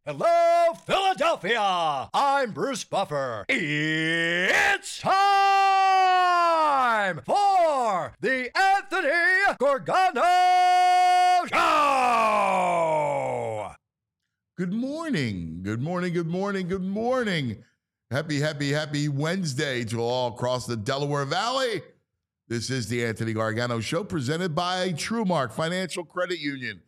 Hello, Philadelphia! I'm Bruce Buffer. It's time for the Anthony Gargano Show! Good morning. Good morning. Good morning. Good morning. Happy Wednesday to all across the Delaware Valley. This is the Anthony Gargano Show presented by TrueMark Financial Credit Union.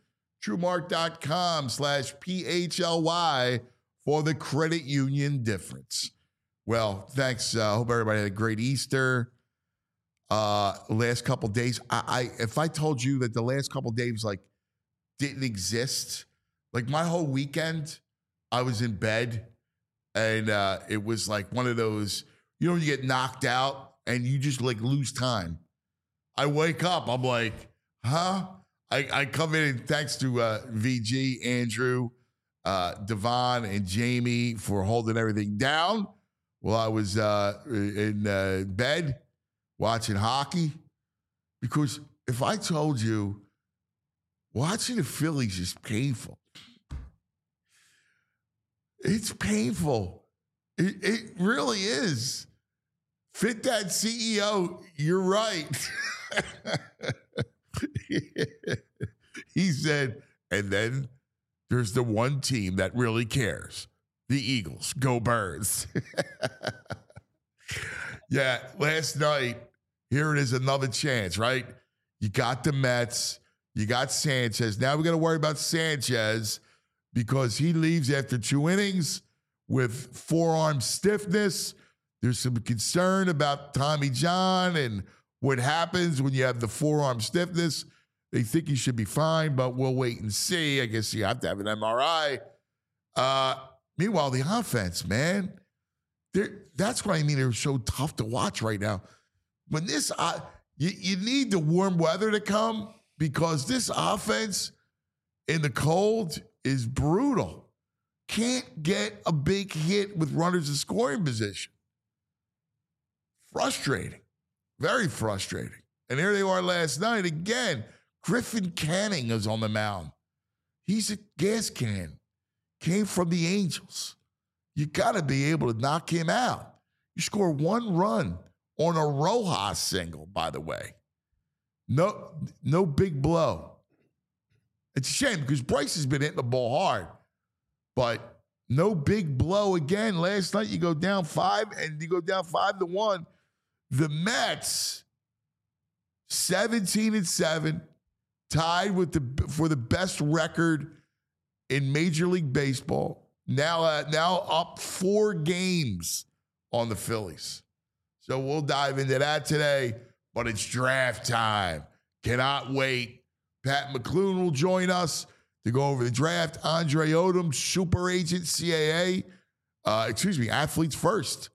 TrueMark.com/PHLY for the credit union difference. Well, thanks. Hope everybody had a great Easter. Last couple days, if I told you that the last couple days didn't exist, my whole weekend, I was in bed, and it was like one of those, when you get knocked out and you just lose time. I wake up, I'm like, huh? I come in, and thanks to VG, Andrew, Devon, and Jamie for holding everything down while I was in bed watching hockey. Because if I told you watching the Phillies is painful, it's painful. It really is. Fit that CEO, you're right. He said, and then there's the one team that really cares. The Eagles. Go Birds. Yeah, last night, here it is, another chance, right? You got the Mets. You got Sanchez. Now we got to worry about Sanchez because he leaves after 2 innings with forearm stiffness. There's some concern about Tommy John and what happens when you have the forearm stiffness. They think he should be fine, but we'll wait and see. I guess you have to have an MRI. Meanwhile, the offense, man, that's what I mean. They're so tough to watch right now. When this, you need the warm weather to come because this offense in the cold is brutal. Can't get a big hit with runners in scoring position. Frustrating. Very frustrating. And here they are last night again. Griffin Canning is on the mound. He's a gas can. Came from the Angels. You got to be able to knock him out. You score 1 run on a Rojas single, by the way. No big blow. It's a shame because Bryce has been hitting the ball hard. But no big blow again. Last night you go down 5 and you go down 5-1. The Mets, 17-7, tied for the best record in Major League Baseball. Now up 4 games on the Phillies. So we'll dive into that today. But it's draft time. Cannot wait. Pat McClune will join us to go over the draft. Andre Odom, super agent, CAA. Athletes First.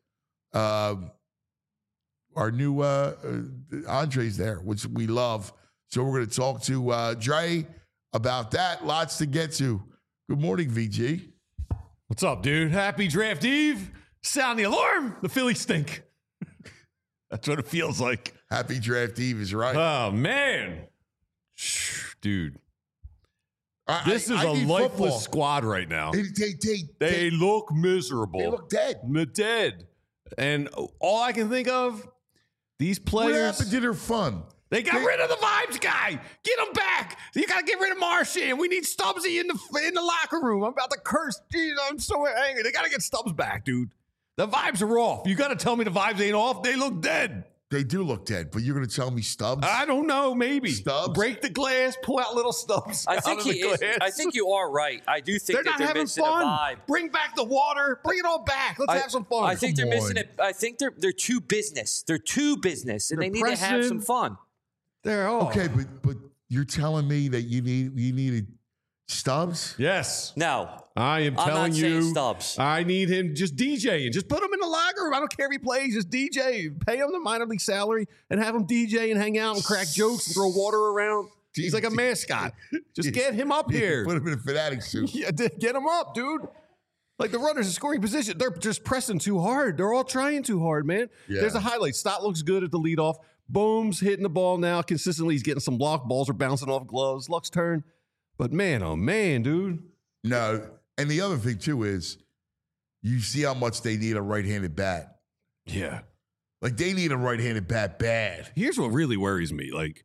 Our new Andre's there, which we love. So we're going to talk to Dre about that. Lots to get to. Good morning, VG. What's up, dude? Happy draft eve. Sound the alarm. The Phillies stink. That's what it feels like. Happy draft eve is right. Oh, man. Dude. This is a lifeless football squad right now. They look miserable. They look dead. They're dead. And all I can think of, these players. What happened to their fun? They got rid of the vibes guy. Get him back. You got to get rid of Martian. We need Stubbsy in the locker room. I'm about to curse. Jeez, I'm so angry. They got to get Stubbs back, dude. The vibes are off. You got to tell me the vibes ain't off. They look dead. They do look dead, but you're going to tell me Stubbs? I don't know. Maybe Stubbs. Break the glass. Pull out little Stubbs. I think he is. I think you are right. I do think they're missing fun. a vibe. Bring back the water. Bring it all back. Let's have some fun. I think they're missing it. I think they're too business. They're too business, and they need to have some fun. They're all okay, but you're telling me that you needed Stubbs? Yes. No. I am telling you, Stubbs. I need him just DJ and just put him in the locker room. I don't care if he plays, just DJ. Pay him the minor league salary and have him DJ and hang out and crack jokes and throw water around. He's like a mascot. Just get him up here. Put him in a fanatic suit. Yeah, get him up, dude. Like the runners in scoring position, they're just pressing too hard. They're all trying too hard, man. Yeah. There's a highlight. Stott looks good at the leadoff. Boom's hitting the ball now consistently. He's getting some block. Balls are bouncing off gloves. Luck's turn. But man, oh man, dude. No. And the other thing, too, is you see how much they need a right-handed bat. Yeah. Like, they need a right-handed bat bad. Here's what really worries me. Like,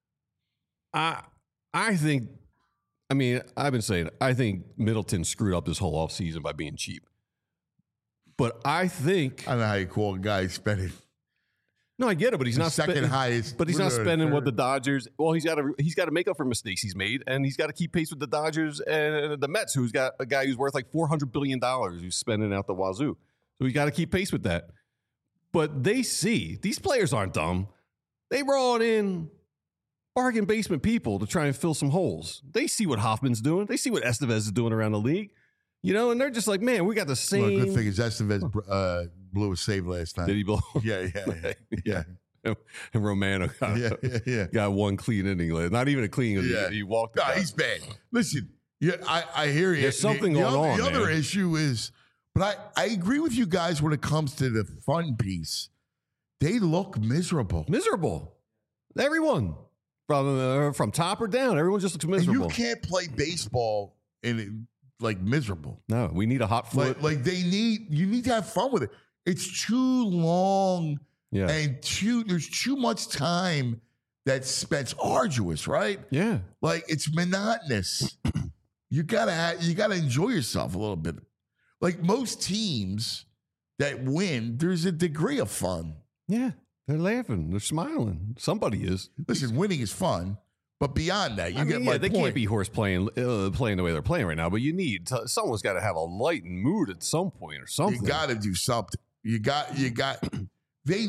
I think, I mean, I've been saying, I think Middleton screwed up this whole offseason by being cheap. But I think, I don't know how you call a guy spending no, I get it, but he's not second highest. But he's not Third. spending what the Dodgers. Well, he's got to make up for mistakes he's made, and he's got to keep pace with the Dodgers and the Mets, who's got a guy who's worth like $400 billion who's spending out the wazoo. So he's got to keep pace with that. But they see these players aren't dumb. They brought in bargain basement people to try and fill some holes. They see what Hoffman's doing. They see what Estevez is doing around the league. You know, and they're just like, man, we got the same. Well, good thing is Estevez blew a save last time. Did he blow? Yeah. And Romano got one clean inning. Not even a clean inning. Yeah. He walked. No, he's bad. Listen, I hear you. There's something going on. The other man. issue is, but I agree with you guys when it comes to the fun piece. They look miserable. Miserable. Everyone. From top or down, everyone just looks miserable. And you can't play baseball in like miserable. No, we need a hot foot. Like you need to have fun with it. It's too long. Yeah. And there's too much time that's spent arduous, right? Yeah. Like it's monotonous. you gotta enjoy yourself a little bit. Like most teams that win, there's a degree of fun. Yeah. They're laughing. They're smiling. Somebody is. Listen, winning is fun, but beyond that, you get my they point. can't be horse playing the way they're playing right now. But you need someone's got to have a lightened mood at some point or something. You got to do something. You got. They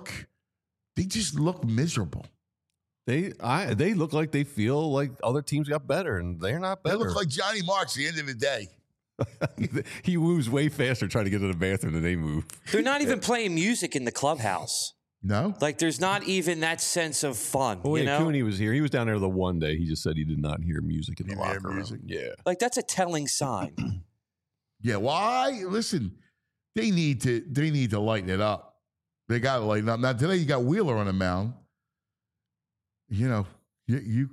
just look miserable. They look like they feel like other teams got better, and they're not They better. look like Johnny Marks at the end of the day. He moves way faster trying to get to the bathroom than they move. They're not even playing music in the clubhouse. No? Like, there's not even that sense of fun. Oh, you yeah, know? Cooney was here. He was down there the one day. He just said he did not hear music in the Didn't hear locker room. music? Yeah. Like, that's a telling sign. Yeah, why? Listen, they need to lighten it up. They got to lighten up. Now, today you got Wheeler on the mound. You know, you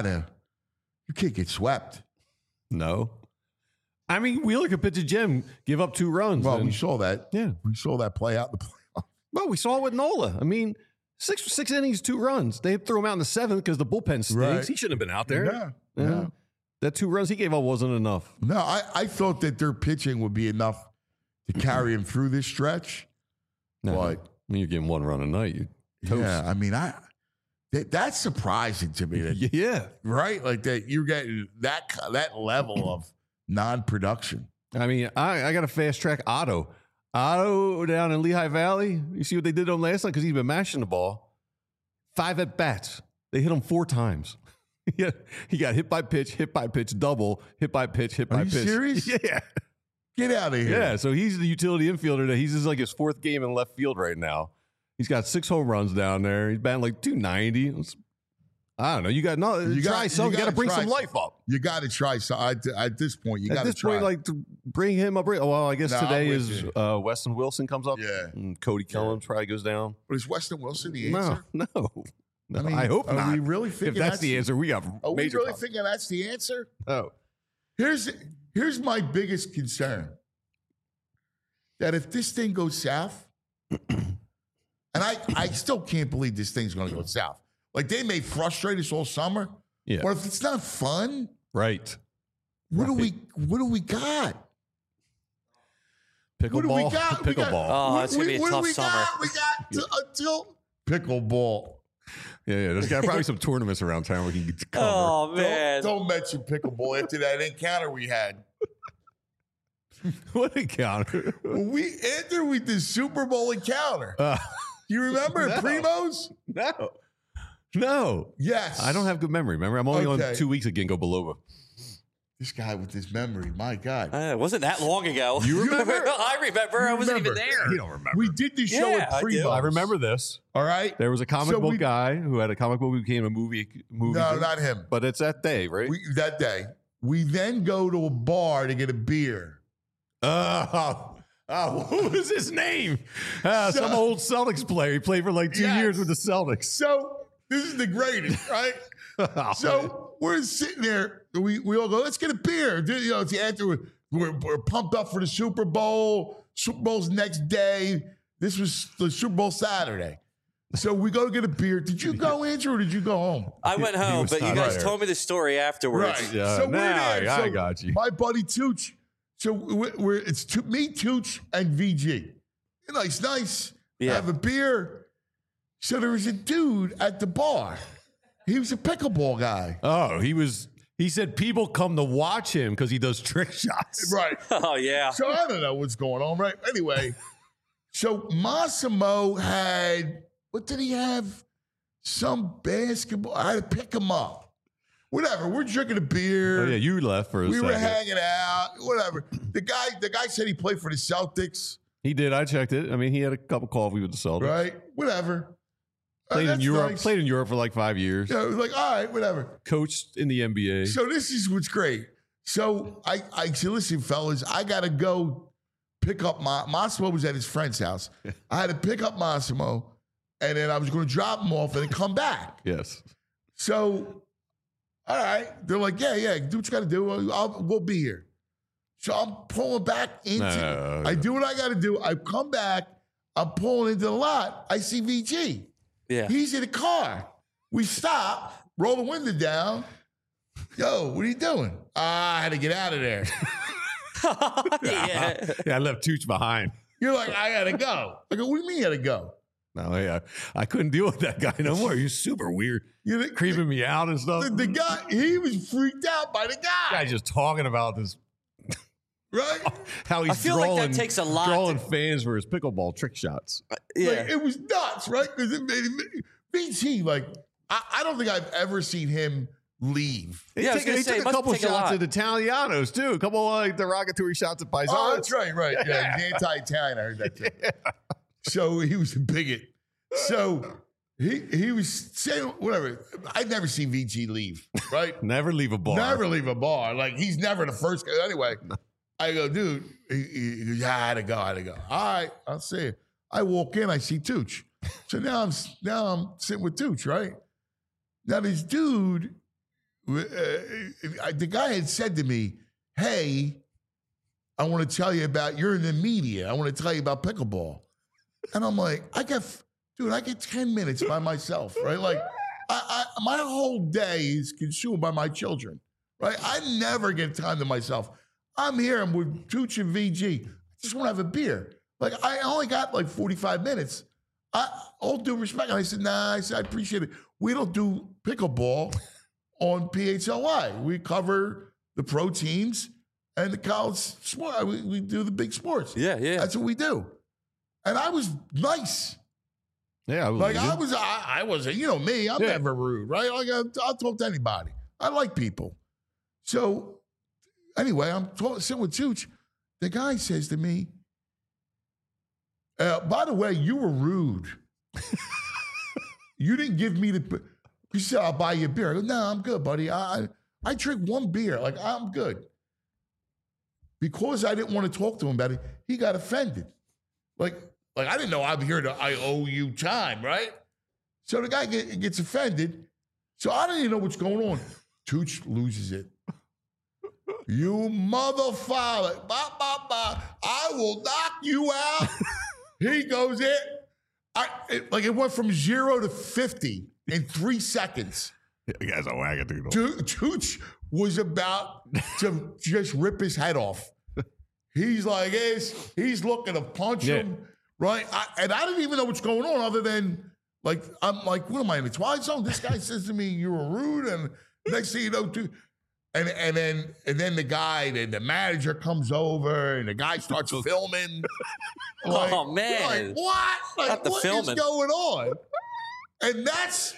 can't get swept. No. I mean, Wheeler could pitch a gem, give up 2 runs. Well, and- we saw that. Yeah. We saw that play out in the playoff. Well, we saw it with Nola. I mean, six innings, 2 runs. They threw him out in the 7th because the bullpen stinks. Right. He shouldn't have been out there. No. That 2 runs he gave up wasn't enough. No, I thought that their pitching would be enough to carry him through this stretch. No, But- I mean, you're getting 1 run a night. You're toast. Yeah, I mean, that's surprising to me. That, Yeah. right? Like that you're getting that level of non-production. I mean, I got to fast track Otto. Otto down in Lehigh Valley. You see what they did on last night? Because he's been mashing the ball. 5 at bats. They hit him 4 times. He got hit by pitch, double, hit by pitch, hit by Are you pitch. serious? Yeah. Get out of here. Yeah. So he's the utility infielder. He's just like his 4th game in left field right now. He's got 6 home runs down there. He's batting like 290. I don't know. You got to bring some life up. You got to try. So at this point, you got At to this try. point, like to bring him up. Well, I guess No, today I'm with is you. Weston Wilson comes up. Yeah. And Cody Kellum probably goes down. But is Weston Wilson the No, answer? no. I mean, I hope are not. we really If thinking that's the answer, we have Are we major really problems. thinking that's the answer? Oh, Here's my biggest concern. That if this thing goes south, and I still can't believe this thing's going to go south. Like they may frustrate us all summer, yeah. but if it's not fun, Right. what do we got? Pickleball. What do we got? We got- Pickleball. Oh, it's going to be a what do tough we summer. got? We got until pickleball. Yeah. There's got probably some tournaments around town we can get to cover. Oh, man. Don't mention pickleball after that encounter we had. What encounter? After we did Super Bowl encounter. You remember No. Primo's? No. Yes. I don't have good memory. Remember, I'm only Okay. on 2 weeks at Ginkgo Biloba. This guy with his memory, my God. It wasn't that long ago. You remember? I remember. I wasn't even there. You don't remember. We did the show Yeah, at I do. Primo's. I remember this. All right? There was a comic So book we- guy who had a comic book who became a movie. No, not him. But it's that day, right? That day. We then go to a bar to get a beer. What was his name? Some old Celtics player. He played for like 2 Yes. years with the Celtics. So this is the greatest, right? So we're sitting there. We all go, let's get a beer. You know, it's after We're pumped up for the Super Bowl. Super Bowl's next day. This was the Super Bowl Saturday. So we go get a beer. Did you go, Andrew, or did you go home? I went home, but you guys told me the story afterwards. Right. Yeah, So we're now there. I So got you. My buddy Tooch. So it's me, Tooch, and VG. Nice. Yeah. Have a beer. So there was a dude at the bar. He was a pickleball guy. Oh, he said people come to watch him because he does trick shots. Right. Oh, yeah. So I don't know what's going on, right? Anyway, so Massimo had, what did he have? Some basketball. I had to pick him up. Whatever. We're drinking a beer. Oh, yeah, you left for a We second. were hanging out. Whatever. The guy said he played for the Celtics, He did. I checked it. I mean, he had a cup of coffee with the Celtics. right? Whatever. Played in That's Europe. nice. Played in Europe for like 5 years. Yeah, it was like, all right, whatever. Coached in the NBA. So this is what's great. So I said, listen, fellas, I got to go pick up Massimo was at his friend's house. I had to pick up Massimo, and then I was going to drop him off and then come back. Yes. So, all right. They're like, yeah, do what you got to do. We'll be here. So I'm pulling back into No. I do what I got to do. I come back. I'm pulling into the lot. I see VG. Yeah. He's in the car. We stop, roll the window down. Yo, what are you doing? I had to get out of there. Yeah. Yeah, I left Tooch behind. You're like, I gotta go. I go, what do you mean you gotta go? No, yeah, I couldn't deal with that guy no more. He was super weird, You know, creeping me out and stuff. the guy, he was freaked out by the guy. Guy just talking about this, Right? how he's I feel like that drawing, takes a lot drawing to- fans for his pickleball trick shots. Yeah. Like, it was nuts, right? Because it made BT, like, I don't think I've ever seen him leave. He Yeah, I was took, gonna he say, took it a must couple take a shots lot. at Italianos too. A couple of like derogatory shots at Paisanos. Oh, that's right. Yeah, he's anti-Italian. I heard that too. So he was a bigot. So he was saying whatever. I'd never seen VG leave, right? Never leave a bar. Never leave a bar. Like he's never the first guy. Anyway, I go, dude. He goes, yeah, I had to go. All right, I'll see you. I walk in, I see Tooch. So now I'm sitting with Tooch, right? Now this dude, the guy had said to me, "Hey, I want to tell you about. You're in the media. I want to tell you about pickleball." And I'm like, I get 10 minutes by myself, right? Like, my whole day is consumed by my children, right? I never get time to myself. I'm here. I'm with Tooch and VG. I just want to have a beer. Like, I only got like 45 minutes. All due respect. And I said, nah, I appreciate it. We don't do pickleball on PHLY. We cover the pro teams and the college sport. We do the big sports. Yeah. That's what we do. And I was nice. Yeah, Like I wasn't, you know me, I'm never rude, right? Like I'll talk to anybody. I like people. So anyway, I'm sitting with Tooch. The guy says to me, by the way, you were rude. You didn't give me you said, I'll buy you a beer. I go, no, I'm good, buddy. I drink one beer. Like, I'm good. Because I didn't want to talk to him about it, he got offended. Like I didn't know I'm here I owe you time, right? So the guy gets offended. So I don't even know what's going on. Tooch loses it. You motherfucker. I will knock you out. He goes in. It went from 0 to 50 in 3 seconds. You guys are wackadoodle. Tooch was about to just rip his head off. He's like, he's looking to punch him, right? I didn't even know what's going on other than, like, I'm like, what am I in the Twilight Zone? This guy says to me, you were rude, and next thing you know, and then the manager comes over, and the guy starts filming. Like, Oh, man. Like, what? Like, Not the what is filming. going on? And that's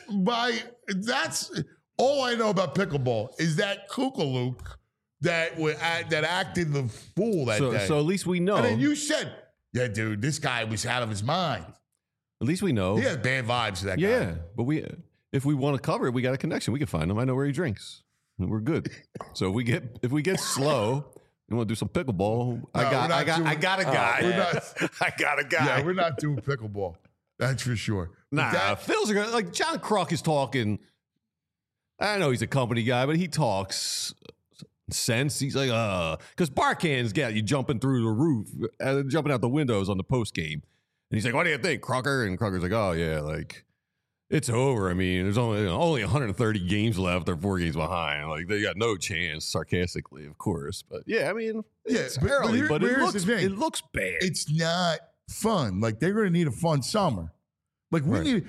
all I know about pickleball is that kookalook that acted the fool that day. So at least we know. And then you said, yeah, dude, this guy was out of his mind. At least we know. He had bad vibes to that guy. Yeah, but if we want to cover it, we got a connection. We can find him. I know where he drinks. We're good. So if we get slow and want to do some pickleball, I got a guy. I got a guy. Yeah, we're not doing pickleball. That's for sure. Nah, Phil's a guy. Like John Kruk is talking. I know he's a company guy, but he talks sense. He's like, because Barkhan's got you jumping through the roof, jumping out the windows on the post game. And he's like, what do you think, Crocker? And Crocker's like, oh, yeah, like, it's over. I mean, there's only 130 games left. They're 4 games behind. Like, they got no chance, sarcastically, of course. But, yeah, I mean, it's early, but it looks bad. It's not fun. Like, they're going to need a fun summer. Like, we need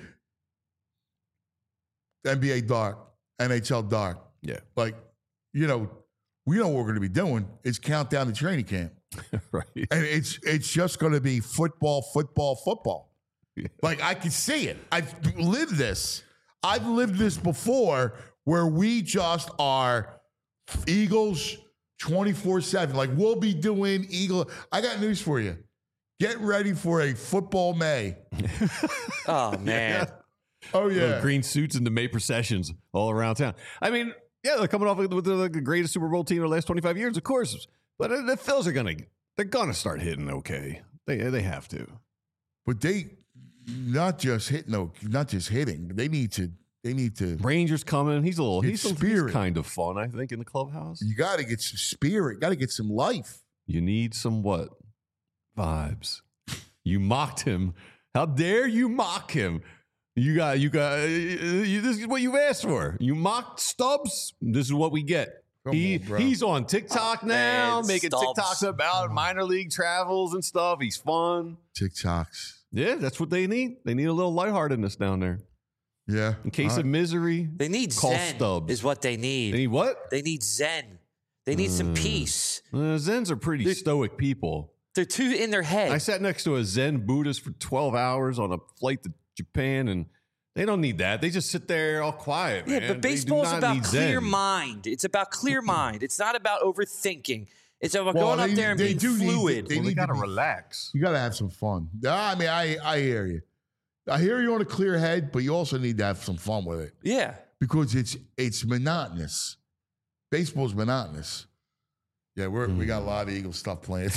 NBA dark, NHL dark. Yeah. Like, we know what we're going to be doing. It's countdown to training camp. Right. And it's just going to be football. Yeah. Like, I can see it. I've lived this. I've lived this before where we just are Eagles 24/7. Like, we'll be doing Eagle. I got news for you. Get ready for a football May. Oh, man. Oh, yeah. Little green suits and the May processions all around town. I mean, yeah, they're coming off with the greatest Super Bowl team in the last 25 years, of course. But the Phils they're gonna start hitting okay. They have to. But they not just hitting. They need to. Rangers coming. He's spirit. kind of fun, I think, in the clubhouse. You got to get some spirit. Got to get some life. You need some what? Vibes. You mocked him. How dare you mock him? You got. This is what you've asked for. You mocked Stubbs. This is what we get. He's on TikTok now, making Stubbs. TikToks about minor league travels and stuff. He's fun. TikToks. Yeah, that's what they need. They need a little lightheartedness down there. Yeah. In case of misery, They need call Zen Stubbs. is what they need. They need what? They need Zen. They need some peace. Zens are pretty stoic people. They're too in their head. I sat next to a Zen Buddhist for 12 hours on a flight to Japan, and they don't need that. They just sit there all quiet, man. Yeah, but baseball's about clear Zen. mind. It's about clear mind. It's not about overthinking. It's about going up there and being fluid. They got to relax. You got to have some fun. I mean, I hear you. I hear you on a clear head, but you also need to have some fun with it. Yeah. Because it's monotonous. Baseball's monotonous. Yeah, we got a lot of Eagle stuff planned.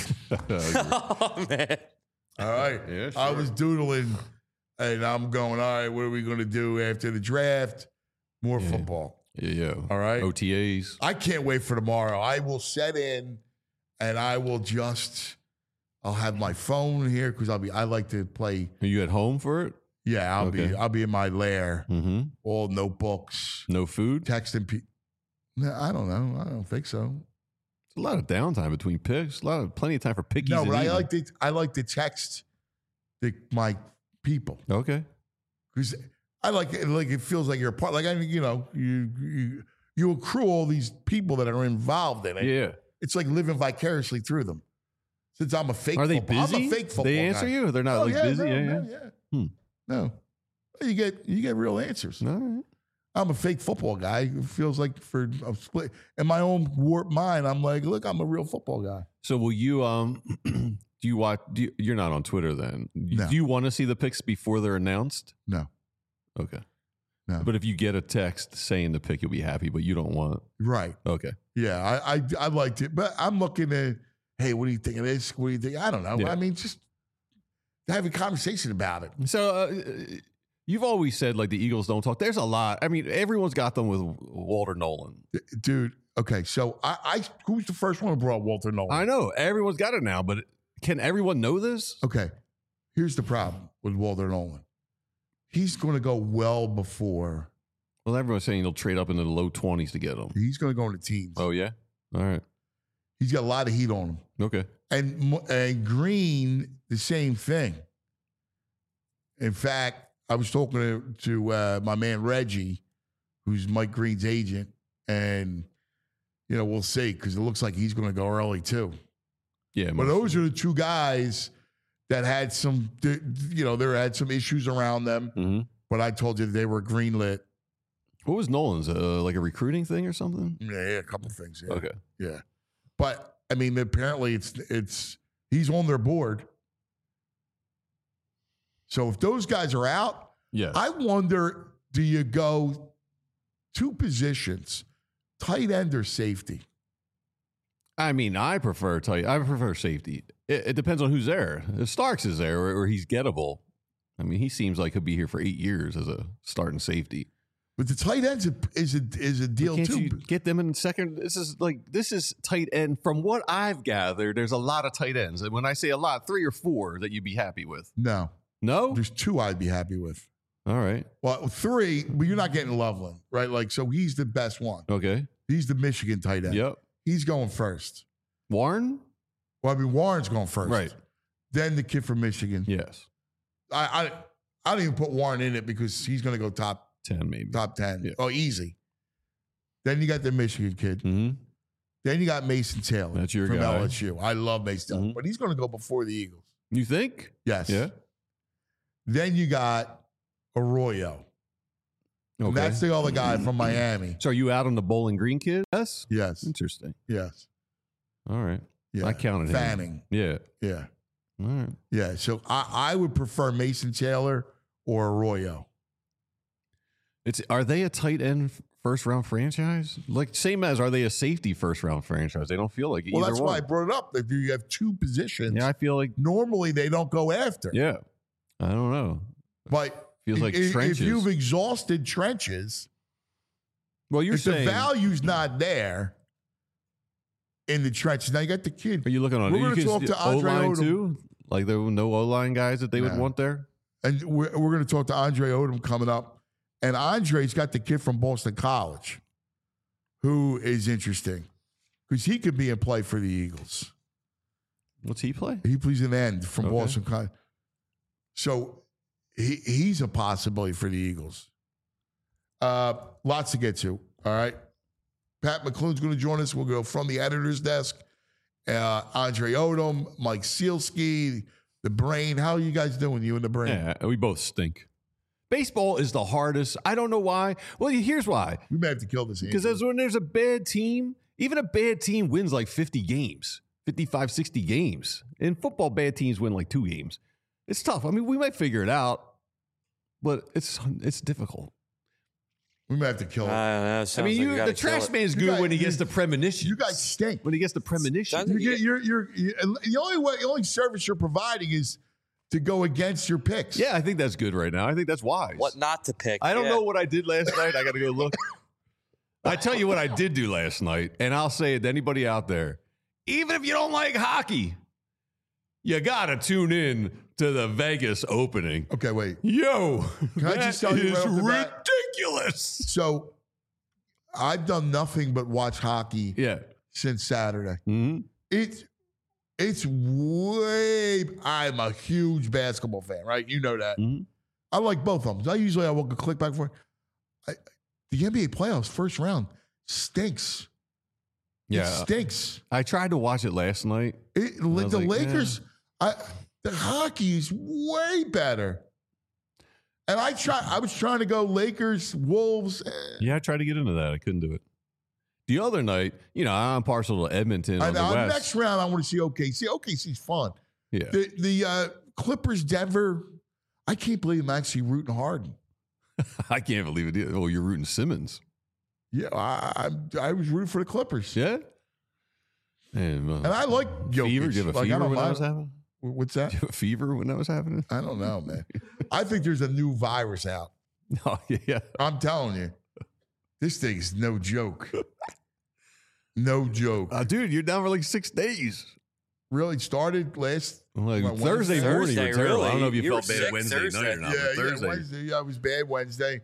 Oh, man. All right. Yeah, sure. I was doodling, and I'm going, all right, what are we going to do after the draft? More football. Yeah. All right. OTAs. I can't wait for tomorrow. I will set in, and I will I'll have my phone here because I like to play. Are you at home for it? Yeah, I'll be in my lair. Mm-hmm. All notebooks. No food? Texting people. No, I don't know. I don't think so. It's a lot of downtime between picks. Plenty of time for pickies. No, but and I like to text my people Okay. because I like it feels like you're a part. Like you accrue all these people that are involved in it. Yeah. It's like living vicariously through them. Since I'm a fake, Are they football, busy? I'm a fake football They answer guy. you? They're not busy? No. No. You get real answers. All right. I'm a fake football guy. It feels like for a split in my own warped mind, I'm like, look, I'm a real football guy. So will you do you watch you're not on Twitter then? No. Do you want to see the picks before they're announced? No. Okay. No. But if you get a text saying the pick, you'll be happy, but you don't want. Right. Okay. Yeah, I liked it, but I'm looking at, hey, what do you think of this? What do you think? I don't know. Yeah. I mean, just have a conversation about it. So you've always said like the Eagles don't talk. There's a lot. I mean, everyone's got them with Walter Nolan. Dude, okay, so I who's the first one who brought Walter Nolan? I know. Everyone's got it now, but can everyone know this? Okay, here's the problem with Walter Nolan. He's going to go well before. Well, everyone's saying he'll trade up into the low 20s to get him. He's going to go into teams. Oh, yeah? All right. He's got a lot of heat on him. Okay. And Green, the same thing. In fact, I was talking to my man Reggie, who's Mike Green's agent, and we'll see because it looks like he's going to go early too. Yeah, but those are the two guys that had some, there had some issues around them. Mm-hmm. But I told you they were greenlit. What was Nolan's? Like a recruiting thing or something? Yeah, a couple things. Yeah. Okay. Yeah, but I mean, apparently it's he's on their board. So if those guys are out, yeah, I wonder, do you go two positions, tight end or safety? I mean, I prefer safety. It depends on who's there. If Starks is there or he's gettable, I mean, he seems like he'll be here for 8 years as a starting safety. But the tight ends is a deal Can't too. you get them in second? This is tight end. From what I've gathered, there's a lot of tight ends. And when I say a lot, 3 or 4 that you'd be happy with. No, there's 2 I'd be happy with. All right. Well, 3, but you're not getting Loveland, right? Like, so he's the best one. Okay. He's the Michigan tight end. Yep. He's going first. Warren? Well, I mean, Warren's going first. Right. Then the kid from Michigan. Yes. I don't even put Warren in it because he's going to go top 10 maybe. Top 10. Yeah. Oh, easy. Then you got the Michigan kid. Mm-hmm. Then you got Mason Taylor. That's your from guy. LSU. I love Mason Taylor, but he's going to go before the Eagles. You think? Yes. Yeah. Then you got Arroyo. Okay. And that's the other guy from Miami. So are you out on the Bowling Green kid? Yes. Yes. Interesting. Yes. All right. Yeah. I counted him. Fanning. Yeah. Yeah. All right. Yeah. So I would prefer Mason Taylor or Arroyo. Are they a tight end first round franchise? Like same as are they a safety first round franchise? They don't feel like Well, either that's one. why I brought it up. That you have 2 positions. Yeah, I feel like Normally they don't go after. yeah. I don't know. But Feels like if trenches. you've exhausted trenches, Well, you're if the saying value's not there in the trenches, now you got the kid. are you looking on We're you gonna talk to Andre O-line Odom. too? Like there were no O-line guys that they would No. want there? And we're going to talk to Andre Odom coming up. And Andre's got the kid from Boston College who is interesting because he could be in play for the Eagles. What's he play? He plays an end from Okay. Boston College. So he's a possibility for the Eagles. Lots to get to, all right? Pat McClune's going to join us. We'll go from the editor's desk. Andre Odom, Mike Sealski, the Brain. How are you guys doing, you and the Brain? Yeah, we both stink. Baseball is the hardest. I don't know why. Well, here's why. We may have to kill this. Because when there's a bad team, even a bad team wins like 50 games, 55, 60 games. In football, bad teams win like 2 games. It's tough. I mean, we might figure it out, but it's difficult. We may have to kill him. I mean, the trash man's good when he gets the premonition. You guys stink. When he gets the premonition. The only service you're providing is to go against your picks. Yeah, I think that's good right now. I think that's wise. What not to pick? I don't know what I did last night. I got to go look. I tell you what I did do last night, and I'll say it to anybody out there. Even if you don't like hockey, you got to tune in to the Vegas opening. Okay, wait. Yo, Can I just tell you is right off the bat? ridiculous. So I've done nothing but watch hockey since Saturday. Mm-hmm. It's way. I'm a huge basketball fan, right? You know that. Mm-hmm. I like both of them. I will click back for it. The NBA playoffs first round stinks. Yeah, it stinks. I tried to watch it last night. The Lakers. The hockey is way better. And I was trying to go Lakers, Wolves. Yeah, I tried to get into that. I couldn't do it. The other night, I'm partial to Edmonton on the West. Next round, I want to see OKC. OKC's fun. Yeah. The Clippers, Denver. I can't believe I'm actually rooting Harden. I can't believe it. Oh, you're rooting Simmons. Yeah, I was rooting for the Clippers. Yeah. And I like Jokic. Fever? Did you have a fever when that was happening? What's that? Did you have a fever when that was happening? I don't know, man. I think there's a new virus out. Oh, yeah. I'm telling you. This thing's no joke. No joke. Dude, you're down for like 6 days. Really started last Thursday morning. You were terrible. Really? I don't know if you felt were bad Wednesday Thursday. night or not. Yeah, Thursday. Wednesday. Yeah, I was bad Wednesday.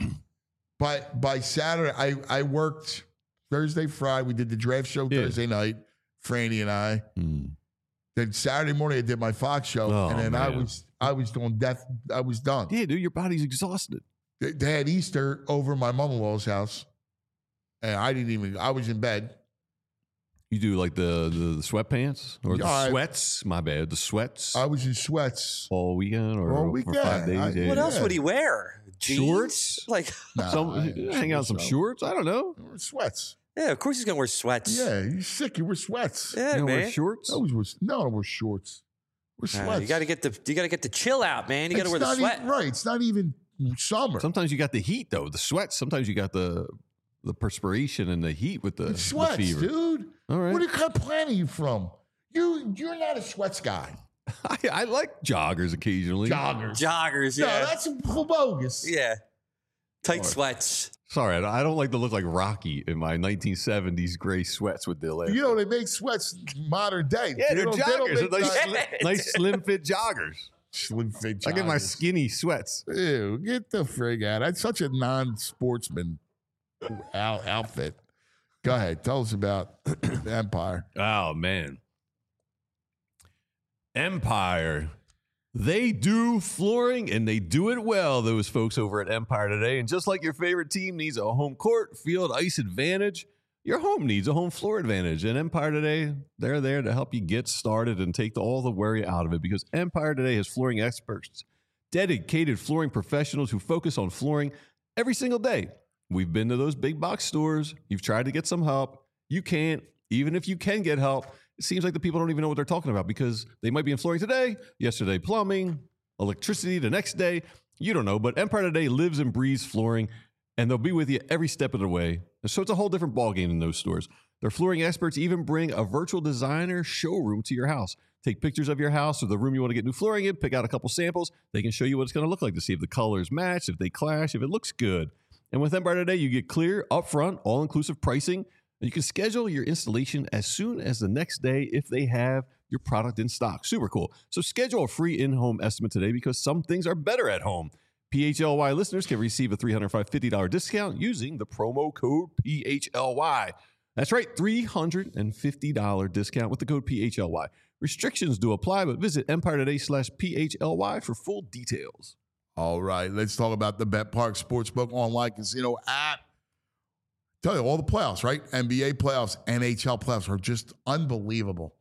By Saturday, I worked Thursday, Friday. We did the draft show Thursday night, Franny and I. Then Saturday morning, I did my Fox show, and then man. I was doing death. I was done. Yeah, dude, your body's exhausted. They had Easter over at my mother-in-law's house, and I was in bed. You do like the sweatpants or the sweats? My bad. The sweats I was in sweats all weekend or all weekend. for 5 days. What else would he wear? Jeans? Shorts? Like, Hang out some shorts? I don't know. Sweats. yeah, of course he's gonna wear sweats. Yeah, you're sick. You wear sweats. Yeah, You man. wear shorts? I wear shorts. We're sweats. You gotta get the chill out, man. You gotta wear the sweat. Right. It's not even summer. Sometimes you got the heat though. The sweats. Sometimes you got the perspiration and the heat with the It's sweats, the fever. dude. All right. What kind of planet are you from? You're not a sweats guy. I like joggers occasionally. Joggers. Joggers, No, yeah. that's bogus. Yeah. Tight sweats. Sorry, I don't like to look like Rocky in my 1970s gray sweats with the leg. You know, they make sweats modern day. Yeah, they're joggers. They're nice slim fit joggers. Slim fit joggers. I get my skinny sweats. Ew, get the frig out. That's such a non-sportsman outfit. Go ahead. Tell us about Empire. Oh, man. Empire. They do flooring, and they do it well, those folks over at Empire today. And just like your favorite team needs a home court, field, ice advantage, your home needs a home floor advantage. And Empire today, they're there to help you get started and take all the worry out of it, because Empire today has flooring experts, dedicated flooring professionals who focus on flooring every single day. We've been to those big box stores. You've tried to get some help. You can't. Even if you can get help, it seems like the people don't even know what they're talking about, because they might be in flooring today, yesterday plumbing, electricity the next day. You don't know, but Empire today lives and breathes flooring, and they'll be with you every step of the way. And so it's a whole different ballgame in those stores. Their flooring experts even bring a virtual designer showroom to your house. Take pictures of your house or the room you want to get new flooring in, pick out a couple samples. They can show you what it's going to look like to see if the colors match, if they clash, if it looks good. And with Empire today, you get clear, upfront, all-inclusive pricing. And you can schedule your installation as soon as the next day if they have your product in stock. Super cool. So schedule a free in-home estimate today, because some things are better at home. PHLY listeners can receive a $350 discount using the promo code PHLY. That's right, $350 discount with the code PHLY. Restrictions do apply, but visit Empire today/PHLY for full details. All right, let's talk about the BetParx Sportsbook online casino app. Tell you, all the playoffs, right? NBA playoffs, NHL playoffs are just unbelievable.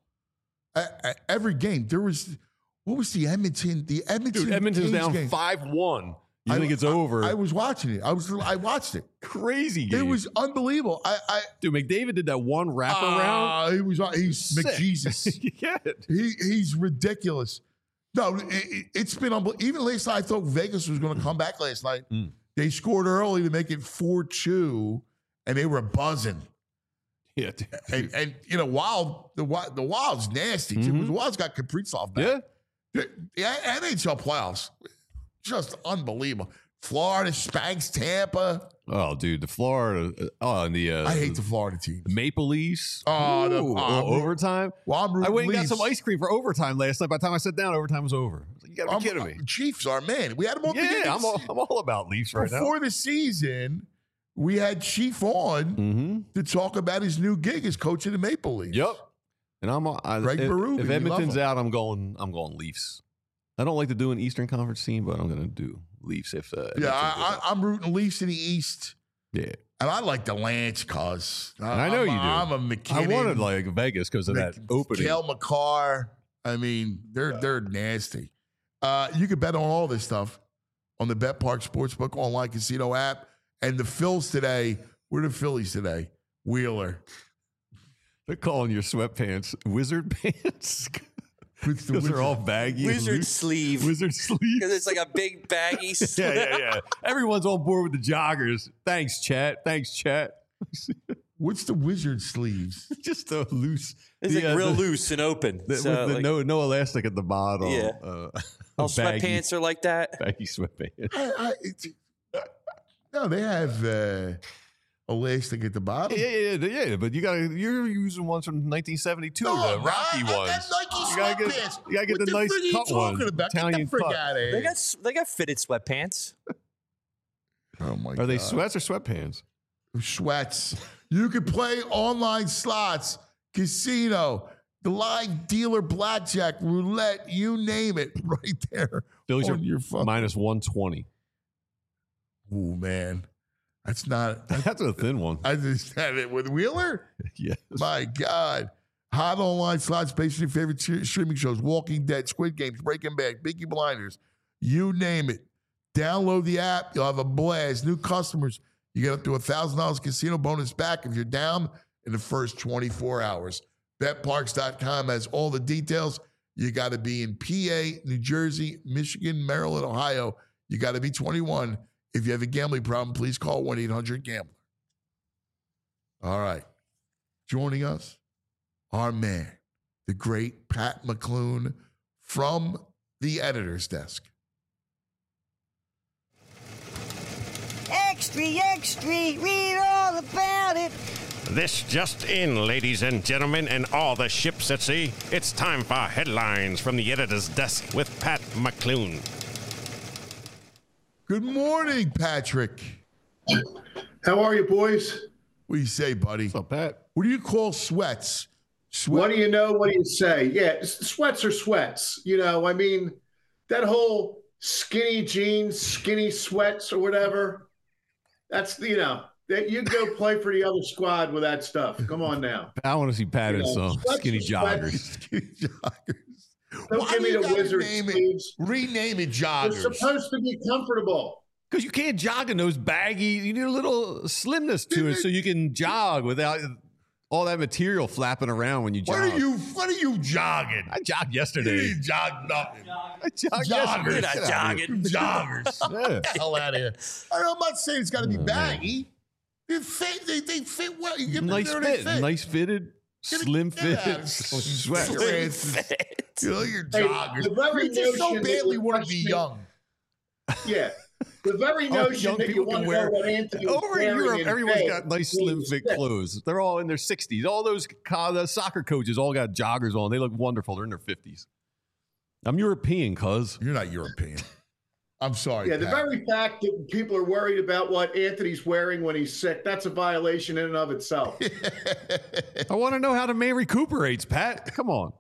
Every game, what was the Edmonton? The Edmonton's down game. 5-1. You think it's over? I was watching it. I watched it. Crazy game. It was unbelievable. Dude, McDavid did that one wraparound. He's McJesus. Yeah. He's ridiculous. No, it's been unbelievable. Even last night, I thought Vegas was going to come back last night. They scored early to make it 4-2. And they were buzzing. Yeah. And you know, the Wild's nasty. The Wild's got Kaprizov back. Yeah. The NHL playoffs, just unbelievable. Florida spanks Tampa. Oh, dude, the Florida. And the I hate the Florida teams. Maple Leafs. Overtime. Well, I went and got some ice cream for overtime last night. By the time I sat down, overtime was over. I was like, you gotta be kidding me. Chiefs are, man. We had them on. Yeah, I'm all about Leafs right now. Before the season, we had Chief on to talk about his new gig as coach of the Maple Leafs. Yep. And Greg Berube, if Edmonton's out, I'm going Leafs. I don't like to do an Eastern Conference team, but I'm going to do Leafs if. I'm rooting Leafs in the East. Yeah. And I like the Lance cause. I know you do. I'm a McKinnon. I wanted like Vegas because of that opening. Cale Makar. I mean, they're nasty. You can bet on all this stuff on the BetParx Sportsbook online casino app. And the Phils today, where are the Phillies today? Wheeler. They're calling your sweatpants wizard pants. Because they're all baggy. Wizard sleeve. Wizard sleeve. Because it's like a big baggy sleeve. Yeah. Everyone's on board with the joggers. Thanks, chat. What's the wizard sleeves? Just a loose. It's like real loose and open. With no elastic at the bottom. Yeah. All sweatpants are like that. Baggy sweatpants. No, they have elastic at the bottom. Yeah. But you're using ones from 1972, the Rocky ones. Nike sweatpants. You gotta get the nice cut ones. Italian cut. They got fitted sweatpants. Oh my God. Are they sweats or sweatpants? Sweats. You can play online slots, casino, the live dealer, blackjack, roulette, you name it, right there. Phillies on are your phone. minus 120. Oh man, that's not. That's a thin one. I just had it with Wheeler. Yes. My God. Hot online slots based on your favorite streaming shows: Walking Dead, Squid Games, Breaking Bad, Peaky Blinders. You name it. Download the app. You'll have a blast. New customers, you get up to $1,000 casino bonus back if you're down in the first 24 hours. BetParx.com has all the details. You got to be in PA, New Jersey, Michigan, Maryland, Ohio. You got to be 21. If you have a gambling problem, please call 1-800-GAMBLER. All right. Joining us, our man, the great Pat McClune from the editor's desk. extra, extra, read all about it. This just in, ladies and gentlemen, and all the ships at sea. It's time for headlines from the editor's desk with Pat McClune. Good morning, Patrick. How are you, boys? What do you say, buddy? What's up, Pat? What do you call sweats? What do you know? What do you say? Yeah, sweats are sweats. You know, I mean, that whole skinny jeans, skinny sweats or whatever, that's, you know, that you go play for the other squad with that stuff. Come on now. I want to see Pat in some skinny joggers. Skinny joggers. Don't give me the Wizards sleeves. Rename it joggers. They're supposed to be comfortable. Because you can't jog in those baggy. You need a little slimness to it so you can jog without all that material flapping around when you jog. What are you jogging? I jogged yesterday. You didn't jog nothing. I jogged yesterday. Not jogging. Joggers. Yeah. Get the hell out of here. I'm not saying it's got to be baggy. They fit well. You get Nice there, fit. they fit. Nice fitted. Slim Get out fit. of Sweat. You know, you're Hey, joggers. the very You just so notion that badly you're want to be questioning- young. Yeah. The very notion young that you people want can to wear. know what Anthony was Over in wearing Europe, in everyone's bed got nice slim means fit that. clothes. They're all in their 60s. All those the soccer coaches all got joggers on. They look wonderful. They're in their 50s. I'm European, cuz. You're not European. I'm sorry. Yeah, the Pat. very fact that people are worried about what Anthony's wearing when he's sick, that's a violation in and of itself. I want to know how the man recuperates, Pat. Come on.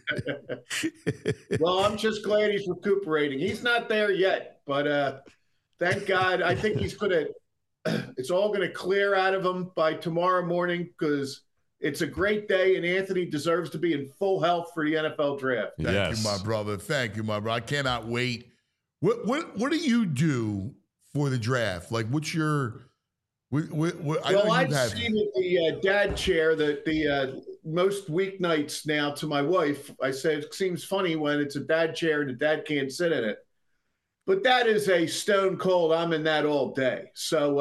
Well, I'm just glad he's recuperating. He's not there yet, but thank God. I think it's all going to clear out of him by tomorrow morning because it's a great day and Anthony deserves to be in full health for the NFL draft. Thank you, my brother. Thank you, my brother. I cannot wait. What do you do for the draft? Like, what's your? I've seen the dad chair the most weeknights now to my wife. I said it seems funny when it's a dad chair and the dad can't sit in it, but that is a stone cold. I'm in that all day. So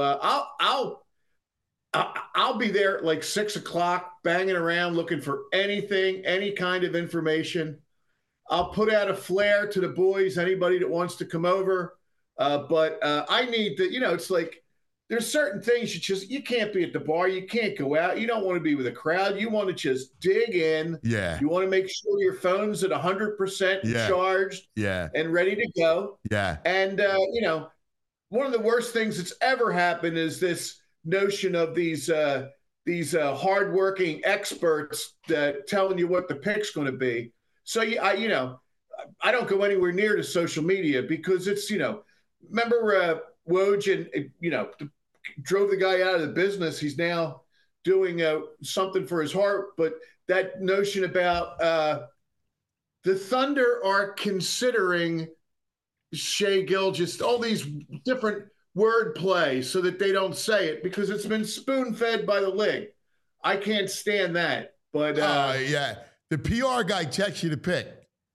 I'll be there at like 6 o'clock, banging around looking for anything, any kind of information. I'll put out a flare to the boys, anybody that wants to come over. But I need to, it's like there's certain things you can't be at the bar. You can't go out. You don't want to be with a crowd. You want to just dig in. Yeah. You want to make sure your phone's at 100% charged and ready to go. Yeah. And, one of the worst things that's ever happened is this notion of these hardworking experts that telling you what the pick's going to be. So, I don't go anywhere near to social media because it's, remember Woj and, drove the guy out of the business. He's now doing something for his heart. But that notion about the Thunder are considering Shai Gilgeous, all these different word play so that they don't say it because it's been spoon-fed by the league. I can't stand that. But the PR guy texts you to pick.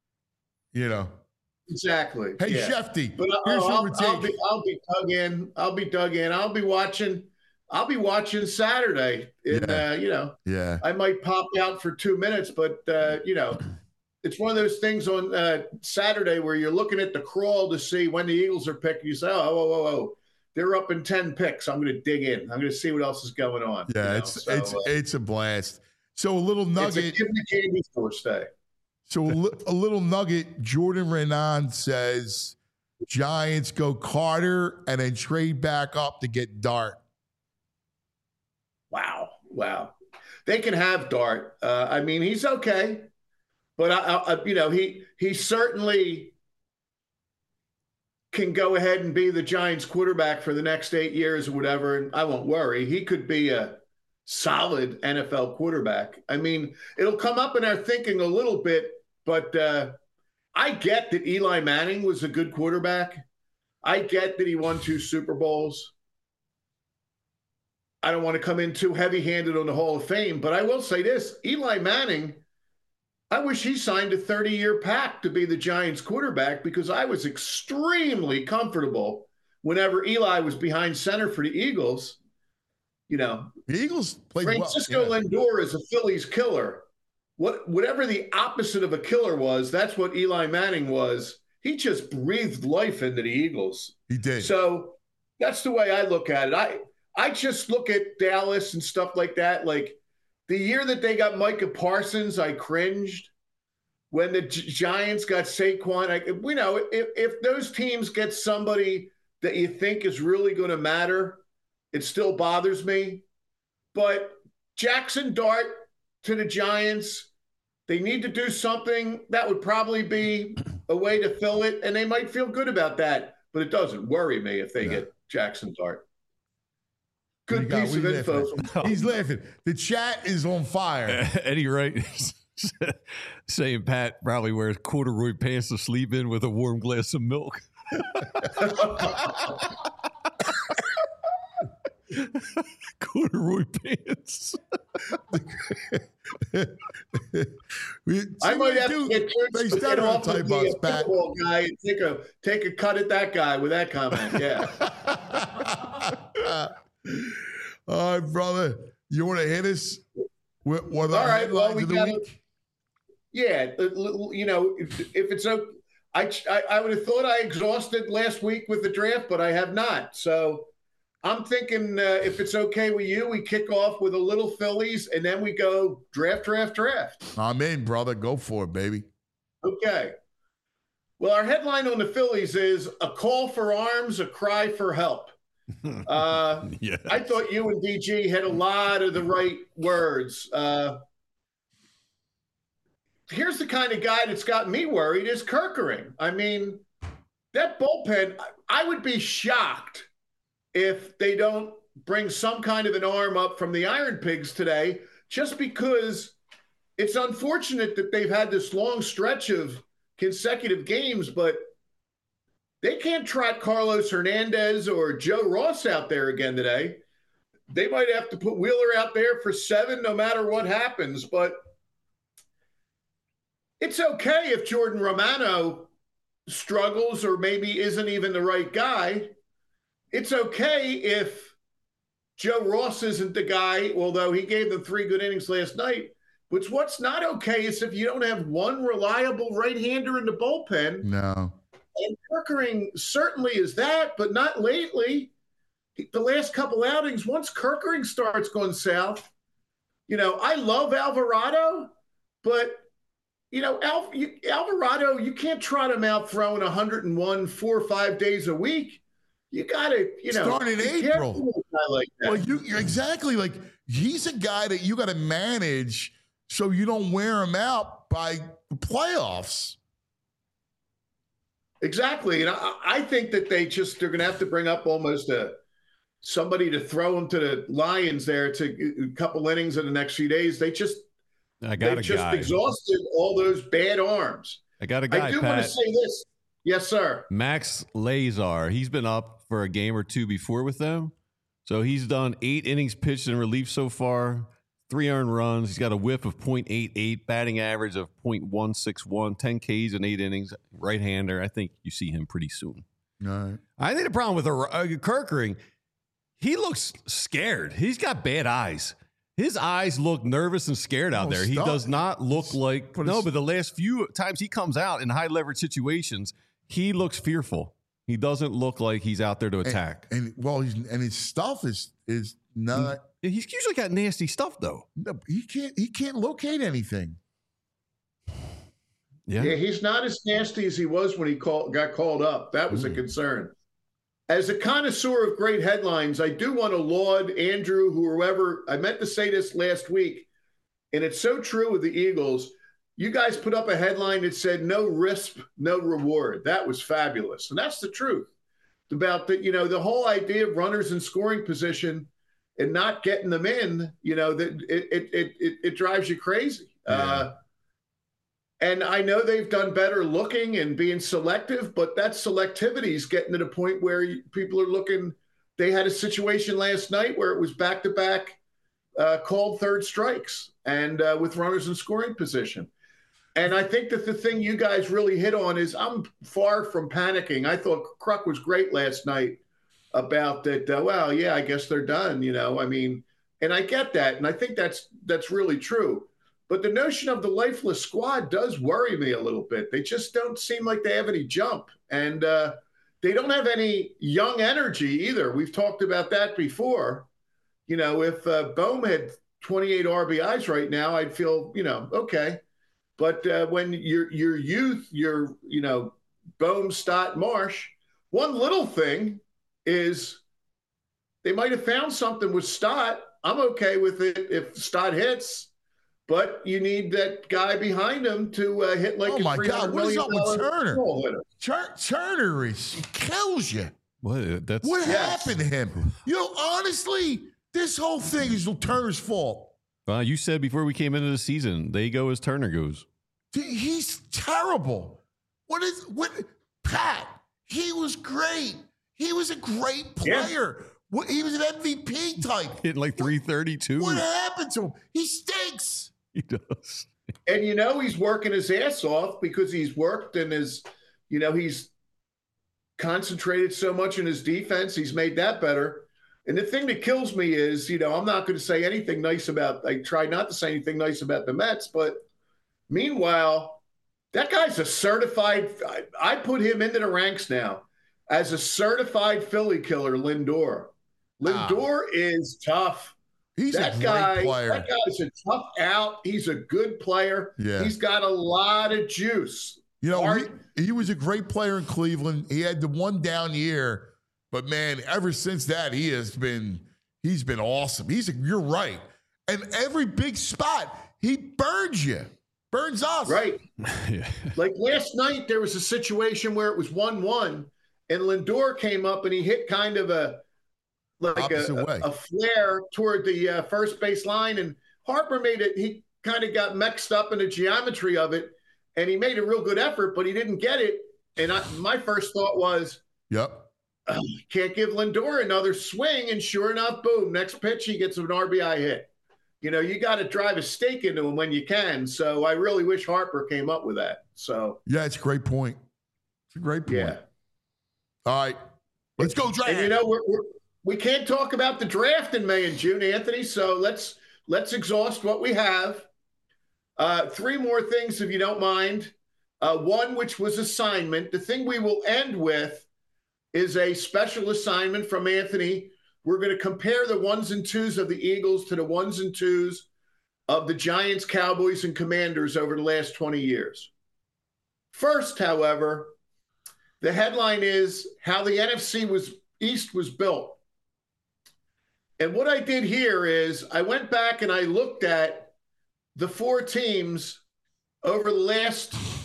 Exactly. Hey, yeah. Shefty, but I'll be dug in. I'll be dug in. I'll be watching Saturday. I might pop out for 2 minutes, but it's one of those things on Saturday where you're looking at the crawl to see when the Eagles are picking. You say, oh, they're up in 10 picks. I'm going to dig in. I'm going to see what else is going on. Yeah, it's a blast. So a little nugget. It's a give me candy store stay. So a little nugget. Jordan Renan says Giants go Carter and then trade back up to get Dart. Wow. They can have Dart. He's okay, but he certainly can go ahead and be the Giants quarterback for the next 8 years or whatever, and I won't worry. He could be a solid NFL quarterback. It'll come up in our thinking a little bit, but I get that Eli Manning was a good quarterback. I get that he won 2 Super Bowls. I don't want to come in too heavy-handed on the Hall of Fame, but I will say this. Eli Manning, I wish he signed a 30-year pact to be the Giants quarterback because I was extremely comfortable whenever Eli was behind center for the Eagles. The Eagles played Francisco Lindor is a Phillies killer. Whatever the opposite of a killer was, that's what Eli Manning was. He just breathed life into the Eagles. He did. So, That's the way I look at it. I just look at Dallas and stuff like that. Like the year that they got Micah Parsons, I cringed. When the Giants got Saquon, if those teams get somebody that you think is really going to matter, it still bothers me. But Jackson Dart to the Giants, they need to do something. That would probably be a way to fill it, and they might feel good about that. But it doesn't worry me if they get Jackson Dart. Good piece of info. He's laughing. The chat is on fire. Eddie Wright saying Pat probably wears corduroy pants to sleep in with a warm glass of milk. Corduroy pants. I might have to get off of the football guy and take a cut at that guy with that comment. Yeah. All right, brother. You want to hit us with one of the headlines of the week? Yeah, if it's okay, I would have thought I exhausted last week with the draft, but I have not. So I'm thinking if it's okay with you, we kick off with a little Phillies, and then we go draft. I'm in, brother. Go for it, baby. Okay. Well, our headline on the Phillies is a call for arms, a cry for help. Yes. I thought you and DG had a lot of the right words. Here's the kind of guy that's got me worried is Kerkering. I mean, that bullpen, I would be shocked if they don't bring some kind of an arm up from the Iron Pigs today, just because it's unfortunate that they've had this long stretch of consecutive games, but they can't trot Carlos Hernandez or Joe Ross out there again today. They might have to put Wheeler out there for 7 no matter what happens, but it's okay if Jordan Romano struggles or maybe isn't even the right guy. It's okay if Joe Ross isn't the guy, although he gave them 3 good innings last night. But what's not okay is if you don't have one reliable right-hander in the bullpen. No. And Kerkering certainly is that, but not lately. The last couple outings, once Kerkering starts going south, I love Alvarado, but Alvarado, you can't trot him out throwing 101 4 or 5 days a week. You got to, start in April. Like that. Well, you're exactly like he's a guy that you got to manage so you don't wear him out by the playoffs. Exactly, and I think that they're going to have to bring up almost somebody to throw him to the Lions there to a couple innings in the next few days. They just exhausted all those bad arms. I got a guy, I do Pat. want to say this. Yes, sir. Max Lazar. He's been up for a game or two before with them. So he's done 8 innings pitched in relief so far, 3 earned runs. He's got a whip of .88, batting average of .161, 10 Ks in 8 innings, right-hander. I think you see him pretty soon. All right. I think the problem with Kerkering, he looks scared. He's got bad eyes. His eyes look nervous and scared out there. He does not look like – but the last few times he comes out in high-leverage situations, he looks fearful. He doesn't look like he's out there to attack. And his stuff is not – He's usually got nasty stuff, though. No, he can't locate anything. Yeah, he's not as nasty as he was when he got called up. That was a concern. As a connoisseur of great headlines, I do want to laud Andrew, whoever. I meant to say this last week, and it's so true with the Eagles. You guys put up a headline that said, no risk, no reward. That was fabulous. And that's the truth about the whole idea of runners in scoring position and not getting them in, that it drives you crazy. Yeah. And I know they've done better looking and being selective, but that selectivity is getting to the point where people are looking. They had a situation last night where it was back-to-back called third strikes and with runners in scoring position. And I think that the thing you guys really hit on is I'm far from panicking. I thought Kruk was great last night about that. I guess they're done, and I get that. And I think that's really true. But the notion of the lifeless squad does worry me a little bit. They just don't seem like they have any jump. And they don't have any young energy either. We've talked about that before. You know, if Bohm had 28 RBIs right now, I'd feel, okay. But when your youth, Bohm, Stott, Marsh, one little thing is they might have found something with Stott. I'm okay with it if Stott hits, but you need that guy behind him to hit like oh a my God, what is up with Turner? Turner kills you. What happened to him? Honestly, this whole thing is Turner's fault. You said before we came into the season, they go as Turner goes. He's terrible. Pat, he was great. He was a great player. Yeah. He was an MVP type. Hit like 332. What happened to him? He stinks. He does. And he's working his ass off because he's worked and he's concentrated so much in his defense. He's made that better. And the thing that kills me is, I'm not going to say anything nice I try not to say anything nice about the Mets, but meanwhile, that guy's a certified, I put him into the ranks now as a certified Philly killer, Lindor. Lindor is tough. He's a great player. That guy's a tough out. He's a good player. Yeah. He's got a lot of juice. He was a great player in Cleveland. He had the one down year, but man, ever since that, he's been awesome. You're right. And every big spot, he burns you. Burns us. Right. Yeah. Like last night, there was a situation where it was 1-1, and Lindor came up and he hit kind of a flare toward the first base line, and Harper he kind of got mixed up in the geometry of it, and he made a real good effort, but he didn't get it. And my first thought was, can't give Lindor another swing, and sure enough, boom, next pitch, he gets an RBI hit. You got to drive a stake into him when you can. So I really wish Harper came up with that. So yeah, it's a great point. It's a great point. Yeah. All right, let's go draft. And we can't talk about the draft in May and June, Anthony. So let's exhaust what we have. 3 more things, if you don't mind. One, which was assignment. The thing we will end with is a special assignment from Anthony. We're going to compare the 1s and 2s of the Eagles to the 1s and 2s of the Giants, Cowboys, and Commanders over the last 20 years. First, however, the headline is how the NFC East was built. And what I did here is I went back and I looked at the 4 teams over the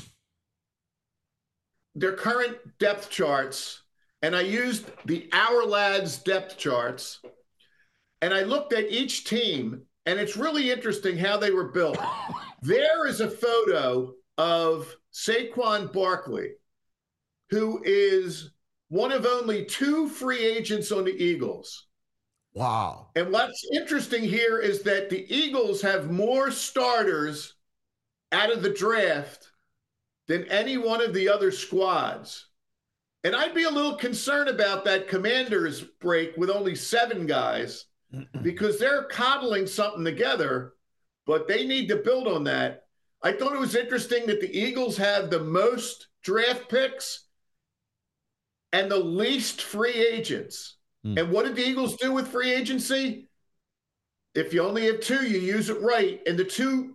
their current depth charts. And I used the Our Lads depth charts, and I looked at each team, and it's really interesting how they were built. There is a photo of Saquon Barkley, who is one of only 2 free agents on the Eagles. Wow. And what's interesting here is that the Eagles have more starters out of the draft than any one of the other squads. And I'd be a little concerned about that Commanders break with only 7 guys because they're coddling something together, but they need to build on that. I thought it was interesting that the Eagles have the most draft picks and the least free agents. And what did the Eagles do with free agency? If you only have 2, you use it right. And the 2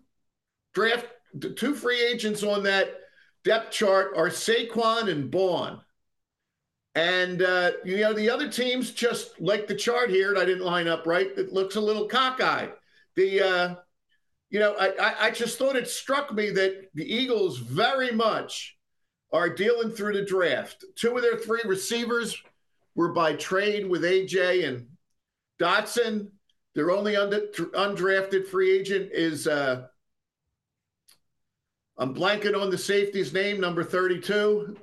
free agents on that depth chart are Saquon and Bourne. And, the other teams, just like the chart here, and I didn't line up right, it looks a little cockeyed. I just thought it struck me that the Eagles very much are dealing through the draft. 2 of their 3 receivers were by trade with AJ and Dotson. Their only undrafted free agent is, I'm blanking on the safety's name, number 32.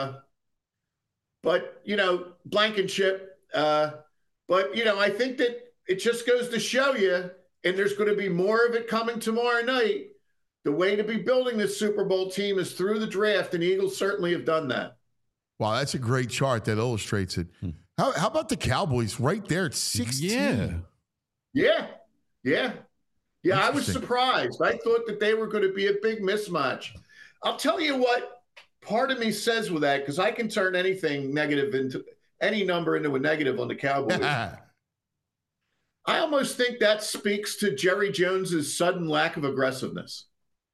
But, Blankenship. I think that it just goes to show you, and there's going to be more of it coming tomorrow night. The way to be building this Super Bowl team is through the draft, and the Eagles certainly have done that. Wow, that's a great chart that illustrates it. How about the Cowboys right there at 16? Yeah, I was surprised. I thought that they were going to be a big mismatch. I'll tell you what part of me says with that, because I can turn anything negative into any number into a negative on the Cowboys. I almost think that speaks to Jerry Jones's sudden lack of aggressiveness.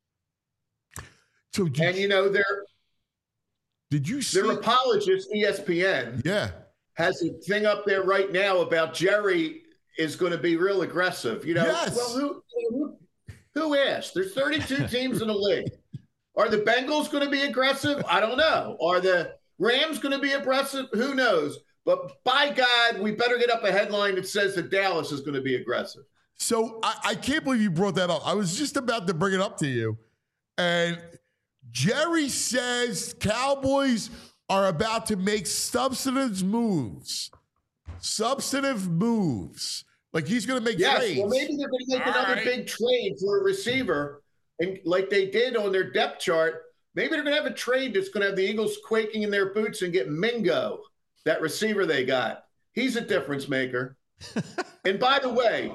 So did you see their apologist, ESPN? Yeah, has a thing up there right now about Jerry is going to be real aggressive. Yes. Well, who asked? There's 32 teams in the league. Are the Bengals going to be aggressive? I don't know. Are the Rams going to be aggressive? Who knows? But by God, we better get up a headline that says that Dallas is going to be aggressive. So I can't believe you brought that up. I was just about to bring it up to you. And Jerry says Cowboys are about to make substantive moves. Like he's going to make trades. Well, maybe they're going to make another big trade for a receiver. And like they did on their depth chart, maybe they're going to have a trade that's going to have the Eagles quaking in their boots and get Mingo, that receiver they got. He's a difference maker. And by the way,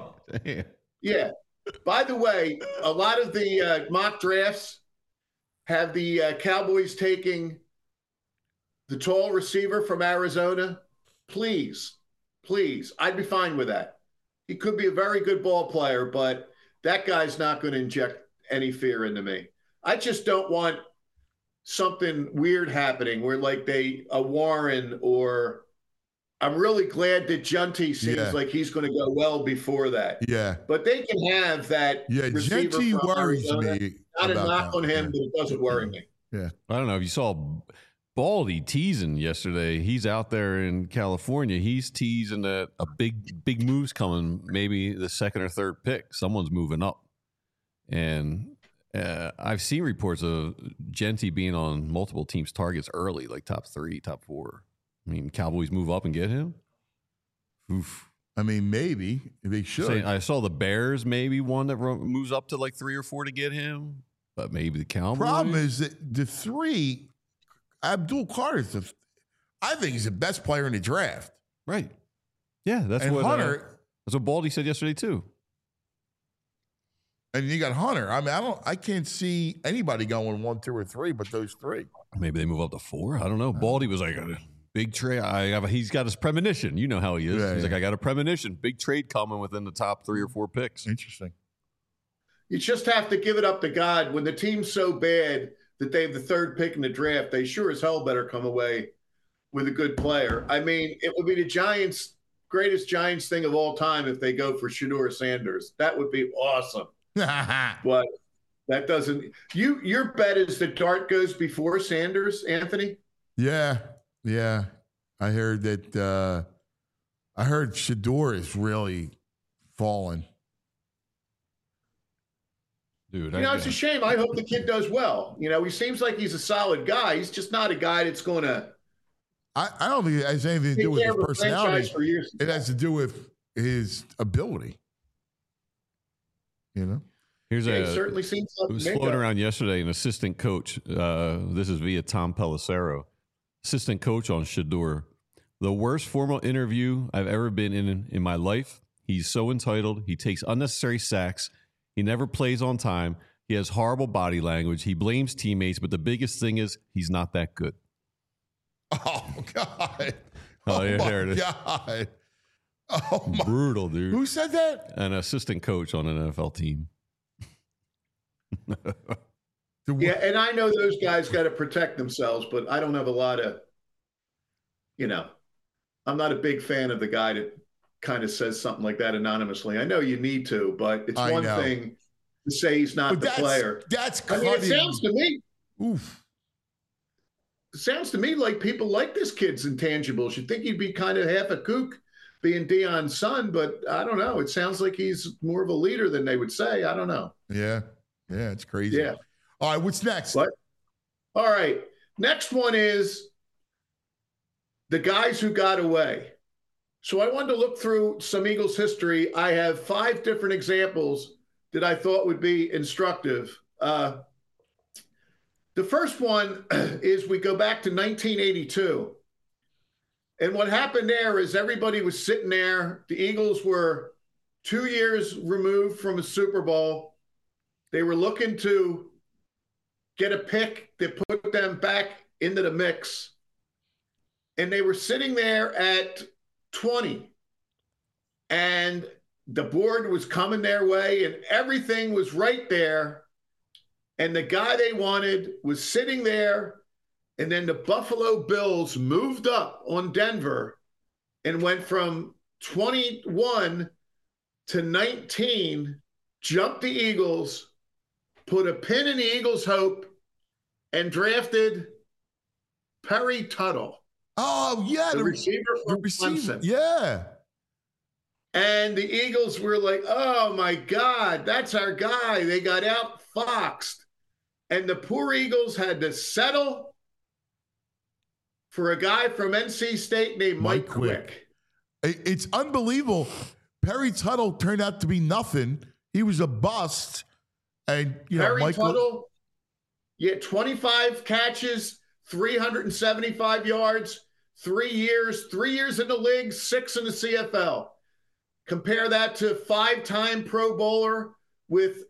a lot of the mock drafts have the Cowboys taking the tall receiver from Arizona. Please, I'd be fine with that. He could be a very good ball player, but that guy's not going to inject any fear into me. I just don't want something weird happening where like a Warren or I'm really glad that Junty seems like he's going to go well before that. Yeah. But they can have that receiver Junty from worries Arizona. me. Not a knock on him, but it doesn't worry me. Yeah. I don't know if you saw Baldy teasing yesterday. He's out there in California. He's teasing that a big move's coming, maybe the second or third pick. Someone's moving up. And I've seen reports of Genty being on multiple teams' targets early, like top 3, top 4. I mean, Cowboys move up and get him? Oof. I mean, maybe they should. I saw the Bears, maybe one that moves up to like 3 or 4 to get him, but maybe the Cowboys. Problem is that the 3, Abdul Carter's, I think he's the best player in the draft. Right. Yeah, that's what Baldy said yesterday too. And you got Hunter. I mean, I can't see anybody going 1, 2, or 3, but those 3. Maybe they move up to 4. I don't know. Baldy was like a big trade. He's got his premonition. You know how he is. Yeah, He's like, I got a premonition. Big trade coming within the top 3 or 4 picks. Interesting. You just have to give it up to God. When the team's so bad that they have the 3rd pick in the draft, they sure as hell better come away with a good player. I mean, it would be the greatest Giants thing of all time if they go for Shedeur Sanders. That would be awesome. But that doesn't. Your bet is that Dart goes before Sanders, Anthony? Yeah. I heard that. I heard Shedeur is really fallen. Dude, it's a shame. I hope the kid does well. He seems like he's a solid guy. He's just not a guy that's going to. I don't think it has anything to do with his personality. It has to do with his ability. He certainly seems like it was floating around yesterday. An assistant coach. This is via Tom Pelissero, assistant coach on Shedeur. The worst formal interview I've ever been in my life. He's so entitled. He takes unnecessary sacks. He never plays on time. He has horrible body language. He blames teammates, but the biggest thing is he's not that good. Oh God! There it is. God! Brutal, dude. Who said that? An assistant coach on an NFL team. Yeah, and I know those guys got to protect themselves, but I don't have a lot of, I'm not a big fan of the guy that kind of says something like that anonymously. I know you need to, but it's one thing to say he's not the player. That's cutting. It sounds to me. Oof. It sounds to me like people like this kid's intangibles. You'd think he'd be kind of half a kook being Deion's son, but I don't know. It sounds like he's more of a leader than they would say. I don't know. Yeah, it's crazy. Yeah. All right, what's next? All right. Next one is the guys who got away. So I wanted to look through some Eagles history. I have 5 different examples that I thought would be instructive. The first one is we go back to 1982. And what happened there is everybody was sitting there. The Eagles were 2 years removed from a Super Bowl. They were looking to get a pick that put them back into the mix, and they were sitting there at 20, and the board was coming their way, and everything was right there, and the guy they wanted was sitting there, and then the Buffalo Bills moved up on Denver and went from 21 to 19, jumped the Eagles, put a pin in the Eagles' hope, and drafted Perry Tuttle. Oh, yeah. The receiver from Clemson. Yeah. And the Eagles were like, oh, my God, that's our guy. They got outfoxed. And the poor Eagles had to settle for a guy from NC State named Mike Quick. It's unbelievable. Perry Tuttle turned out to be nothing. He was a bust. And, Perry Tuttle, 25 catches, 375 yards, 3 years in the league, 6 in the CFL. Compare that to 5-time Pro Bowler with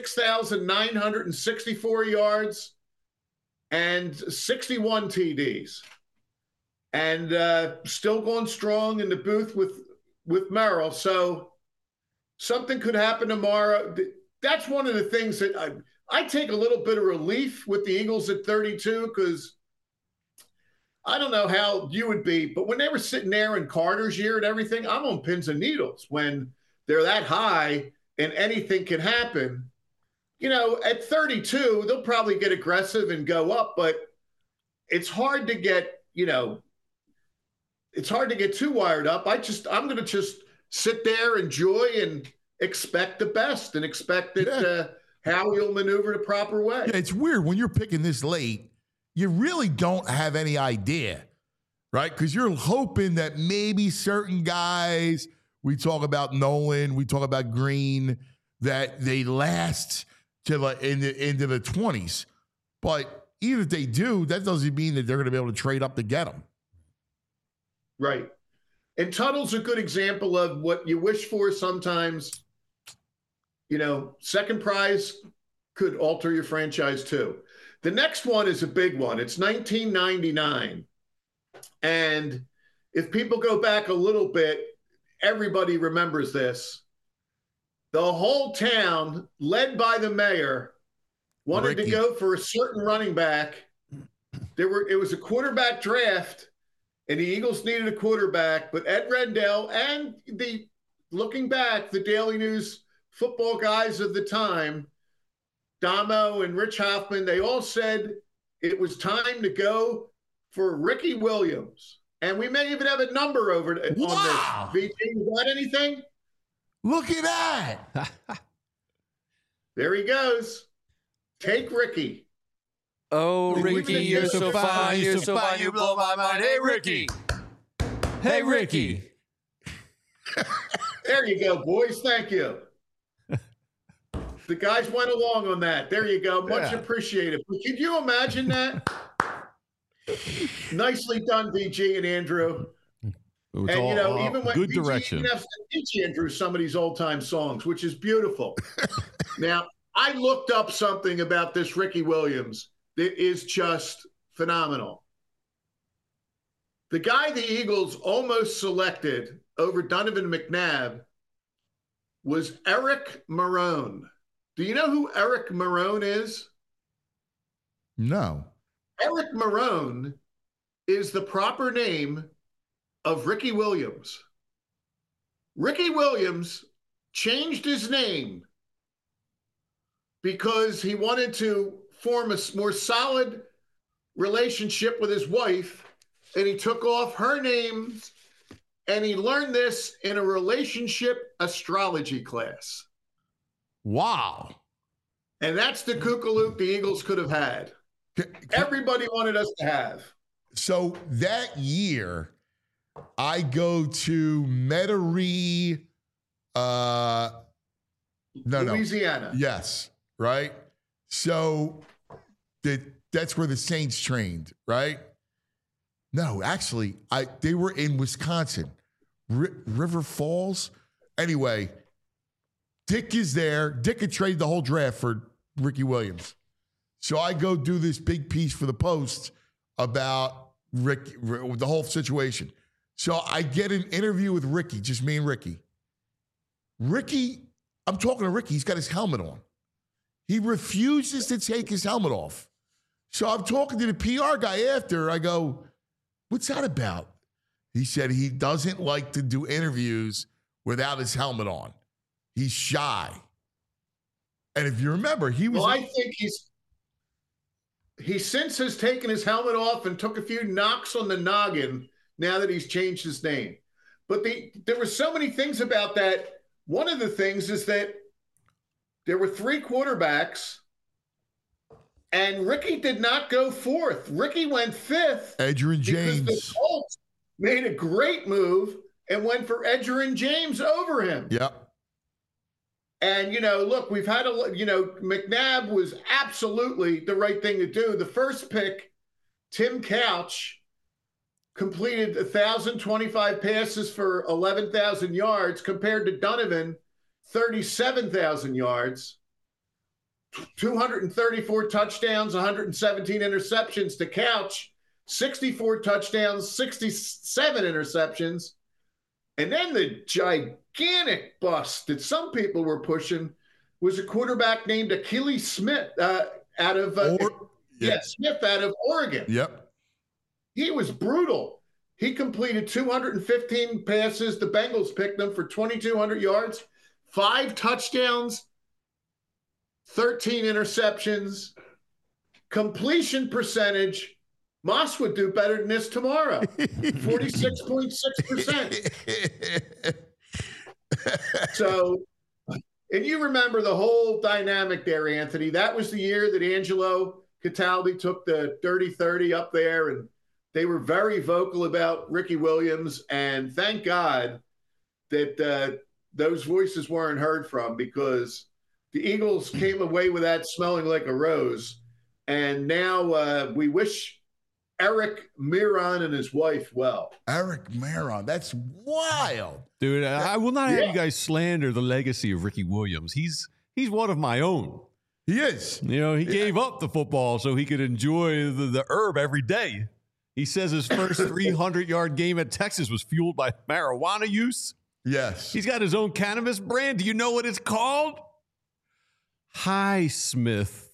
6,964 yards and 61 TDs. And still going strong in the booth with Merrill. So something could happen tomorrow. That's one of the things that I take a little bit of relief with the Eagles at 32, because I don't know how you would be, but when they were sitting there in Carter's year and everything, I'm on pins and needles when they're that high and anything can happen. At 32, they'll probably get aggressive and go up, but it's hard to get, it's hard to get too wired up. I'm going to just sit there, enjoy, and expect the best and expect that how you'll maneuver the proper way. Yeah, it's weird when you're picking this late. You really don't have any idea, right? Because you're hoping that maybe certain guys, we talk about Nolan, we talk about Green, that they last to into the 20s. But even if they do, that doesn't mean that they're going to be able to trade up to get them. Right. And Tuttle's a good example of what you wish for sometimes. Second prize could alter your franchise too. The next one is a big one. It's 1999. And if people go back a little bit, everybody remembers this. The whole town, led by the mayor, wanted to go for a certain running back. It was a quarterback draft, and the Eagles needed a quarterback, but Ed Rendell and looking back, the Daily News football guys of the time, Damo and Rich Hoffman, they all said it was time to go for Ricky Williams. And we may even have a number on this. VT, you got anything? Look at that. There he goes. Take Ricky. Oh, Ricky, you're so fine. You're so fine. You blow my mind. Hey, Ricky. Hey, Ricky. There you go, boys. Thank you. The guys went along on that. There you go. Much appreciated. But could you imagine that? Nicely done, VG and Andrew. And, even when good VG direction. even have to teach Andrew some of these old-time songs, which is beautiful. Now, I looked up something about this Ricky Williams that is just phenomenal. The guy the Eagles almost selected over Donovan McNabb was Eric Marone. Do you know who Eric Marone is? No. Eric Marone is the proper name of Ricky Williams. Ricky Williams changed his name because he wanted to form a more solid relationship with his wife, and he took off her name, and he learned this in a relationship astrology class. Wow. And that's the kookalook the Eagles could have had. Everybody wanted us to have. So that year, I go to Metairie, Louisiana. Yes, right? So that's where the Saints trained, right? No, actually, they were in Wisconsin, River Falls. Anyway, Dick is there. Dick had traded the whole draft for Ricky Williams. So I go do this big piece for the Post about Ricky, the whole situation. So I get an interview with Ricky, just me and Ricky. I'm talking to Ricky. He's got his helmet on. He refuses to take his helmet off. So I'm talking to the PR guy after. I go, what's that about? He said he doesn't like to do interviews without his helmet on. He's shy. And if you remember, he was... Well, I think he since has taken his helmet off and took a few knocks on the noggin now that he's changed his name. But there were so many things about that. One of the things is that there were 3 quarterbacks, and Ricky did not go 4th. Ricky went 5th. Edgerrin James. Because the Colts made a great move and went for Edgerrin James over him. Yep. And, look, we've had McNabb was absolutely the right thing to do. The first pick, Tim Couch, completed 1,025 passes for 11,000 yards compared to Donovan, 37,000 yards, 234 touchdowns, 117 interceptions to Couch, 64 touchdowns, 67 interceptions. And then the gigantic bust that some people were pushing was a quarterback named Achilles Smith out of Smith out of Oregon. Yep. He was brutal. He completed 215 passes. The Bengals picked him for 2,200 yards, 5 touchdowns, 13 interceptions, completion percentage. Moss would do better than this tomorrow. 46.6%. So, and you remember the whole dynamic there, Anthony. That was the year that Angelo Cataldi took the Dirty 30 up there, and they were very vocal about Ricky Williams. And thank God that those voices weren't heard from, because the Eagles came away with that smelling like a rose. And now we wish Eric Miron and his wife well. Eric Miron, that's wild. Dude, I will not have you guys slander the legacy of Ricky Williams. He's one of my own. He is. He gave up the football so he could enjoy the herb every day. He says his first 300-yard game at Texas was fueled by marijuana use. Yes. He's got his own cannabis brand. Do you know what it's called? Highsmith.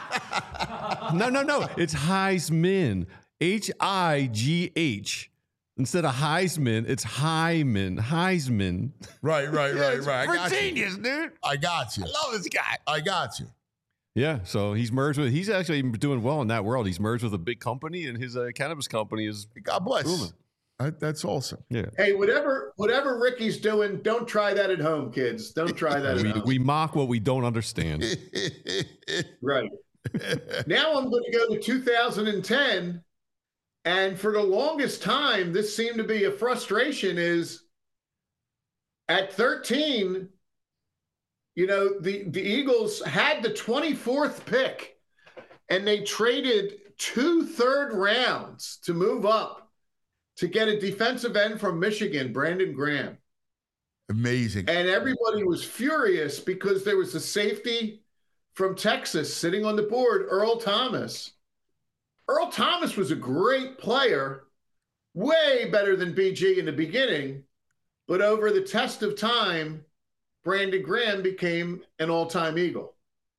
No. It's Heisman. H-I-G-H. Instead of Heisman, it's Hyman. Heisman. Right. We're genius, dude. I got you. I love this guy. I got you. Yeah, so he's actually doing well in that world. He's merged with a big company, and his cannabis company is God bless. booming. That's awesome. Yeah. Hey, whatever Ricky's doing, don't try that at home, kids. Don't try that at home. We mock what we don't understand. Right. Now I'm going to go to 2010. And for the longest time, this seemed to be a frustration, is at 13, the Eagles had the 24th pick, and they traded 2 third rounds to move up to get a defensive end from Michigan, Brandon Graham. Amazing. And everybody was furious because there was a safety from Texas sitting on the board, Earl Thomas. Earl Thomas was a great player, way better than BG in the beginning, but over the test of time, Brandon Graham became an all-time Eagle.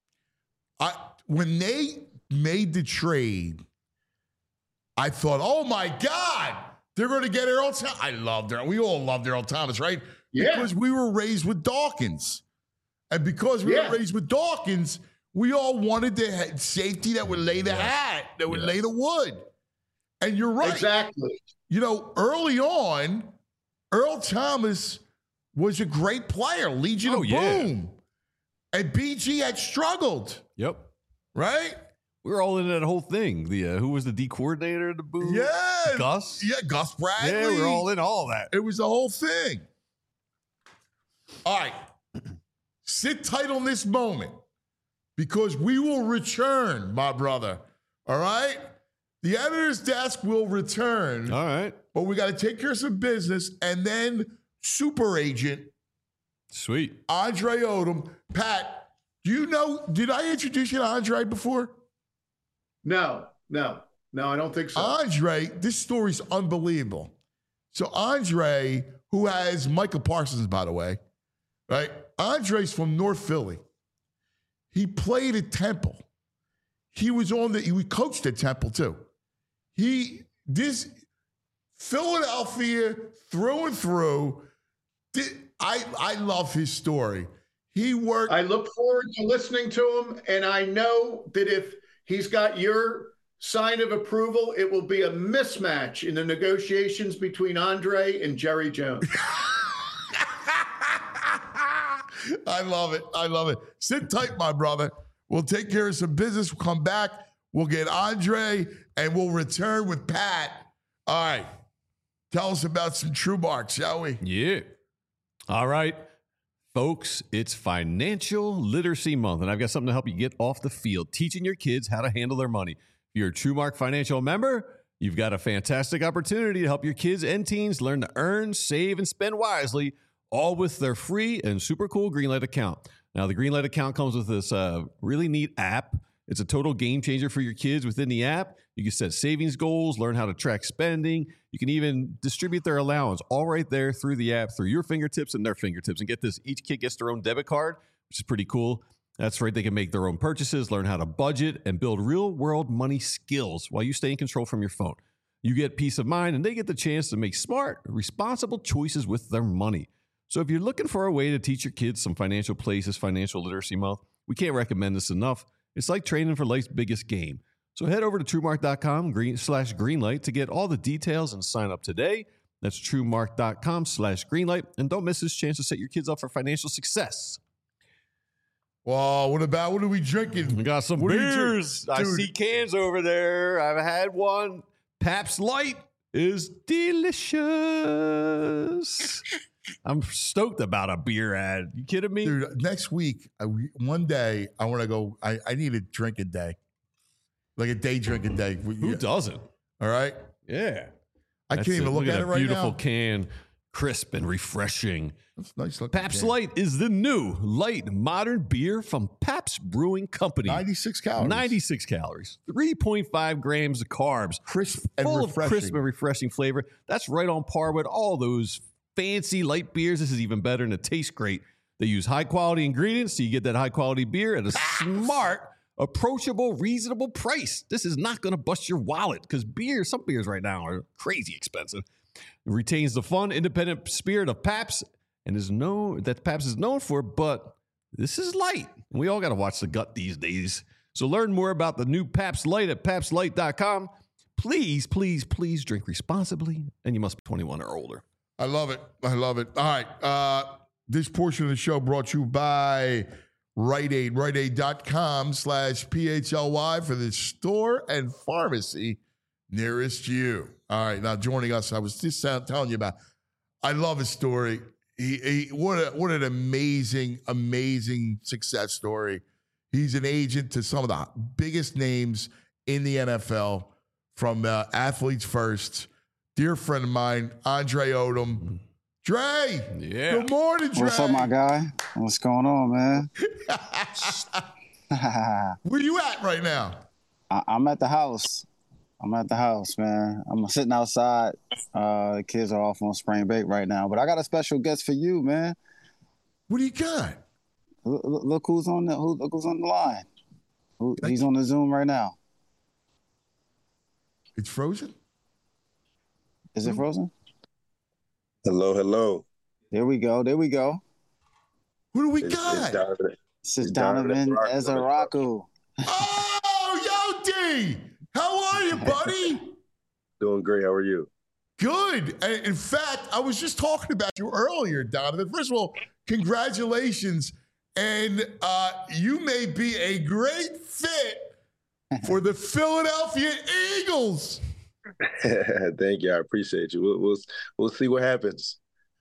When they made the trade, I thought, oh my God, they're going to get Earl Thomas. I loved Earl. We all loved Earl Thomas, right? Yeah. Because we were raised with Dawkins. And because we were raised with Dawkins, we all wanted the safety that would lay the hat, that would lay the wood. And you're right. Exactly. Early on, Earl Thomas was a great player, Legion of Boom. And BG had struggled. Yep. Right? We were all in that whole thing. Who was the D coordinator of the Boom? Yeah. Gus? Yeah, Gus Bradley. Yeah, we were all in all that. It was the whole thing. All right. Sit tight on this moment, because we will return, my brother. All right? The editor's desk will return. All right. But we got to take care of some business, and then super agent. Sweet. Andre Odom. Pat, do you know, did I introduce you to Andre before? No. No, I don't think so. Andre, this story's unbelievable. So Andre, who has Michael Parsons, by the way, right? Andre's from North Philly. He played at Temple. He coached at Temple too. This Philadelphia through and through. I love his story. He worked. I look forward to listening to him, and I know that if he's got your sign of approval, it will be a mismatch in the negotiations between Andre and Jerry Jones. I love it. I love it. Sit tight, my brother. We'll take care of some business. We'll come back. We'll get Andre, and we'll return with Pat. All right. Tell us about some TrueMark, shall we? Yeah. All right. Folks, it's Financial Literacy Month, and I've got something to help you get off the field, teaching your kids how to handle their money. If you're a TrueMark Financial member, you've got a fantastic opportunity to help your kids and teens learn to earn, save, and spend wisely, all with their free and super cool Greenlight account. Now, the Greenlight account comes with this really neat app. It's a total game changer for your kids. Within the app, you can set savings goals, learn how to track spending. You can even distribute their allowance all right there through the app, through your fingertips and their fingertips. And get this, each kid gets their own debit card, which is pretty cool. That's right. They can make their own purchases, learn how to budget, and build real-world money skills while you stay in control from your phone. You get peace of mind, and they get the chance to make smart, responsible choices with their money. So if you're looking for a way to teach your kids some financial plays this Financial Literacy Month, we can't recommend this enough. It's like training for life's biggest game. So head over to TrueMark.com/Greenlight to get all the details and sign up today. That's TrueMark.com/Greenlight. And don't miss this chance to set your kids up for financial success. Well, what are we drinking? We got some beers. I see cans over there. I've had one. Pabst Light is delicious. I'm stoked about a beer ad. You kidding me? Dude, next week, one day, I want to go. I need a drinking day. Like a day drinking day. Who doesn't? All right? Yeah. I can't even look at it right now. Beautiful can, crisp and refreshing. That's nice looking. Pabst Light is the new light modern beer from Pabst Brewing Company. 96 calories. 96 calories. 3.5 grams of carbs. Crisp and full refreshing. of crisp and refreshing flavor. That's right on par with all those fancy light beers. This is even better and it tastes great. They use high quality ingredients so you get that high quality beer at a smart, approachable, reasonable price. This is not going to bust your wallet because some beers right now are crazy expensive. It retains the fun, independent spirit of Pabst and that Pabst is known for, but this is light. We all got to watch the gut these days. So learn more about the new Pabst Light at PabstLight.com. Please, please, please drink responsibly, and you must be 21 or older. I love it. I love it. All right. This portion of the show brought to you by Rite Aid. RiteAid.com/PHLY for the store and pharmacy nearest you. All right. Now, joining us, I was just telling you about, I love his story. What an amazing, amazing success story. He's an agent to some of the biggest names in the NFL, from Athletes First. Dear friend of mine, Andre Odom. Dre! Yeah. Good morning, Dre. What's up, my guy? What's going on, man? Where you at right now? I'm at the house. Man. I'm sitting outside. The kids are off on spring break right now, but I got a special guest for you, man. What do you got? Look who's on the line. He's on the Zoom right now. It's frozen? Is it frozen? Hello. There we go. Who do we got? This is Donovan Ezaraku. Oh, yo, D! How are you, buddy? Doing great. How are you? Good. In fact, I was just talking about you earlier, Donovan. First of all, congratulations. And you may be a great fit for the Philadelphia Eagles. Thank you. I appreciate you. We'll see what happens.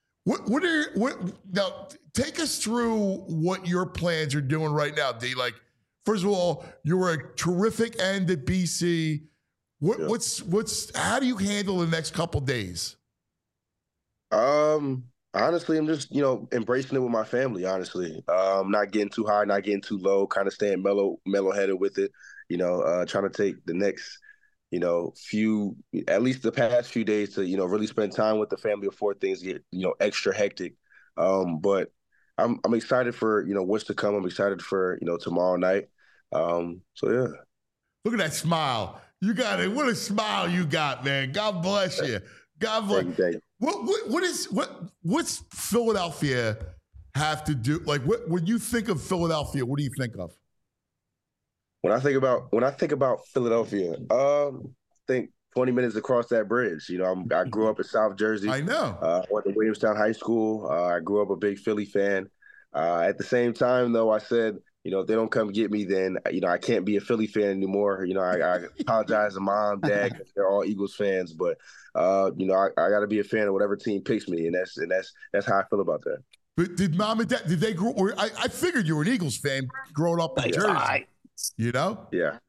Now take us through what your plans are doing right now, D. Like, first of all, you were a terrific end at BC. How do you handle the next couple days? Honestly, I'm just, embracing it with my family, honestly. Not getting too high, not getting too low, kind of staying mellow-headed with it, trying to take the next at least the past few days to, really spend time with the family before things get, extra hectic. But I'm excited for, what's to come. I'm excited for, tomorrow night. So yeah. Look at that smile. You got it. What a smile you got, man. God bless you. God bless you. What's Philadelphia have to do? Like, when you think of Philadelphia, what do you think of? When I think about Philadelphia, I think 20 minutes across that bridge. I grew up in South Jersey. I know. Went to Williamstown High School. I grew up a big Philly fan. At the same time, though, I said, if they don't come get me, then, I can't be a Philly fan anymore. I apologize to mom, dad, 'cause they're all Eagles fans. But, I got to be a fan of whatever team picks me. And that's how I feel about that. But did mom and dad, did they grow, or I figured you were an Eagles fan growing up in Jersey. Yeah.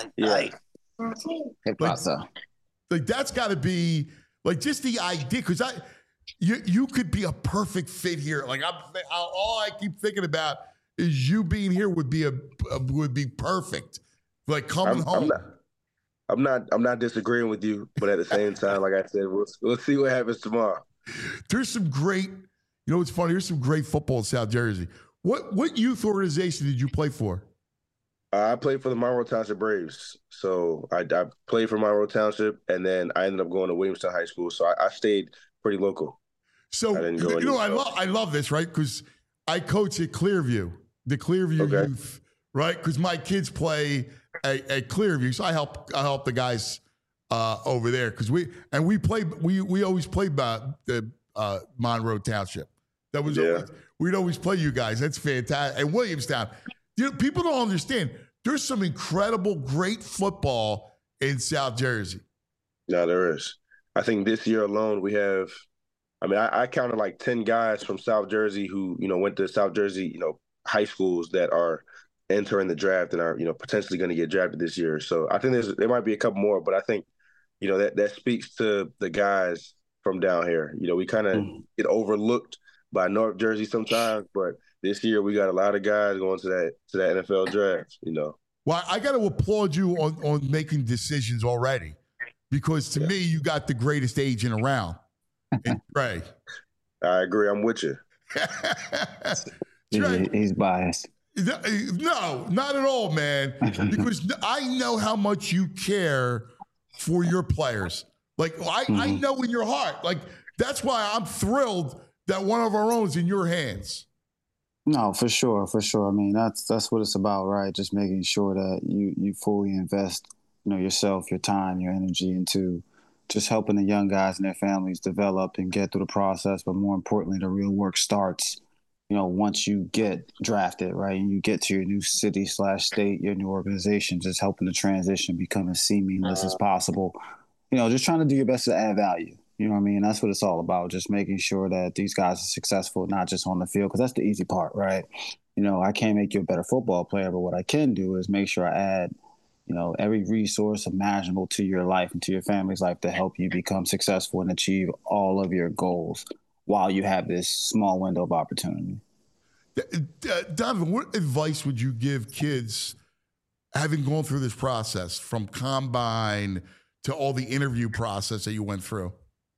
Like that's got to be like just the idea, because you could be a perfect fit here. Like all I keep thinking about is you being here would be perfect. Like coming home. I'm not disagreeing with you, but at the same time, like I said, we'll see what happens tomorrow. There's some great, what's funny? There's some great football in South Jersey. What youth organization did you play for? I played for the Monroe Township Braves. So I played for Monroe Township, and then I ended up going to Williamstown High School. So I stayed pretty local. So, I love this, right? Because I coach at Clearview, the Clearview youth, right? Because my kids play at Clearview. So I help the guys over there. Because we always played by the Monroe Township. That was we'd always play you guys. That's fantastic. And Williamstown. People don't understand. There's some incredible, great football in South Jersey. No, there is. I think this year alone we have, I counted like 10 guys from South Jersey who, went to South Jersey, high schools that are entering the draft and are, potentially going to get drafted this year. So I think there might be a couple more, but I think, that speaks to the guys from down here. We kind of get overlooked by North Jersey sometimes, but this year we got a lot of guys going to that NFL draft, Well, I got to applaud you on making decisions already, because to me, you got the greatest agent around. And Trey. I agree. I'm with you. Trey, he's biased. No, not at all, man. Because I know how much you care for your players. Like, I know in your heart. Like, that's why I'm thrilled that one of our own is in your hands. No, for sure. That's what it's about, right? Just making sure that you fully invest, yourself, your time, your energy into just helping the young guys and their families develop and get through the process. But more importantly, the real work starts, once you get drafted, right? And you get to your new city/state, your new organization, just helping the transition become as seamless as possible. Just trying to do your best to add value. You know what I mean? That's what it's all about, just making sure that these guys are successful, not just on the field, because that's the easy part, right? I can't make you a better football player, but what I can do is make sure I add, every resource imaginable to your life and to your family's life to help you become successful and achieve all of your goals while you have this small window of opportunity. Donovan, what advice would you give kids having gone through this process from combine to all the interview process that you went through?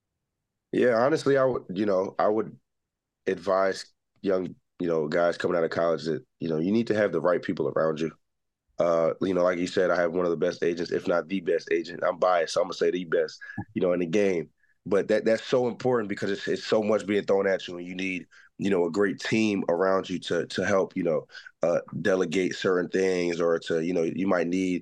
Yeah, honestly, I would advise young, guys coming out of college that, you need to have the right people around you. Like you said, I have one of the best agents, if not the best agent. I'm biased, so I'm gonna say the best, in the game. But that's so important because it's so much being thrown at you, and you need, a great team around you to help, delegate certain things, or to, you might need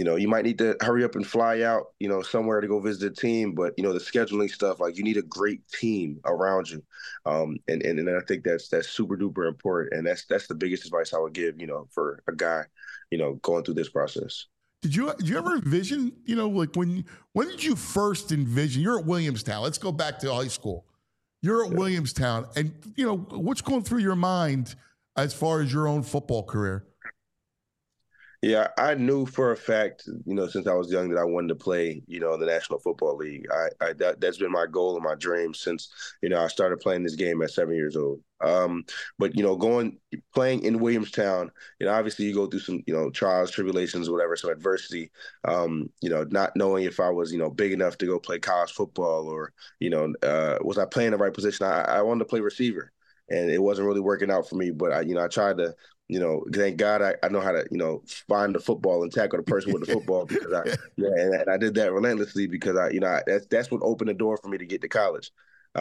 to hurry up and fly out, somewhere to go visit a team. But, the scheduling stuff, like you need a great team around you. And I think that's super duper important. And that's the biggest advice I would give, for a guy, going through this process. Did you ever envision, like when did you first envision, you're at Williamstown, let's go back to high school. You're at Williamstown, and, what's going through your mind as far as your own football career? Yeah, I knew for a fact, since I was young that I wanted to play, in the National Football League. That's been my goal and my dream since, I started playing this game at 7 years old. But playing in Williamstown, obviously you go through some, trials, tribulations, whatever, some adversity. Not knowing if I was, big enough to go play college football or, was I playing the right position? I wanted to play receiver, and it wasn't really working out for me. But I tried to. Thank God I know how to, find the football and tackle the person with the football because and I did that relentlessly because that's what opened the door for me to get to college.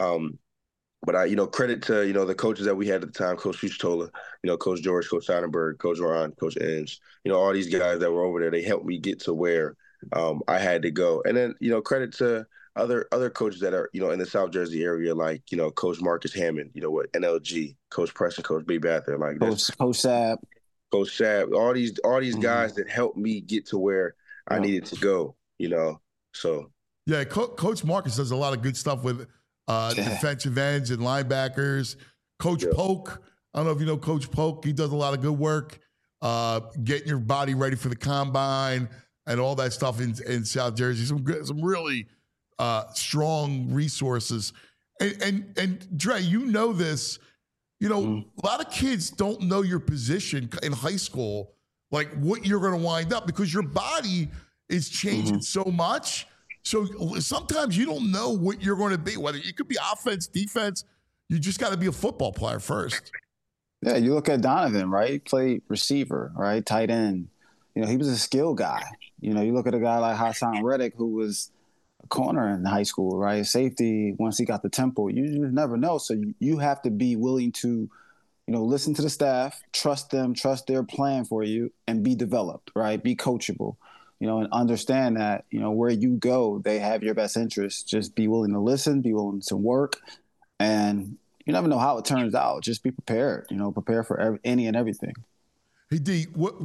But credit to, the coaches that we had at the time, Coach Fuchitola, Coach George, Coach Seidenberg, Coach Ron, Coach Inge, all these guys that were over there, they helped me get to where I had to go. And then, credit to other coaches that are, in the South Jersey area, like, Coach Marcus Hammond, with NLG, Coach Preston, Coach B. Bather, like Coach Sapp. Coach Sapp, all these guys that helped me get to where I needed to go, so. Yeah, Coach Marcus does a lot of good stuff with defensive ends and linebackers. Coach Polk, I don't know if you know Coach Polk, he does a lot of good work getting your body ready for the combine and all that stuff in South Jersey. Some really strong resources. And Dre, this, a lot of kids don't know your position in high school, like what you're going to wind up because your body is changing so much. So sometimes you don't know what you're going to be, whether you could be offense, defense. You just got to be a football player first. Yeah, you look at Donovan, right? He played receiver, right? Tight end. He was a skill guy. You look at a guy like Hassan Reddick, who was a corner in high school, right? Safety, once he got the tempo, you just never know. So you have to be willing to, listen to the staff, trust them, trust their plan for you, and be developed, right? Be coachable, and understand that, where you go, they have your best interest. Just be willing to listen, be willing to work, and you never know how it turns out. Just be prepared, prepare for any and everything. Hey, D,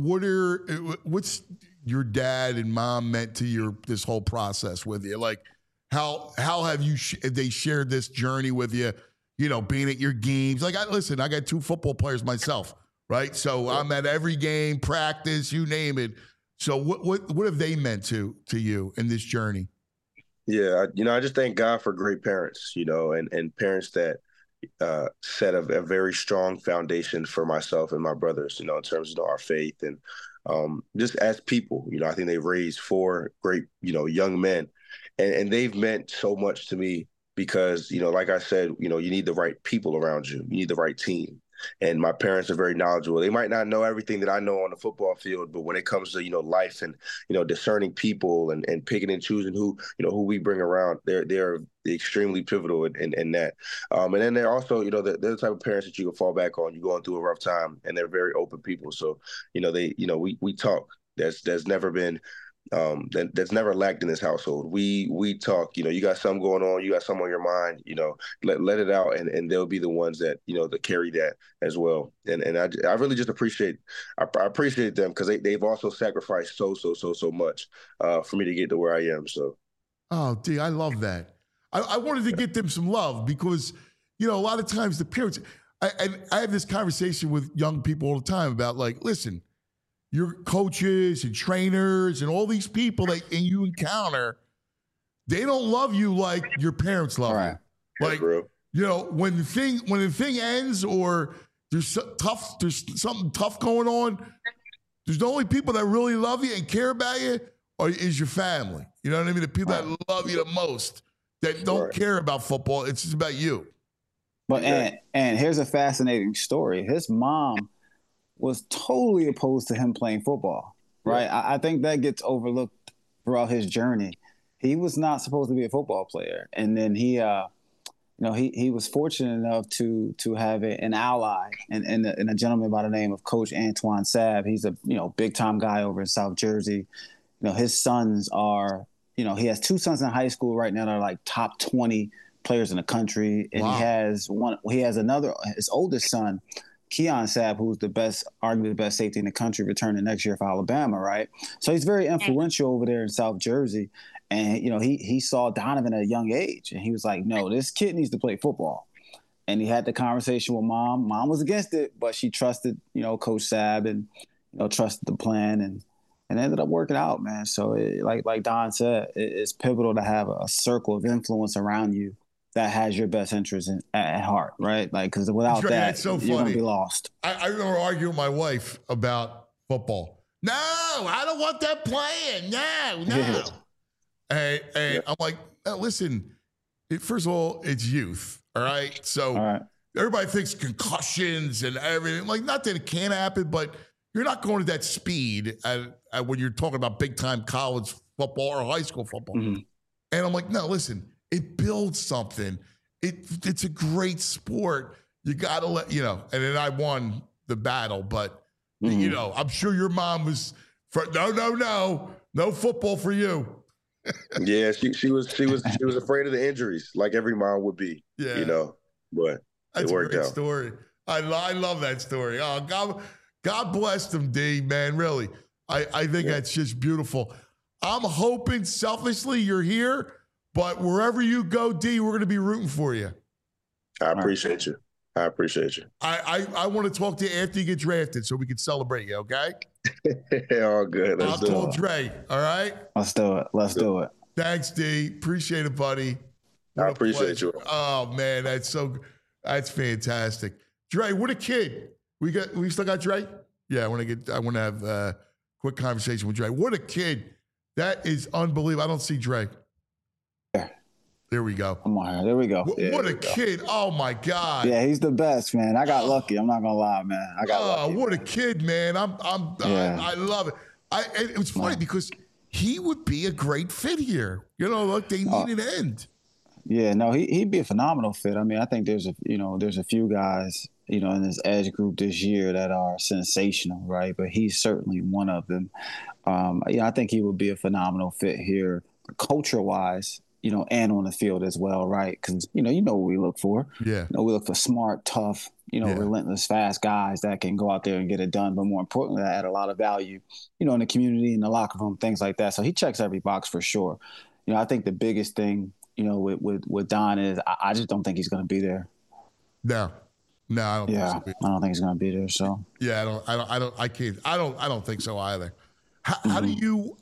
what's your dad and mom meant to this whole process with you? Like, how have they shared this journey with you? Being at your games. Like, I got 2 football players myself, right? So I'm at every game, practice, you name it. So what have they meant to you in this journey? Yeah, I just thank God for great parents, and parents that set a very strong foundation for myself and my brothers, in terms of our faith and just as people. I think they raised 4 great, young men, and they've meant so much to me because, like I said, you need the right people around you. You need the right team. And my parents are very knowledgeable. They might not know everything that I know on the football field, but when it comes to, life and, discerning people and picking and choosing who we bring around, they're extremely pivotal in that. And then they're also, they're the type of parents that you can fall back on. You're going through a rough time, and they're very open people. So, we talk. There's never been that's never lacked in this household. We talk, you got something going on, you got something on your mind, let it out, and they'll be the ones that, that carry that as well. And I really just appreciate them because they've also sacrificed so much for me to get to where I am. So. Oh, D, I love that. I wanted to get them some love because, a lot of times the parents, I have this conversation with young people all the time about, like, listen, your coaches and trainers and all these people that you encounter, they don't love you like your parents love you. Like, when the thing ends or there's something tough going on, there's the only people that really love you and care about you is your family. You know what I mean? The people that love you the most, that don't care about football. It's just about you. But and here's a fascinating story. His mom was totally opposed to him playing football, right? Yeah. I think that gets overlooked throughout his journey. He was not supposed to be a football player. And then he was fortunate enough to have an ally and a gentleman by the name of Coach Antoine Sabb. He's a, big time guy over in South Jersey. His sons are, he has 2 sons in high school right now that are like top 20 players in the country. And he has another, his oldest son, Keon Sabb, who's arguably the best safety in the country, returning next year for Alabama, right? So he's very influential over there in South Jersey. And, he saw Donovan at a young age. And he was like, no, this kid needs to play football. And he had the conversation with Mom. Mom was against it, but she trusted, Coach Sabb. And, trusted the plan and ended up working out, man. So like Don said, it's pivotal to have a circle of influence around you that has your best interest at heart, right? Like, because without that, so you're going to be lost. I remember arguing with my wife about football. No, I don't want that playing. No. And I'm like, listen, first of all, it's youth, all right? So everybody thinks concussions and everything. Like, not that it can't happen, but you're not going to that speed when you're talking about big-time college football or high school football. Mm-hmm. And I'm like, no, listen, it builds something. It's a great sport. You got to let, and then I won the battle, but, I'm sure your mom was, no football for you. Yeah, she was afraid of the injuries, like every mom would be. Yeah, but that's it worked a great out. Story. I love that story. Oh, God bless them, D, man. Really, I think that's just beautiful. I'm hoping selfishly you're here, but wherever you go, D, we're going to be rooting for you. I appreciate you. I want to talk to you after you get drafted so we can celebrate you, okay? All good. I'll call Dre, all right? Let's do it. Thanks, D. Appreciate it, buddy. I appreciate you. Oh, man, that's fantastic. Dre, what a kid. We still got Dre? Yeah, I want to have a quick conversation with Dre. What a kid. That is unbelievable. I don't see Dre. There we go. Come on, there we go. What a kid. Oh, my God. Yeah, he's the best, man. I got lucky. I'm not going to lie, man. I got lucky. What a kid, man. I love it. It was funny because he would be a great fit here. Look, they need an end. Yeah, no, he'd be a phenomenal fit. I mean, I think there's a few guys, in this edge group this year that are sensational, right? But he's certainly one of them. I think he would be a phenomenal fit here, culture-wise, and on the field as well, right? Because, what we look for. Yeah. We look for smart, tough, relentless, fast guys that can go out there and get it done. But more importantly, that add a lot of value, in the community, in the locker room, things like that. So he checks every box for sure. I think the biggest thing, with Don is I just don't think he's going to be there. No, I don't. Yeah, think so. I don't think he's going to be there. So yeah, I don't think so either. How do you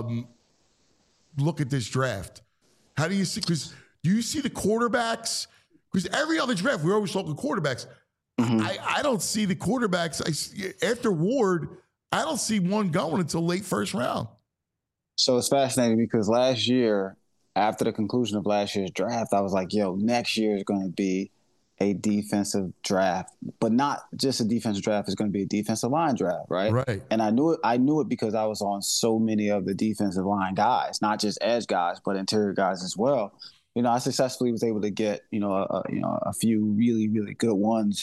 look at this draft? How do you see? Because do you see the quarterbacks? Because every other draft we're always talking quarterbacks. Mm-hmm. I don't see the quarterbacks. After Ward, I don't see one going until late first round. So it's fascinating because last year, after the conclusion of last year's draft, I was like, next year is going to be a defensive draft, but not just a defensive draft. It's going to be a defensive line draft, right? Right. And I knew it because I was on so many of the defensive line guys, not just edge guys, but interior guys as well. I successfully was able to get, a few really, really good ones.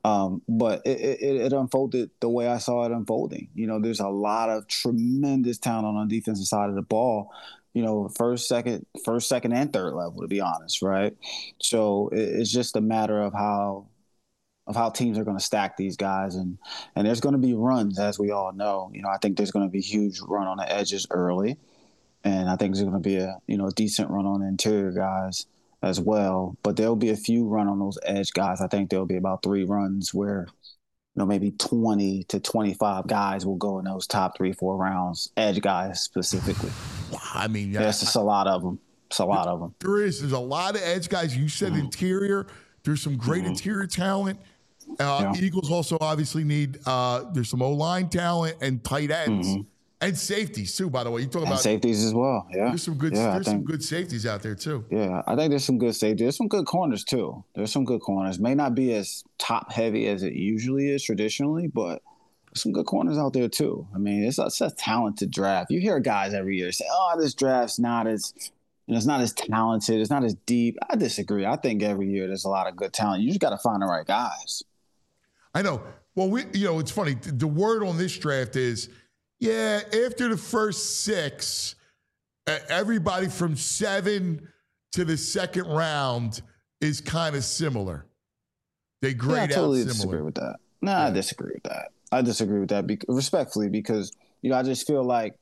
But it unfolded the way I saw it unfolding. There's a lot of tremendous talent on the defensive side of the ball. First, second, and third level, to be honest, right? So it's just a matter of how teams are going to stack these guys, and there's going to be runs, as we all know. I think there's going to be a huge run on the edges early, and I think there's going to be a decent run on the interior guys as well. But there'll be a few run on those edge guys. I think there'll be about 3 runs where maybe 20 to 25 guys will go in those top 3-4 rounds, edge guys specifically. I mean, there's just a lot of them. It's a lot of them. There's a lot of edge guys. You said interior. There's some great interior talent. Eagles also obviously need, there's some O-line talent and tight ends. And safeties too, by the way. You talk about safeties as well. Yeah, there's some good. Some good safeties out there too. Yeah, I think there's some good safeties. There's some good corners too. There's some good corners. May not be as top heavy as it usually is traditionally, but there's some good corners out there too. I mean, it's a talented draft. You hear guys every year say, "Oh, this draft's not as." It's not as talented. It's not as deep. I disagree. I think every year there's a lot of good talent. You just got to find the right guys. I know. Well, it's funny. The word on this draft is. Yeah, after the first 6, everybody from 7 to the second round is kind of similar. They grade I totally out similar. Disagree with that. I disagree with that. I disagree with that respectfully because I just feel like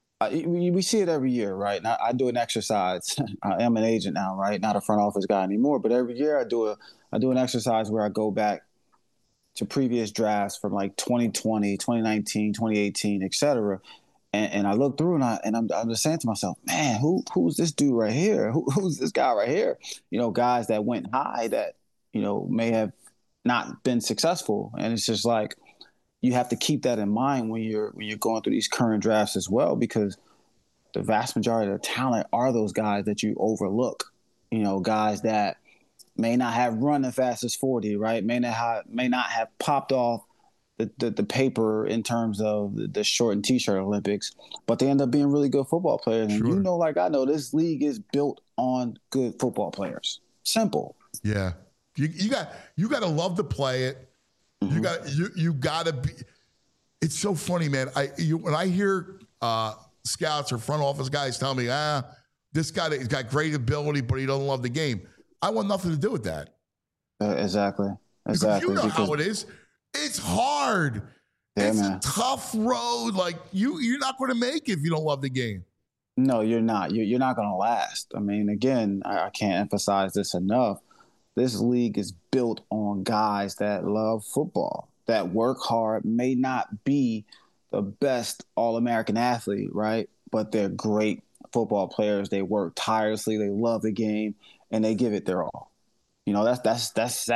we see it every year, right? And I do an exercise. I am an agent now, right? Not a front office guy anymore. But every year I do an exercise where I go back to previous drafts from like 2020, 2019, 2018, et cetera. And I look through and I'm just saying to myself, man, who's this dude right here? Who's this guy right here? You know, guys that went high that, you know, may have not been successful. And it's just like, you have to keep that in mind when you're going through these current drafts as well, because the vast majority of the talent are those guys that you overlook. You know, guys that may not have run the fastest 40, right? May not have popped off the paper in terms of the short and t-shirt Olympics, but they end up being really good football players. And you know, like I know, this league is built on good football players. Simple. Yeah. You got to love to play it. Mm-hmm. You got to be. It's so funny, man. When I hear scouts or front office guys tell me, this guy has got great ability, but he doesn't love the game. I want nothing to do with that. Exactly. Because you know how it is. It's hard. Yeah, it's man. a tough road. Like you're not going to make it if you don't love the game. No, you're not. You're not going to last. I mean, again, I can't emphasize this enough. This league is built on guys that love football, that work hard, may not be the best All-American athlete, right? But they're great football players. They work tirelessly. They love the game, and they give it their all. You know, that's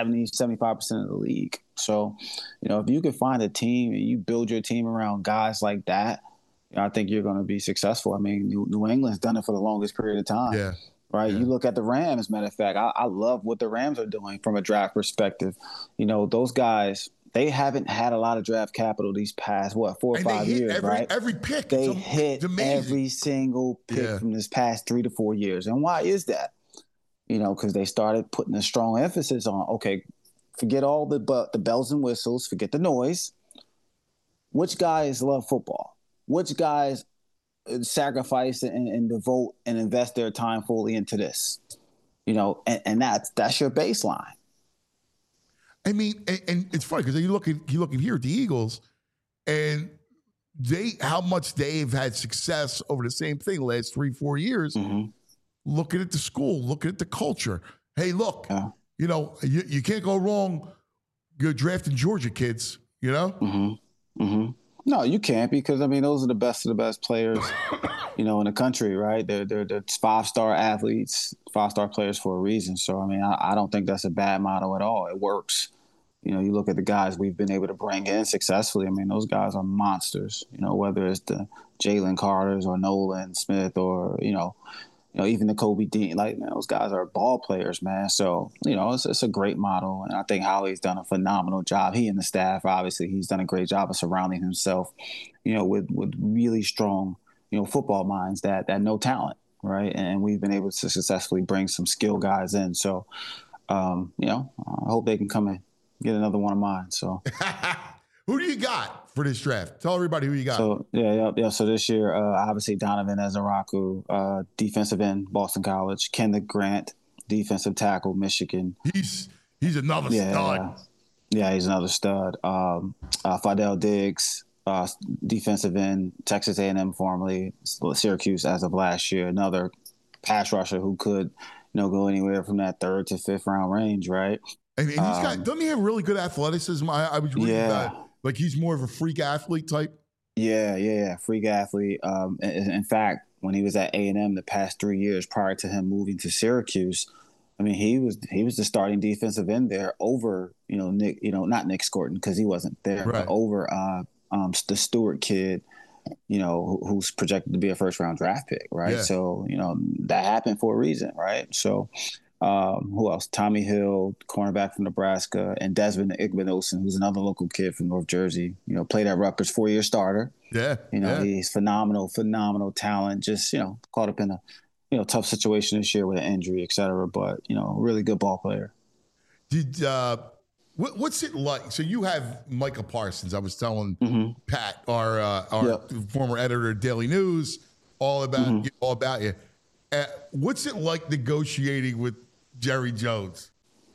75% of the league. So, you know, if you can find a team and you build your team around guys like that, you know, I think you're going to be successful. I mean, New England's done it for the longest period of time. Yeah. Right. Yeah. You look at the Rams, matter of fact, I love what the Rams are doing from a draft perspective. You know, those guys, they haven't had a lot of draft capital these past, 4 or 5 years, right? Every pick. They hit every single pick from this past 3 to 4 years. And why is that? You know, because they started putting a strong emphasis on, okay, forget all the bells and whistles, forget the noise. Which guys love football? Which guys sacrifice and devote and invest their time fully into this? You know, and that's your baseline. I mean, and it's funny because you look at here at the Eagles, and how much they've had success over the same thing the last 3-4 years. Mm-hmm. Looking at the school, looking at the culture. Hey, look, you know, you can't go wrong. You're drafting Georgia kids, you know? Mm-hmm. Mm-hmm. No, you can't, because, I mean, those are the best of the best players, you know, in the country, right? They're 5-star athletes, 5-star players for a reason. So, I mean, I don't think that's a bad model at all. It works. You know, you look at the guys we've been able to bring in successfully. I mean, those guys are monsters, you know, whether it's the Jalen Carters or Nolan Smith or, you know, even the Kobe Dean, like, man, those guys are ball players, man. So, you know, it's a great model. And I think Holly's done a phenomenal job. He and the staff, obviously, he's done a great job of surrounding himself, you know, with really strong, you know, football minds that know talent, right? And we've been able to successfully bring some skill guys in. So, you know, I hope they can come and get another one of mine. So, who do you got for this draft? Tell everybody who you got. So yeah. So this year, obviously Donovan Ezaraku, defensive end, Boston College. Kenneth Grant, defensive tackle, Michigan. He's another stud. Yeah, he's another stud. Fidel Diggs, defensive end, Texas A&M formerly, Syracuse as of last year. Another pass rusher who could, you know, go anywhere from that 3rd to 5th round range, right? And he's got, doesn't he have really good athleticism? I was reading that. Like, he's more of a freak athlete type? Yeah. Freak athlete. In fact, when he was at A&M the past 3 years prior to him moving to Syracuse, I mean, he was the starting defensive end there over, you know, Nick, you know, not Nick Scorton because he wasn't there, right, but over the Stewart kid, you know, who's projected to be a 1st-round draft pick, right? Yeah. So, you know, that happened for a reason, right? So, who else? Tommy Hill, cornerback from Nebraska, and Desmond Igbinosun, who's another local kid from North Jersey. You know, played at Rutgers, 4-year starter. Yeah, you know, he's phenomenal talent. Just, you know, caught up in a, you know, tough situation this year with an injury, et cetera. But, you know, really good ball player. Did what's it like? So you have Micah Parsons. I was telling Pat, our former editor of Daily News, all about you. What's it like negotiating with Jerry Jones?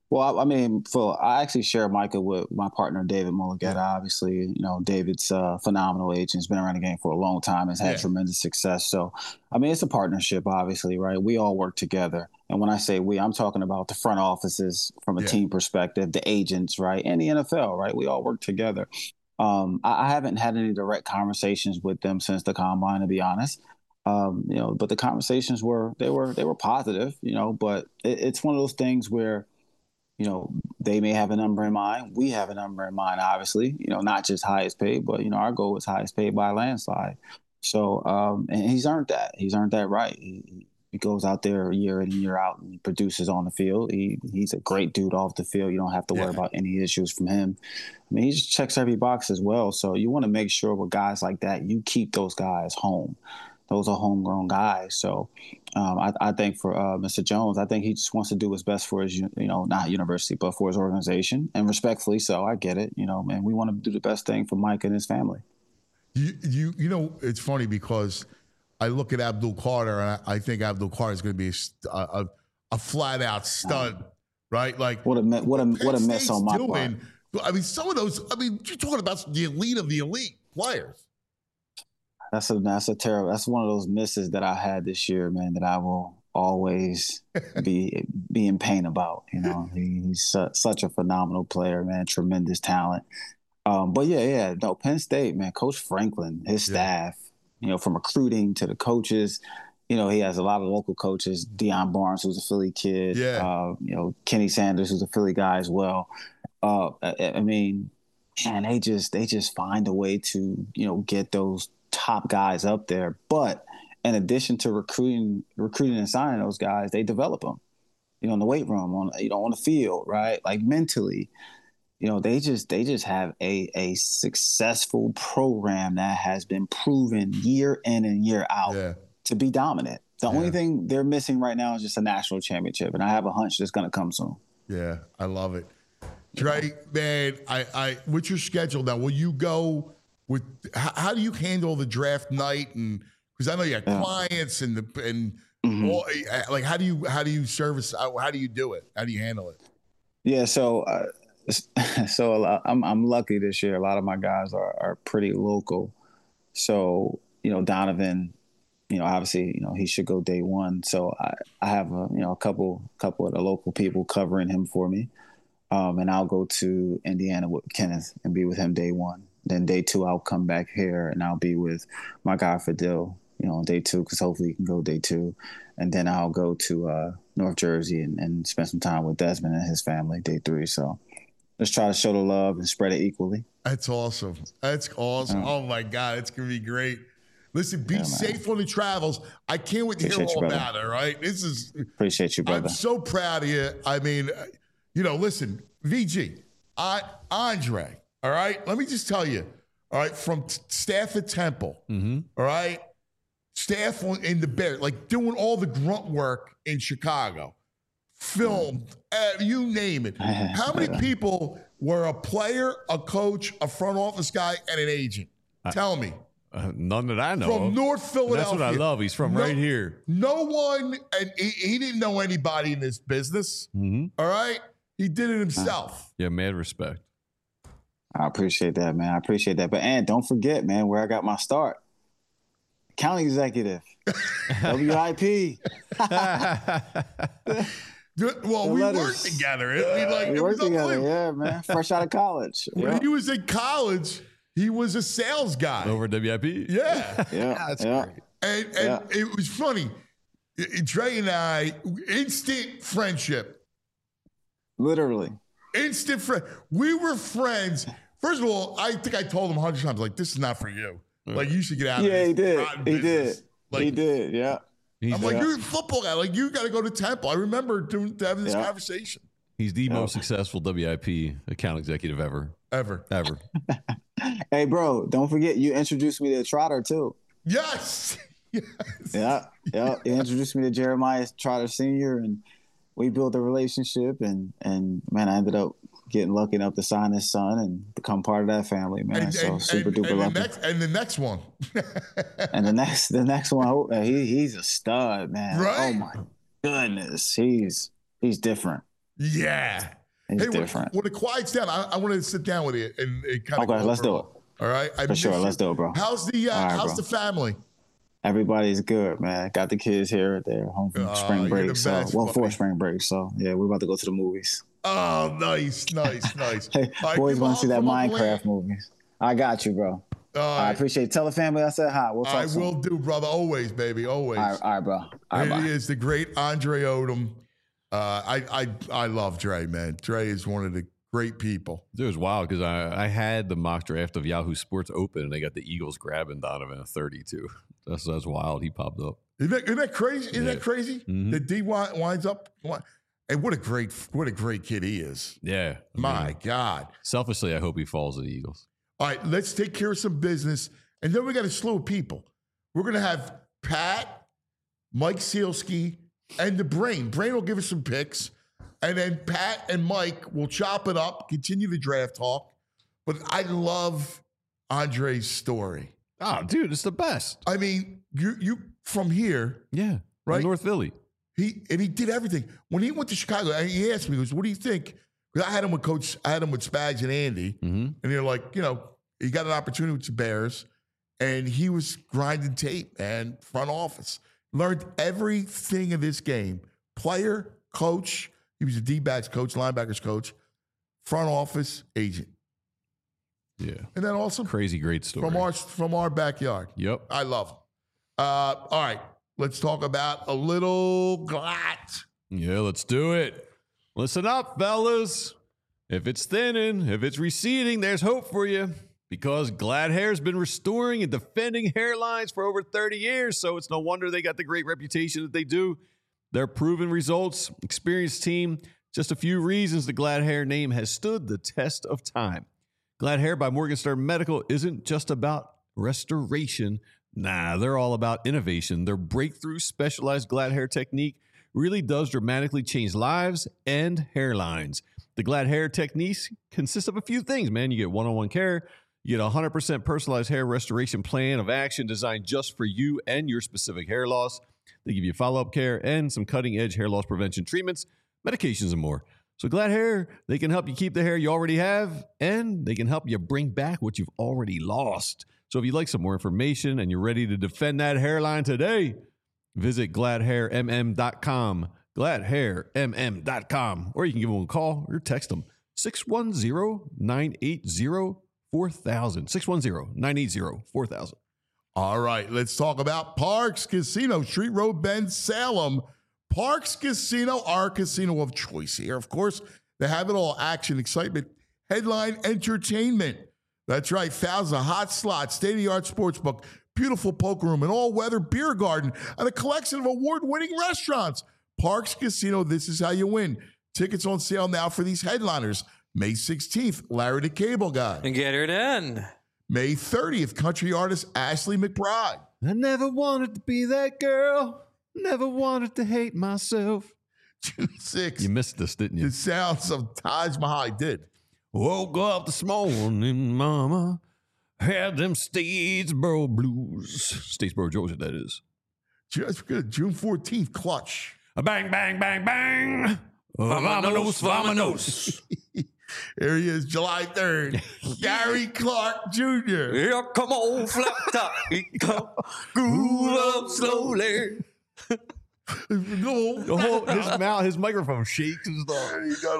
Well, I mean, I actually share Micah with my partner, David Mulugeta. Obviously, David's a phenomenal agent. He's been around the game for a long time, has had tremendous success. So, I mean, it's a partnership, obviously, right? We all work together. And when I say we, I'm talking about the front offices from a team perspective, the agents, right? And the NFL, right? We all work together. I haven't had any direct conversations with them since the combine, to be honest. But the conversations were positive, but it's one of those things where, they may have a number in mind. We have a number in mind, obviously, not just highest paid, but, our goal is highest paid by a landslide. So, and he's earned that. He's earned that right. He goes out there year in and year out and he produces on the field. He's a great dude off the field. You don't have to worry about any issues from him. I mean, he just checks every box as well. So you want to make sure with guys like that, you keep those guys home. Those are homegrown guys. So I think for Mr. Jones, I think he just wants to do his best for his, not university, but for his organization. And respectfully so, I get it, and we want to do the best thing for Mike and his family. It's funny because I look at Abdul Carter and I think Abdul Carter is going to be a flat out stud, right? Like what a miss on my part. I mean, some of those. I mean, you're talking about the elite of the elite players. That's a terrible. That's one of those misses that I had this year, man. That I will always be in pain about. He's such a phenomenal player, man. Tremendous talent. But no, Penn State, man. Coach Franklin, his staff, from recruiting to the coaches. He has a lot of local coaches. Deion Barnes, who's a Philly kid. Kenny Sanders, who's a Philly guy as well. I mean, man, they just find a way to get those top guys up there. But in addition to recruiting and signing those guys, they develop them, in the weight room, on the field, right? Like mentally, they just have a successful program that has been proven year in and year out to be dominant. The only thing they're missing right now is just a national championship. And I have a hunch that's going to come soon. Yeah, I love it. Dre, man, I what's your schedule now? Will you go with how do you handle the draft night? And because I know you have clients all, like how do you service? How do you do it? How do you handle it? Yeah, so I'm lucky this year. A lot of my guys are pretty local. So Donovan, obviously he should go day one. So I have a couple of the local people covering him for me. And I'll go to Indiana with Kenneth and be with him day one. Then day two, I'll come back here and I'll be with my guy Fadil, on day two, because hopefully he can go day two. And then I'll go to North Jersey and spend some time with Desmond and his family day three. So let's try to show the love and spread it equally. That's awesome. That's awesome. Oh my God, it's going to be great. Listen, be safe on the travels. I can't wait to hear all about it, right? Appreciate you, brother. I'm so proud of you. I mean, listen, VG, Andre, all right? Let me just tell you, all right, from staff at Temple, all right? Staff in the Bears, like doing all the grunt work in Chicago, filmed, you name it. How many people were a player, a coach, a front office guy, and an agent? Tell me. None that I know. From North Philadelphia. That's what I love. He's from right here. No one, and he didn't know anybody in this business, all right? He did it himself. Yeah, mad respect. I appreciate that, man. I appreciate that. But, and don't forget, man, where I got my start. County executive. WIP. Well, we worked together. We worked together, yeah, man. Fresh out of college. When he was in college, he was a sales guy. Over WIP? Yeah. That's great. And it was funny. Dre and I, instant friendship. Literally. Instant friend. We were friends. First of all, I think I told him 100 times, like, this is not for you. Like, you should get out of this. Yeah, he did. He did. Like, he did, yeah. I'm like, you're a football guy. Like, you got to go to Temple. I remember having this conversation. He's the most successful WIP account executive ever. Ever. Hey, bro, don't forget, you introduced me to Trotter, too. Yes. Yeah. You introduced me to Jeremiah Trotter Sr., and we built a relationship, and man, I ended up getting lucky enough to sign his son and become part of that family, man. Super duper lucky. And the next one. And the next one, he's a stud, man. Right? Oh my goodness, he's different. Yeah. He's different. When it quiets down, I want to sit down with you and kind of. Okay, let's do it. All right, For sure, let's do it, bro. How's the family? Everybody's good, man. Got the kids here. They're home from spring break. For spring break. So, yeah, we're about to go to the movies. Oh, nice. Hey, boys want to see that Minecraft movie. I got you, bro. I appreciate it. Tell the family I said hi. We'll talk soon. Will do, brother. Always, baby. Always. All right, bro. He is the great Andre Odom. I love Dre, man. Dre is one of the great people. It was wild because I had the mock draft of Yahoo Sports open, and they got the Eagles grabbing Donovan at 32. That's wild. He popped up. Isn't that crazy? Isn't that crazy? Mm-hmm. That D winds up. And what a great kid he is. Yeah. My God. Selfishly, I hope he falls to the Eagles. All right, let's take care of some business, and then we got a slew of people. We're gonna have Pat, Mike Sealski, and the Brain. Brain will give us some picks. And then Pat and Mike will chop it up, continue the draft talk. But I love Andre's story. Oh, dude, it's the best. I mean, you from here. Yeah. Right? North Philly. He did everything. When he went to Chicago, he asked me, he goes, what do you think? Because I had him with Spags and Andy. Mm-hmm. And they're like, he got an opportunity with the Bears. And he was grinding tape and front office. Learned everything of this game. Player, coach. He was a D-backs coach, linebackers coach, front office agent. Yeah. Isn't that awesome? Crazy great story. From our backyard. Yep. I love him. All right. Let's talk about a little Glatt. Yeah, let's do it. Listen up, fellas. If it's thinning, if it's receding, there's hope for you. Because Glatt Hair's been restoring and defending hairlines for over 30 years, so it's no wonder they got the great reputation that they do. Their proven results, experienced team, just a few reasons the Glatt Hair name has stood the test of time. Glatt Hair by Morgenstern Medical isn't just about restoration. Nah, they're all about innovation. Their breakthrough specialized Glatt Hair technique really does dramatically change lives and hairlines. The Glatt Hair techniques consist of a few things, man. You get one-on-one care. You get a 100% personalized hair restoration plan of action designed just for you and your specific hair loss. They give you follow-up care and some cutting-edge hair loss prevention treatments, medications, and more. So Glatt Hair, they can help you keep the hair you already have, and they can help you bring back what you've already lost. So if you'd like some more information and you're ready to defend that hairline today, visit GlattHairMM.com, GlattHairMM.com, or you can give them a call or text them, 610-980-4000, 610-980-4000. All right, let's talk about Parx Casino, Street Road Bend, Salem. Parx Casino, our casino of choice here. Of course, they have it all: action, excitement, headline entertainment. That's right, thousands of hot slots, state-of-the-art sportsbook, beautiful poker room, an all-weather beer garden, and a collection of award-winning restaurants. Parx Casino, this is how you win. Tickets on sale now for these headliners. May 16th, Larry the Cable Guy. And get her done. May 30th, country artist Ashley McBride. I never wanted to be that girl. Never wanted to hate myself. June 6th. You missed this, didn't you? The sounds of Taj Mahal. I did. Woke up this morning, mama. Had them Statesboro blues. Statesboro, Georgia, that is. That's good. June 14th, Clutch. A bang, bang, bang, bang. Vamonos, vamonos. Here he is, July 3rd. Gary Clark Jr. Here come on, flat top. Groove up slowly. His microphone shakes and stuff.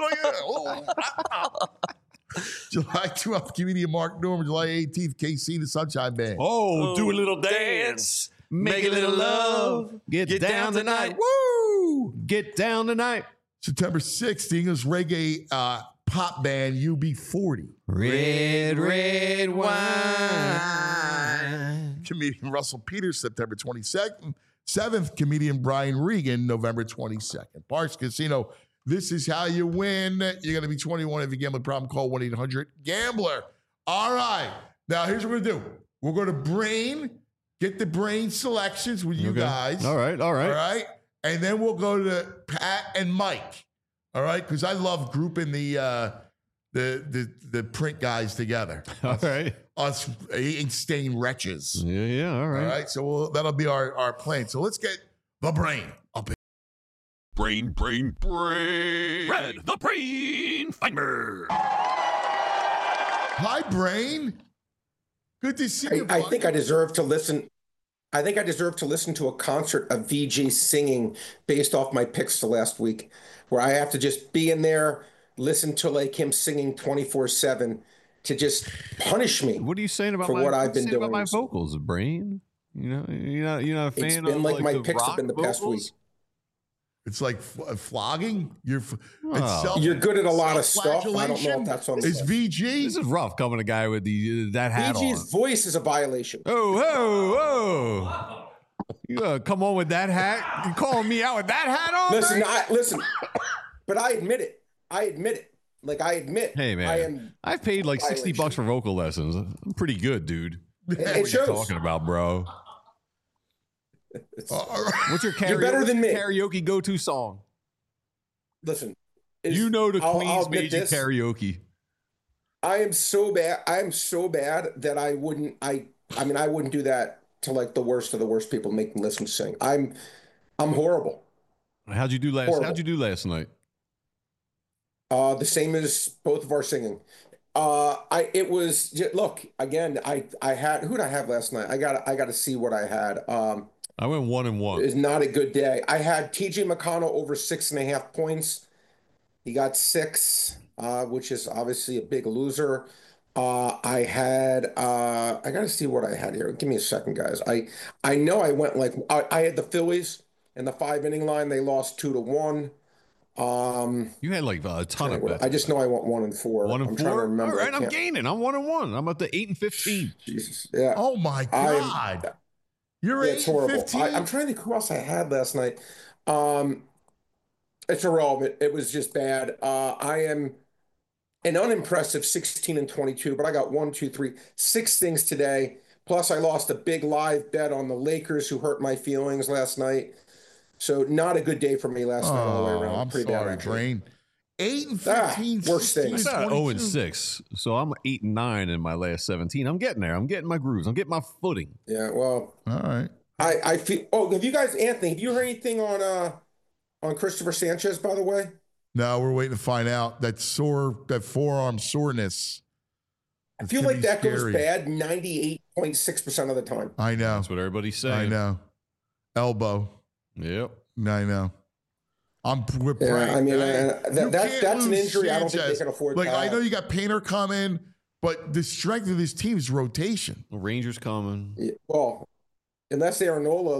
July 12th, comedian Mark Norman. July 18th, KC the Sunshine Band. Oh, do a little dance. Make a little love. Get down tonight. Woo! Get down tonight. September 6th, the English reggae pop band UB40. Red, red wine. Comedian Russell Peters, September 22nd. 7th, comedian Brian Regan, November 22nd. Parx Casino, this is how you win. You're going to be 21. If you gamble problem, call 1-800-GAMBLER. All right. Now, here's what we're going to do. We're going to get the brain selections with you guys. All right. All right. And then we'll go to Pat and Mike. All right. Because I love grouping the print guys together. All right. Us ink-stained wretches. Yeah. All right. All right. So that'll be our plan. So let's get the brain up. Brain. Red the Brain Finder. Hi, Brain. Good to see you. I think I deserve to listen. I think I deserve to listen to a concert of VG singing based off my picks to last week, where I have to just be in there, listen to like him singing 24/7 to just punish me. What are you saying about for what I've been doing about my vocals, Brain? You know, you're not a fan. It's been of, like my the picks have rock been the past week. vocals? It's like flogging. You're good at a lot of stuff. I don't know if that's on. It's VG. This is rough coming a guy with that hat VG's on. voice is a violation. Oh. You come on with that hat? You calling me out with that hat on? Listen, but I admit it. Like I admit. Hey man, I've paid like $60 for vocal lessons. I'm pretty good, dude. It what shows. you talking about, bro? What's your karaoke, You're better than me. Karaoke go-to song? Listen, you know the I'll Queen's admit made you this. karaoke. I am so bad. That I wouldn't. I mean, I wouldn't do that to like the worst of the worst people making listen sing. I'm horrible. How'd you do last night? The same as both of our singing. It was look again. I had who'd I have last night? I got to see what I had. I went 1-1. It's not a good day. I had TJ McConnell over 6.5 points. He got 6, which is obviously a big loser. I got to see what I had here. Give me a second, guys. I know I went like I had the Phillies in the 5-inning line. They lost 2-1. You had like a ton of bets. I just know I went 1 and 4. 1 and 4. I'm trying to remember. All right, I'm gaining. I'm 1-1. I'm up to 8-15. Jesus. Yeah. Oh my God. You're 8-15. I'm trying to think who else I had last night. It's irrelevant. It was just bad. I am an unimpressive 16-22, but I got 6 things today. Plus, I lost a big live bet on the Lakers, who hurt my feelings last night. So not a good day for me last night all the way around. I'm pretty sorry, bad, actually. Brain. 8-15. Worst things. I got 0-6, so I'm 8-9 in my last 17. I'm getting there. I'm getting my grooves. I'm getting my footing. Yeah, well, all right. I feel. Oh, have you guys, Anthony? Have you heard anything on Christopher Sanchez? By the way, no, we're waiting to find out. That forearm soreness. I feel like that goes bad 98.6% of the time. I know. That's what everybody's saying. I know. Elbow. Yep. I know. We're yeah, praying. I mean, that's an injury. Sanchez. I don't think they can afford. Like I know you got Painter coming, but the strength of this team is rotation. Rangers coming. Yeah, well, unless Aaronola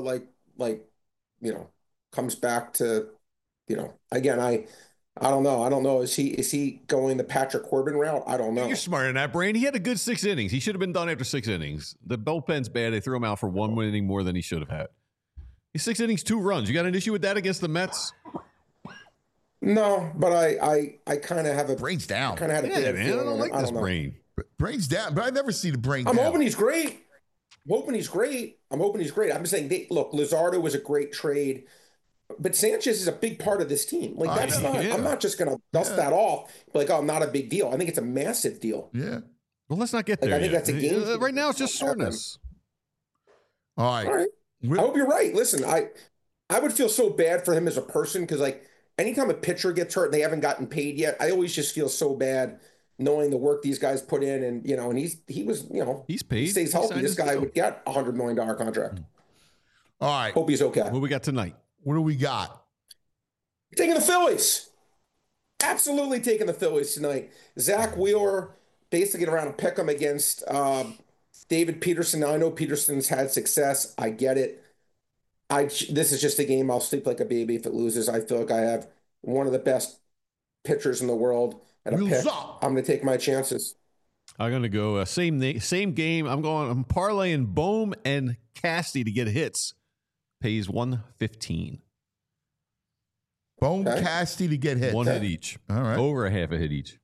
comes back to, again, I don't know. I don't know. Is he going the Patrick Corbin route? I don't know. You're smarter than that, Brain. He had a good 6 innings. He should have been done after 6 innings. The bullpen's bad. They threw him out for 1 inning more than he should have had. He's 6 innings, 2 runs. You got an issue with that against the Mets? No, but I kind of have a Brain's down. Kind of had a man. I don't like this Brain. Brain's down, but I never see the Brain. I'm down. hoping he's great. I'm hoping he's great. I'm saying, look, Luzardo was a great trade, but Sanchez is a big part of this team. Like that's not. Yeah. I'm not just gonna dust that off. Like, oh, not a big deal. I think it's a massive deal. Yeah. Well, let's not get there. I think that's a game. Right now, it's just soreness. All right. I hope you're right. Listen, I would feel so bad for him as a person because, like, anytime a pitcher gets hurt and they haven't gotten paid yet, I always just feel so bad knowing the work these guys put in. And, and he was, he's paid. He stays healthy. This guy would get a $100 million contract. All right. Hope he's okay. What we got tonight? What do we got? Taking the Phillies. Absolutely taking the Phillies tonight. Zach Wheeler basically around a pick 'em against David Peterson. Now, I know Peterson's had success. I get it. This is just a game I'll sleep like a baby if it loses. I feel like I have one of the best pitchers in the world at a pick. I'm going to take my chances. I'm going to go same game. I'm parlaying Bohm and Casty to get hits. Pays 115. Bohm, Casty to get hits. 1 hit each. All right. Over a half a hit each.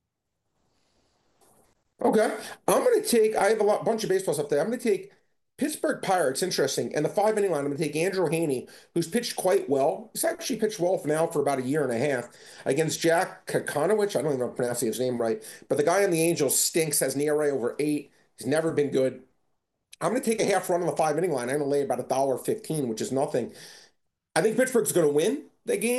Okay. I'm going to take, I have a bunch of baseballs up there. I'm going to take Pittsburgh Pirates, interesting. And the 5-inning line, I'm going to take Andrew Haney, who's pitched quite well. He's actually pitched well for about a year and a half against Jack Kakonowicz. I don't even know if I'm pronouncing his name right. But the guy on the Angels stinks, has an ERA over 8. He's never been good. I'm going to take a half run on the 5-inning line. I'm going to lay about $1.15, which is nothing. I think Pittsburgh's going to win the game.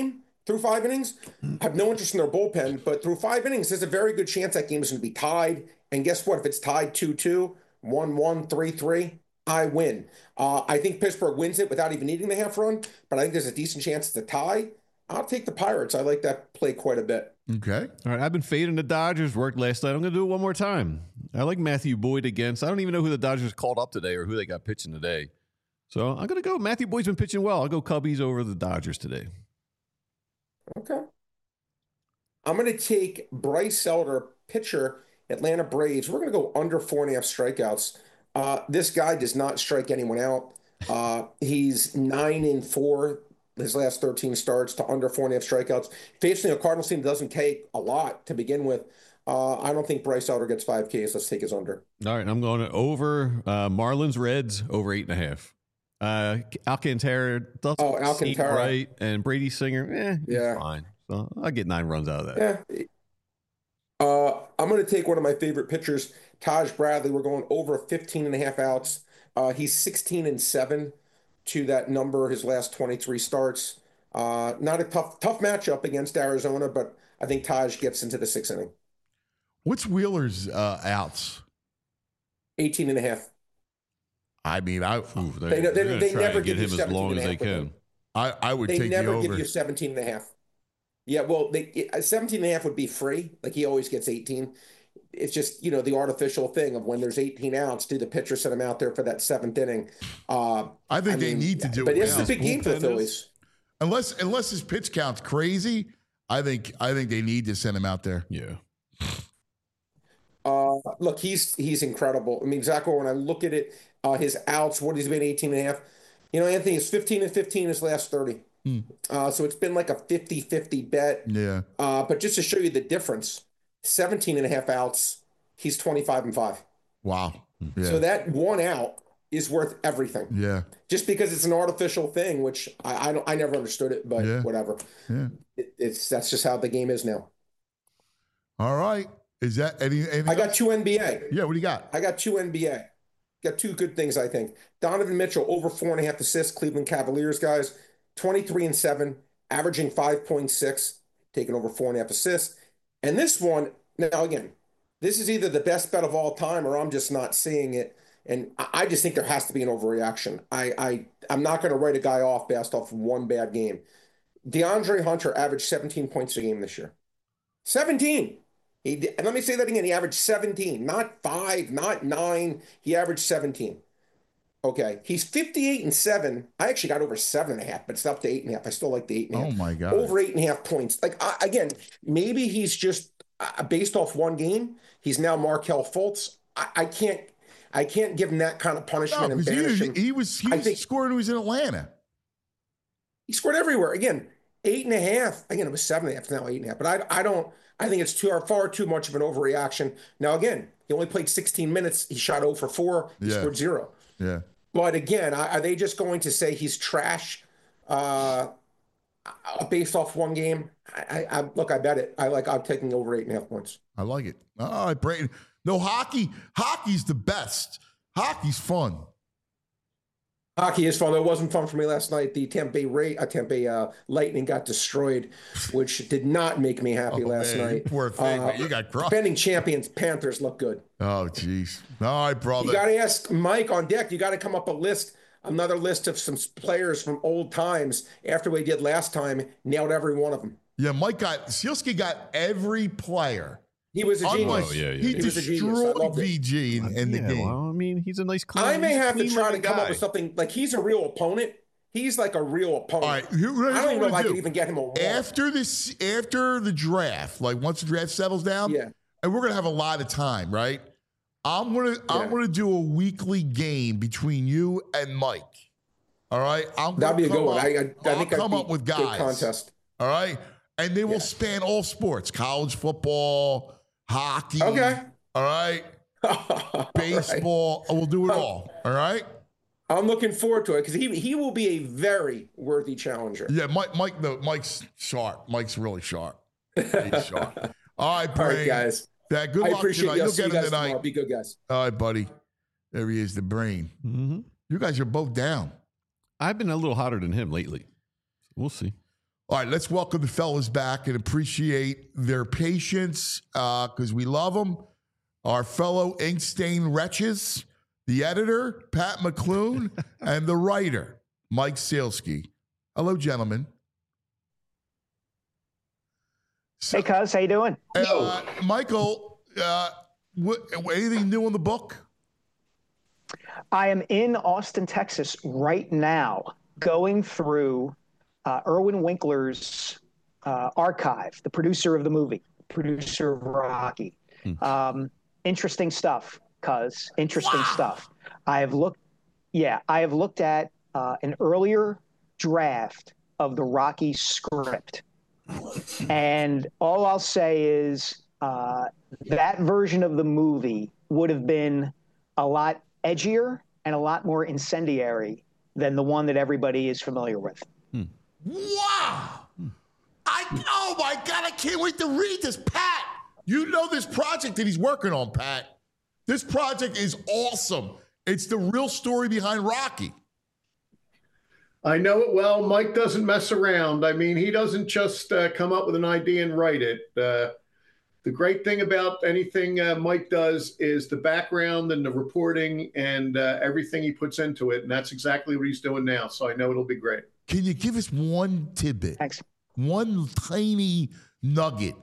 through 5 innings. I have no interest in their bullpen, but through 5 innings, there's a very good chance that game is going to be tied. And guess what? If it's tied 2-2, 1-1, 3-3, I win. I think Pittsburgh wins it without even needing the half run, but I think there's a decent chance it's a tie. I'll take the Pirates. I like that play quite a bit. Okay. All right, I've been fading the Dodgers. Worked last night. I'm going to do it one more time. I like Matthew Boyd against. I don't even know who the Dodgers called up today or who they got pitching today. So I'm going to go. Matthew Boyd's been pitching well. I'll go Cubbies over the Dodgers today. Okay. I'm going to take Bryce Elder, pitcher, Atlanta Braves. We're going to go under 4.5 strikeouts. This guy does not strike anyone out. He's 9-4 his last 13 starts to under 4.5 strikeouts. Facing a Cardinals team that doesn't take a lot to begin with. I don't think Bryce Elder gets 5 Ks. Let's take his under. All right, I'm going to over Marlins Reds over 8.5. Alcantara doesn't seem right, and Brady Singer, he's fine. So I get 9 runs out of that. Yeah. I'm going to take one of my favorite pitchers, Taj Bradley. We're going over 15.5 outs. He's 16-7 to that number his last 23 starts. Not a tough matchup against Arizona, but I think Taj gets into the 6th inning. What's Wheeler's outs? 18.5. I mean, they never give you 17.5 as long as they can. I would take the over. They never give you 17.5. Yeah, well, 17.5 would be free. Like he always gets 18. It's just, the artificial thing of when there's 18 outs, do the pitcher send him out there for that 7th inning? I think they need to do it. But it's a big game for the Phillies. Unless his pitch count's crazy, I think they need to send him out there. Yeah. Look, he's incredible. I mean, Zach, when I look at it, his outs, what he's been 18.5. Anthony is 15-15 his last 30. So it's been like a 50-50 bet. Yeah. But just to show you the difference, 17.5 outs, he's 25-5. Wow. Yeah. So that 1 out is worth everything. Yeah. Just because it's an artificial thing, which I never understood it, but whatever. Yeah. That's just how the game is now. All right. Is that anything I got 2 NBA. Yeah, what do you got? I got 2 NBA. Got 2 good things, I think. Donovan Mitchell over 4.5 assists, Cleveland Cavaliers guys, 23-7, averaging 5.6, taking over 4.5 assists. And this one, now again, this is either the best bet of all time or I'm just not seeing it. And I just think there has to be an overreaction. I'm not going to write a guy off based off one bad game. DeAndre Hunter averaged 17 points a game this year. 17. And let me say that again. He averaged 17, not 5, not 9. He averaged 17. Okay. He's 58-7. I actually got over 7.5, but it's up to 8.5. I still like the 8.5. Oh my God. Over 8.5 points. Like, again, maybe he's just based off one game. He's now Markelle Fultz. I can't give him that kind of punishment and banish him. He was scoring when he was in Atlanta. He scored everywhere. Again, 8.5. Again, it was 7.5. It's now 8.5. But I think it's far too much of an overreaction. Now, again, he only played 16 minutes. He shot 0 for 4. He scored 0. Yeah. But again, are they just going to say he's trash based off one game? Look, I bet it. I'm taking over 8.5 points. I like it. All right, Brayton. No, hockey's the best. Hockey's fun. Hockey is fun. It wasn't fun for me last night. The Tampa Bay Lightning got destroyed, which did not make me happy last night. Poor thing, man. You got crushed. Defending champions Panthers look good. Oh, jeez. All right, brother. You got to ask Mike on deck. You got to come up another list of some players from old times after we did last time. Nailed every one of them. Yeah, Sealski got every player. He was a genius. He destroyed VG in the game. Well, I mean, he's a nice clean. I may have to try to come up with something like he's a real opponent. He's like a real opponent. All right, I don't even know if I could even get him a wall. After the draft, like once the draft settles down, and we're gonna have a lot of time, right? I'm gonna do a weekly game between you and Mike. All right, that'd be a good one. I think I'd come up with guys. Contest. All right, and they will span all sports: college football, hockey. Okay. All right. Baseball. Right. We'll do it all. All right. I'm looking forward to it because he will be a very worthy challenger. Yeah, Mike's sharp. Mike's really sharp. He's sharp. All right, Brain. All right, guys. Good luck tonight. You'll get him tonight. Be good, guys. All right, buddy. There he is, the Brain. Mm-hmm. You guys are both down. I've been a little hotter than him lately. We'll see. All right, let's welcome the fellas back and appreciate their patience because we love them. Our fellow ink stain wretches, the editor, Pat McClune, and the writer, Mike Sealski. Hello, gentlemen. Hey, cuz, how you doing? Michael, anything new on the book? I am in Austin, Texas right now, going through Irwin Winkler's archive, the producer of the movie, producer of Rocky. Interesting stuff, cuz. Interesting stuff. I have looked at an earlier draft of the Rocky script. And all I'll say is that version of the movie would have been a lot edgier and a lot more incendiary than the one that everybody is familiar with. Wow. Oh my God, I can't wait to read this. Pat, you know this project that he's working on, Pat. This project is awesome. It's the real story behind Rocky. I know it well. Mike doesn't mess around. I mean, he doesn't just come up with an idea and write it. The great thing about anything Mike does is the background and the reporting and everything he puts into it. And that's exactly what he's doing now. So I know it'll be great. Can you give us one tidbit? Thanks. One tiny nugget.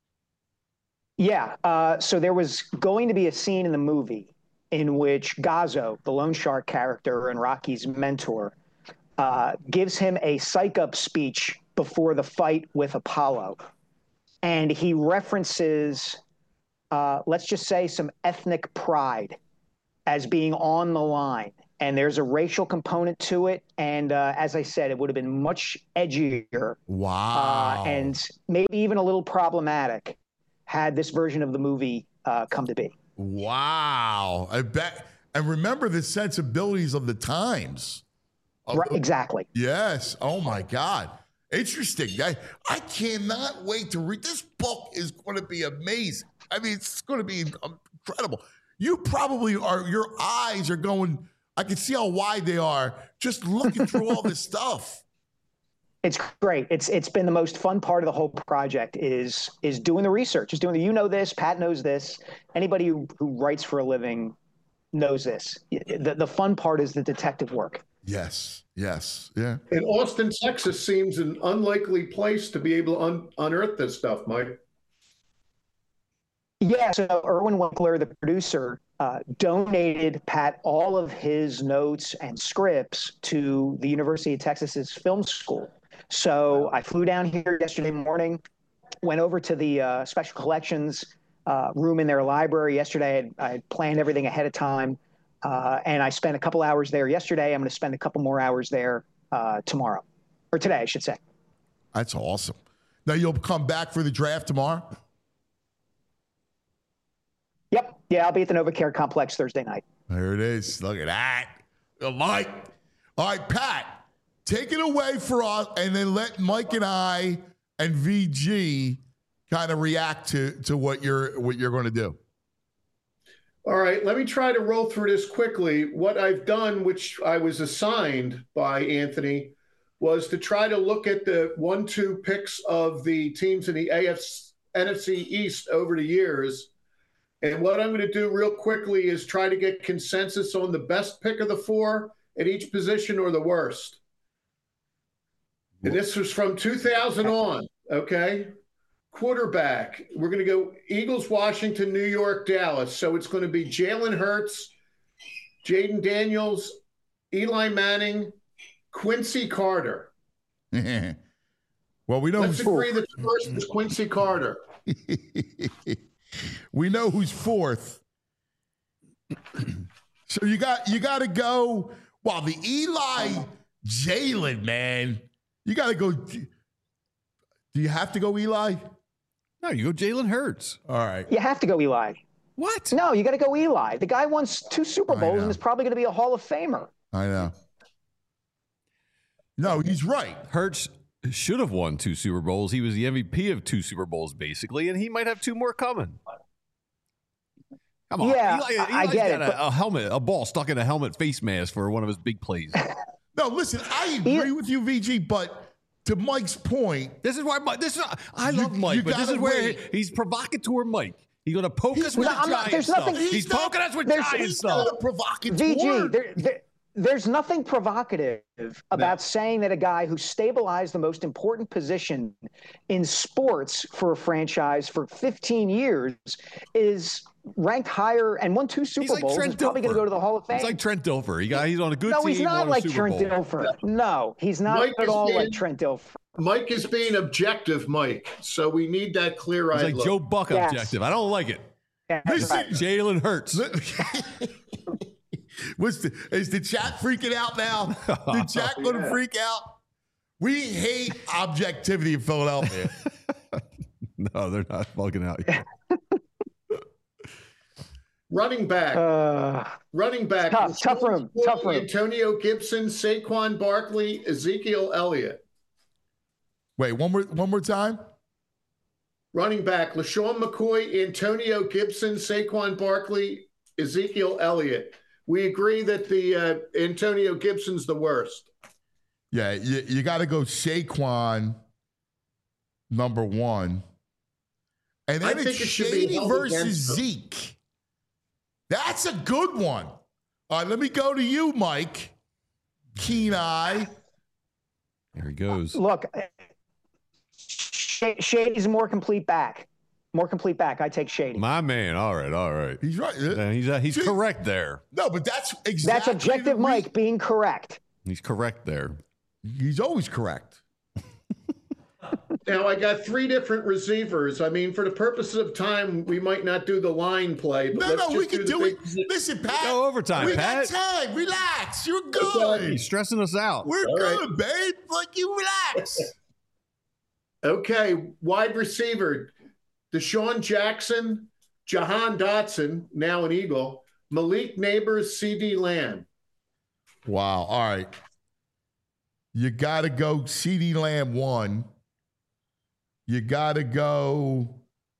Yeah. So there was going to be a scene in the movie in which Gazzo, the loan shark character and Rocky's mentor, gives him a psych-up speech before the fight with Apollo. And he references, let's just say, some ethnic pride as being on the line. And there's a racial component to it. And as I said, it would have been much edgier. Wow. And maybe even a little problematic had this version of the movie come to be. Wow. I bet. And remember the sensibilities of the times. Right, exactly. Yes. Oh, my God. Interesting. I cannot wait to read. This book is going to be amazing. I mean, it's going to be incredible. You probably are, your eyes are going, I can see how wide they are just looking through all this stuff. It's great. It's been the most fun part of the whole project is doing the research, is doing the, you know this, Pat knows this. Anybody who writes for a living knows this. The fun part is the detective work. Yes. Yes. Yeah. And Austin, Texas seems an unlikely place to be able to unearth this stuff, Mike. Yeah. So Irwin Winkler, the producer, donated Pat all of his notes and scripts to the University of Texas's film school. So I flew down here yesterday morning, went over to the special collections room in their library yesterday. I had planned everything ahead of time. And I spent a couple hours there yesterday. I'm going to spend a couple more hours there tomorrow, or today, I should say. That's awesome. Now you'll come back for the draft tomorrow? Yep. Yeah, I'll be at the NovaCare Complex Thursday night. There it is. Look at that. Mike. All right, Pat, take it away for us, and then let Mike and I and VG kind of react to what you're going to do. All right, let me try to roll through this quickly. What I've done, which I was assigned by Anthony, was to try to look at the 1-2 picks of the teams in the NFC East over the years. And what I'm going to do real quickly is try to get consensus on the best pick of the four at each position or the worst. And this was from 2000 on, okay? Quarterback, we're going to go Eagles, Washington, New York, Dallas. So it's going to be Jalen Hurts, Jaden Daniels, Eli Manning, Quincy Carter. Well, we know. Let's agree that the first is Quincy Carter. We know who's fourth. So you got to go. Well, the Eli Jalen, man. You got to go. Do you have to go Eli? No, you go Jalen Hurts. All right. You have to go Eli. What? No, you got to go Eli. The guy won 2 Super Bowls and is probably going to be a Hall of Famer. I know. No, he's right. Hurts should have won 2 Super Bowls. He was the MVP of 2 Super Bowls, basically, and he might have 2 more coming. Come on. Yeah, Eli's I get got a ball stuck in a helmet face mask for one of his big plays. No, listen, I agree with you, VG, but to Mike's point, this is why Mike. I love Mike, but this is where he's provocateur Mike. He's going to poke us with Giants stuff. He's poking us with Giants stuff. VG, there's nothing provocative about saying that a guy who stabilized the most important position in sports for a franchise for 15 years is ranked higher and won 2 Super Bowls. He's probably going to go to the Hall of Fame. He's like Trent Dilfer. He's on a good team. No, he's not like Trent Bowl. Dilfer. No, he's not at all like Trent Dilfer. Mike is being objective, Mike. So we need that clear-eyed He's like look. Joe Buck objective. I don't like it. Listen, Jalen Hurts. Is the chat freaking out now? The chat going to freak out? We hate objectivity in Philadelphia. No, they're not fucking out yet. Running back. Tough room. Antonio Gibson, Saquon Barkley, Ezekiel Elliott. Wait, one more time. Running back: LaShawn McCoy, Antonio Gibson, Saquon Barkley, Ezekiel Elliott. We agree that the Antonio Gibson's the worst. Yeah, you got to go Saquon number 1. And then it's Shady versus Zeke. That's a good one. All right, let me go to you, Mike. Keen eye. There he goes. Look, Shady's a more complete back. I take Shady. My man. All right. He's right. He's correct there. No, but that's exactly. That's objective Mike being correct. He's correct there. He's always correct. Now, I got 3 different receivers. I mean, for the purposes of time, we might not do the line play. But we can do it. Listen, Pat. Go overtime, Pat. We got time. Relax. You're good. He's stressing us out. We're good, babe. Like, you relax. Okay, wide receiver. Deshaun Jackson, Jahan Dotson, now an Eagle, Malik Neighbors, CeeDee Lamb. Wow. All right. You got to go CeeDee Lamb 1. You got to go.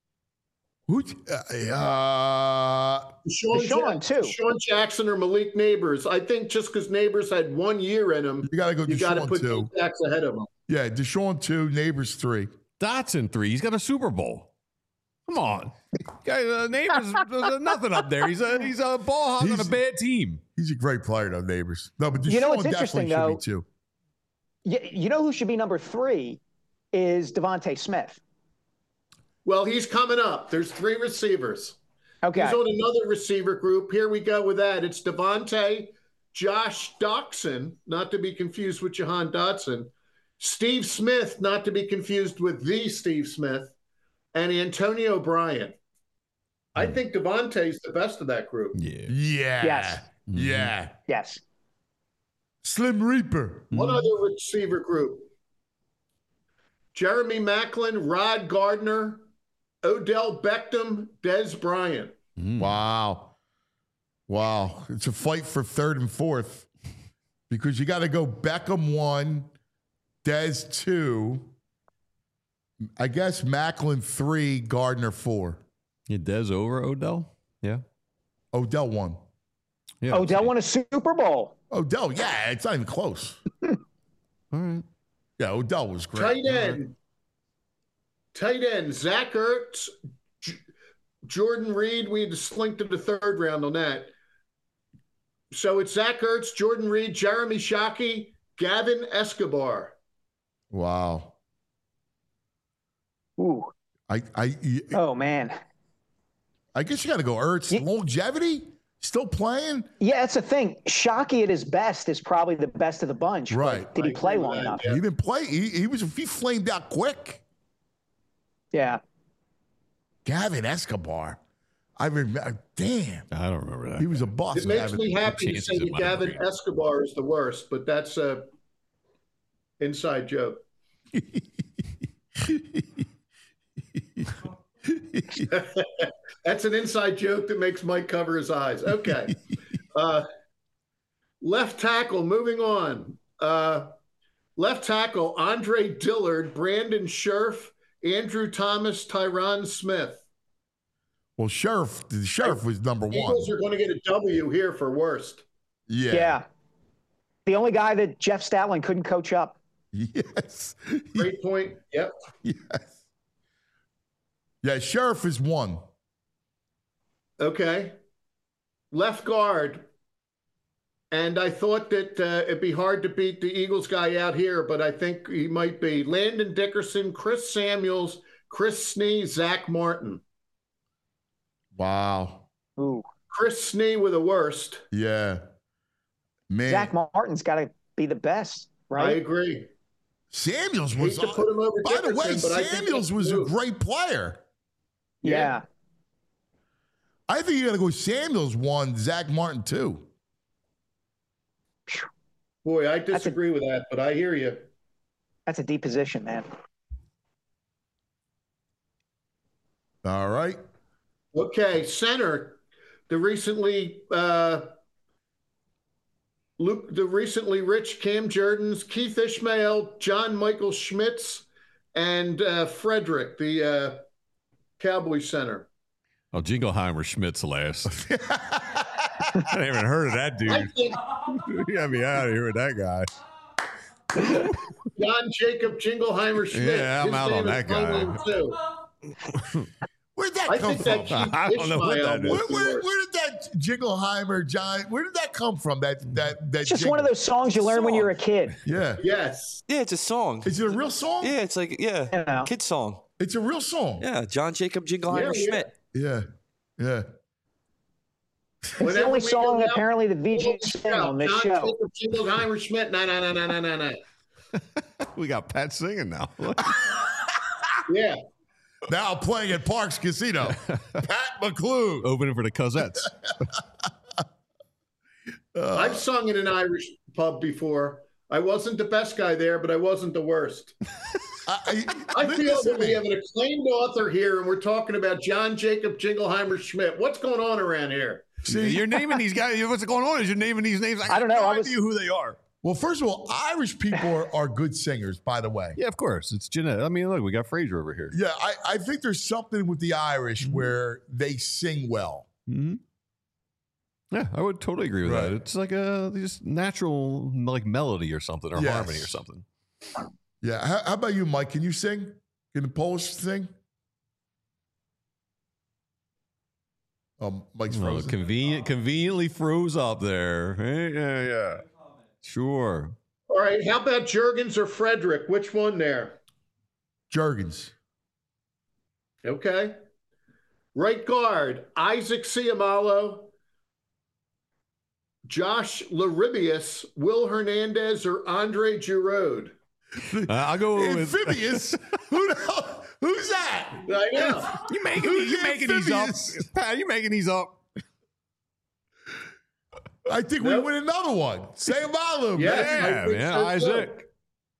Deshaun 2. Deshaun Jackson or Malik Neighbors. I think just because Neighbors had 1 year in him, you got to go. You got to Deshaun put 2. Jacks ahead of him. Yeah, Deshaun 2, Neighbors 3. Dotson 3. He's got a Super Bowl. Come on, guys. Neighbors, there's nothing up there. He's a ball hog on a bad team. He's a great player, though. Neighbors. No, but Deshaun you know what's interesting though? Should be 2. You know who should be number 3 is Devontae Smith. Well, he's coming up. There's 3 receivers. Okay. He's on another receiver group. Here we go with that. It's Devontae, Josh Doxson, not to be confused with Jahan Dotson, Steve Smith, not to be confused with the Steve Smith, and Antonio Bryant. I think Devontae's the best of that group. Yeah. Yes. Yeah. Yes. Slim Reaper. One other receiver group. Jeremy Maclin, Rod Gardner, Odell Beckham, Dez Bryant. Wow. It's a fight for 3rd and 4th because you got to go Beckham 1, Dez 2, I guess Maclin 3, Gardner 4. Yeah, Dez over Odell? Yeah. Odell 1. Yeah, Odell won a Super Bowl. Odell, yeah, it's not even close. All right. Yeah, Odell was great. Tight end, Zach Ertz, Jordan Reed. We had to slink to the 3rd round on that. So it's Zach Ertz, Jordan Reed, Jeremy Shockey, Gavin Escobar. Wow. Ooh. Oh man. I guess you got to go Ertz. Longevity, still playing. Yeah, that's the thing. Shockey at his best is probably the best of the bunch. Right. Did he play long enough? He didn't play. He flamed out quick. Yeah. Gavin Escobar. I remember. Damn. I don't remember that. He was a boss. It makes me happy to say that Gavin Escobar is the worst, but that's a inside joke. That's an inside joke that makes Mike cover his eyes. Okay. Left tackle, moving on. Left tackle, Andre Dillard, Brandon Scherf, Andrew Thomas, Tyron Smith. Well, the Sheriff was number 1. Eagles are going to get a W here for worst. Yeah. Yeah. The only guy that Jeff Stoutland couldn't coach up. Yes. Great point. Yep. Yes. Yeah, Sheriff is 1. Okay. Left guard. And I thought that it'd be hard to beat the Eagles guy out here, but I think he might be. Landon Dickerson, Chris Samuels, Chris Snee, Zach Martin. Wow. Ooh. Chris Snee with the worst. Yeah. Man. Zach Martin's got to be the best, right? I agree. Samuels was. Hate to put him over by the way, Dickerson, but I think Samuels that's was a true. great player. Yeah. I think you got to go Samuels 1, Zach Martin 2. Boy, I disagree with that, but I hear you. That's a deep position, man. All right. Okay, center. The recently rich Cam Jordans, Keith Ishmael, John Michael Schmitz, and Frederick, the Cowboy center. Oh, Jingleheimer Schmitz last. I haven't even heard of that dude. I think You got me out of here with that guy. John Jacob Jingleheimer Schmitz. Yeah, I'm His out on name is that guy. my name, too. Where'd that I come think from? that Keith I don't know what that Ishmael is. was the Where worst. did that Jingleheimer, John? Where did that come from? That It's just one of those songs you learn when you're a kid. Yeah. Yes. Yeah, it's a song. Is it a real song? Yeah, it's like, You know. kid song. It's a real song. Yeah, John Jacob Jingleheimer Yeah, Schmidt. Yeah. Yeah. It's the Whenever only we go song down- apparently the VG sing on this John show. Jacob Jingleheimer Schmidt. No. We got Pat singing now. Yeah. Now playing at Parks Casino. Pat McClure. Opening for the Cosettes. I've sung in an Irish pub before. I wasn't the best guy there, but I wasn't the worst. I feel that we have an acclaimed author here, and we're talking about John Jacob Jingleheimer Schmidt. What's going on around here? See, You're naming these guys. What's going on is you're naming these names. I don't know. have no I was- idea who they are. well, first of all, Irish people are good singers, by the way. Yeah, of course. It's genetic. I mean, look, we got Fraser over here. Yeah, I think there's something with the Irish where they sing well. Mm-hmm. Yeah, I would totally agree with Right. that. It's like a just natural like melody or something or Yes. harmony or something. Yeah. How about you, Mike? Can you sing? Can the Polish sing? Mike's Oh, frozen. conveniently froze up there. Hey, yeah. Sure. All right, how about Jurgens or Frederick? Which one there? Jurgens. Okay. Right guard, Isaac Ciamalo, Josh Laribius, Will Hernandez, or Andre Giroud? I'll go with Amphibious? Who the hell? Who's that? I know. you making Who's you making these up. amphibious? Pat, you making these up. I think we win another one. Say Malu. Yes, I Yeah, think man. so, too. Isaac.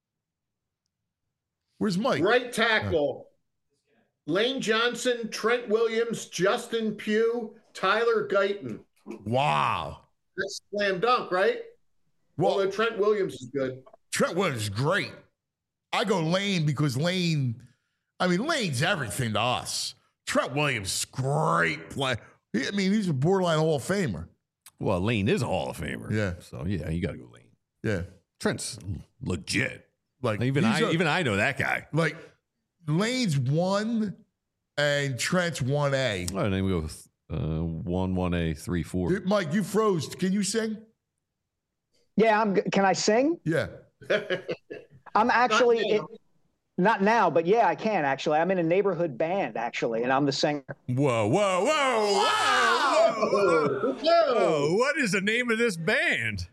Where's Mike? Right tackle, Lane Johnson, Trent Williams, Justin Pugh, Tyler Guyton. Wow. That's slam dunk, right? Well, Although Trent Williams is good. Trent Williams is great. I go Lane because Lane's everything to us. Trent Williams is great play. He's a borderline Hall of Famer. Well, Lane is a Hall of Famer. Yeah. So yeah, you got to go Lane. Yeah. Trent's legit. Like Even I know that guy. like Lane's 1 and Trent's 1A. All right, then we go with 1A 3 4. Dude, Mike, you froze. Can you sing? Yeah, can I sing? Yeah. I'm actually Not now. not now, but yeah, I can actually. I'm in a neighborhood band actually, and I'm the singer. Whoa! Whoa. What is the name of this band?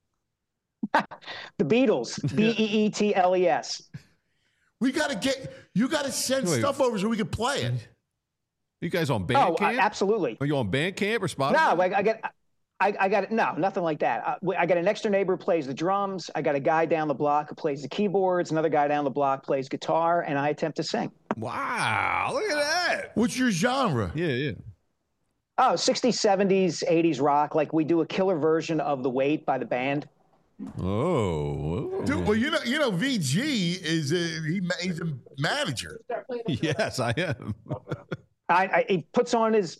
The Beatles, Beetles. You got to send Wait. stuff over so we can play it. You guys on Oh, Bandcamp? absolutely. Are you on Bandcamp or Spotify? No, I got no, nothing like that. I got an next door neighbor who plays the drums. I got a guy down the block who plays the keyboards. Another guy down the block plays guitar, and I attempt to sing. Wow! Look at that. What's your genre? Yeah. Oh, 60s, 70s, 80s rock. Like we do a killer version of The Wait by the band. Oh. Dude, well, you know, VG is he's a manager. Yes, I am. He puts on his,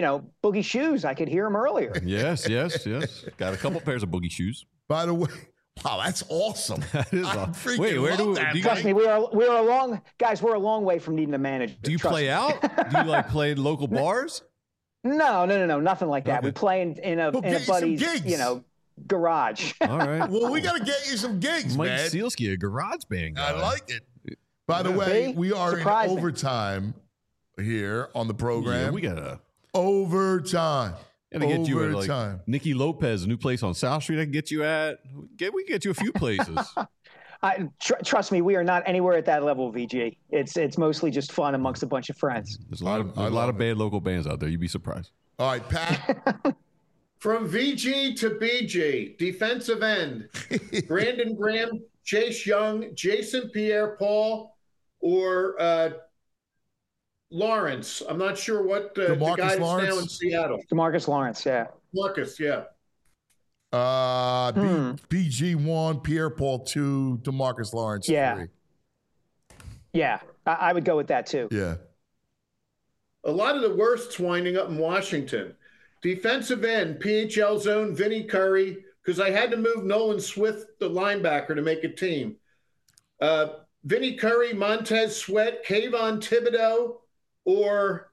boogie shoes. I could hear him earlier. Yes. Got a couple pairs of boogie shoes. By the way, Wow, that's awesome. That is I awesome. freaking Wait, where love do that, you Trust me, we're a long way from needing a manager. Do you Trust play me. out? Do you like play in local bars? No, nothing like that. Okay. We play in a Well, get you some buddy's, gigs. garage. All right. Well, we got to get you some gigs, Mike man. Sealski, a garage band guy. I like it. By the way, See? we are Surprise in me. overtime here on the Yeah, program. we gotta Get get you at like Nikki Lopez, a new place on South Street. I can get you at. We can get you a few places. Trust me, we are not anywhere at that level, VG. It's mostly just fun amongst a bunch of friends. There's a lot of bad local bands out there. You'd be surprised. All right, Pat. From VG to BG, defensive end, Brandon Graham, Chase Young, Jason Pierre-Paul, or Lawrence. I'm not sure what the DeMarcus guy that's Lawrence? now in Seattle. DeMarcus Lawrence, yeah. Marcus, yeah. BG 1, Pierre Paul 2, DeMarcus Lawrence 3. Yeah, I would go with that too. Yeah. A lot of the worst's winding up in Washington. Defensive end, PHL zone, Vinny Curry, because I had to move Nolan Swift, the linebacker, to make a team. Vinny Curry, Montez Sweat, Kayvon Thibodeau, or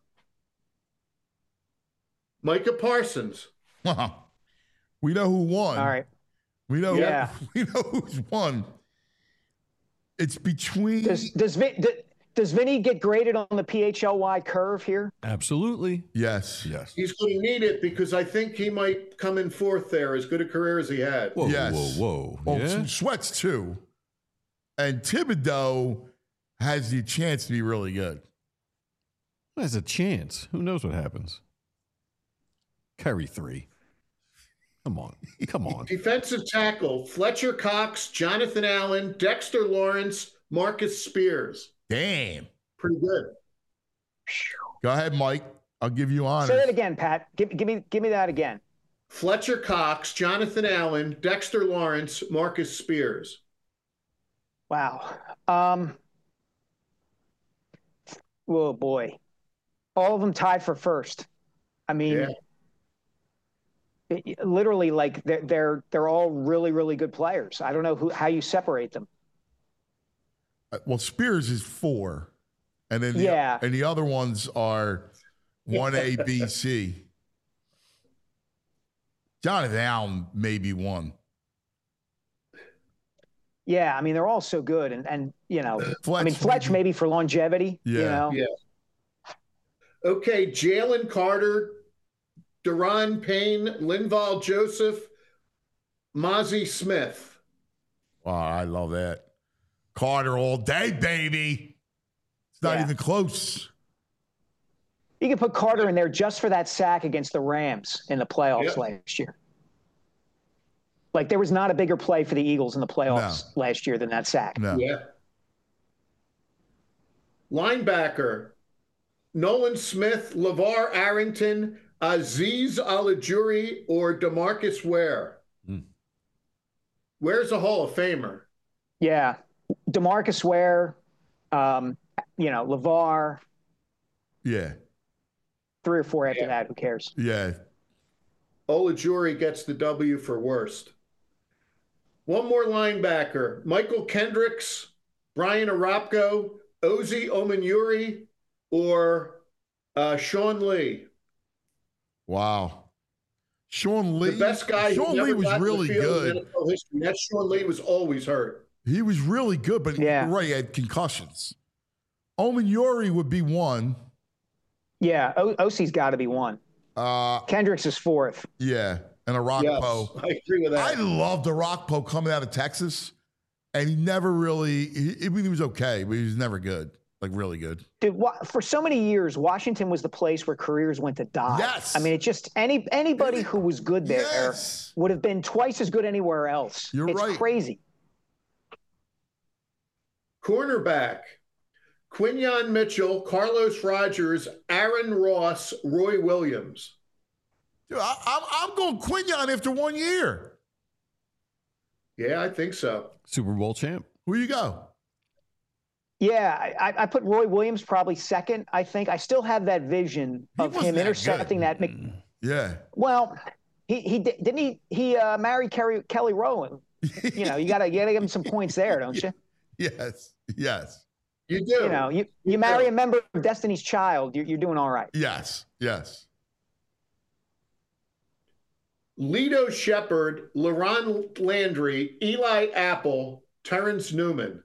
Micah Parsons. We know who won. All right. We know. Yeah. We know who's won. It's between. Does Vinny get graded on the PHLY curve here? Absolutely. Yes. Yes. He's going to need it because I think he might come in fourth there, as good a career as he had. Whoa, Yes. whoa. Oh, Yeah? some Sweats too. And Thibodeau has the chance to be really good. There's a chance. Who knows what happens? Curry 3. Come on. Defensive tackle, Fletcher Cox, Jonathan Allen, Dexter Lawrence, Marcus Spears. Damn. Pretty good. Go ahead, Mike. I'll give you honors. Say it again, Pat. Give me that again. Fletcher Cox, Jonathan Allen, Dexter Lawrence, Marcus Spears. Wow. Oh boy. All of them tied for first. I mean, literally, like they're all really, really good players. I don't know how you separate them. Well, Spears is 4. And then and the other ones are 1A, B, C. Jonathan Allen maybe 1. Yeah, I mean they're all so good, and Fletch, Fletch maybe for longevity. Yeah. Okay, Jalen Carter, Deron Payne, Linval Joseph, Mozzie Smith. Wow, I love that. Carter all day, baby. It's not even close. You can put Carter in there just for that sack against the Rams in the playoffs last year. Like there was not a bigger play for the Eagles in the playoffs last year than that sack. No. Yeah. Linebacker, Nolan Smith, LeVar Arrington, Aziz Alajuri, or DeMarcus Ware. Ware's a Hall of Famer. Yeah. DeMarcus Ware, LeVar. Yeah. 3 or 4 after that. Who cares? Yeah. Olajuri gets the W for worst. One more linebacker, Michael Kendricks, Brian Arapko, Ozzy Omenuri, or Sean Lee. Wow. Sean Lee. The best guy Sean who never Lee was got to the really field in good. NFL history. That Sean Lee was always hurt. He was really good, but you're right, he had concussions. Omenuri would be 1. Yeah, OC's got to be 1. Kendricks is 4th. Yeah, and Arakpo. Yes, I agree with that. I loved Arakpo coming out of Texas, and he never really. He was okay, but he was never good, like really good. Dude, for so many years, Washington was the place where careers went to die. Yes. I mean, it just anybody who was good there would have been twice as good anywhere else. You're right. It's crazy. Cornerback, Quinyon Mitchell, Carlos Rogers, Aaron Ross, Roy Williams. Dude, I'm going Quinyon after 1 year. Yeah, I think so. Super Bowl champ. Who you go? Yeah, I put Roy Williams probably 2nd. I think I still have that vision of him intercepting that. Yeah. Well, he married Kelly Rowan You know, you gotta give him some points there, don't you? Yes. Yes. You do. You know, you marry a member of Destiny's Child, you're doing all right. Yes. Yes. Lito Shepard, LaRon Landry, Eli Apple, Terrence Newman.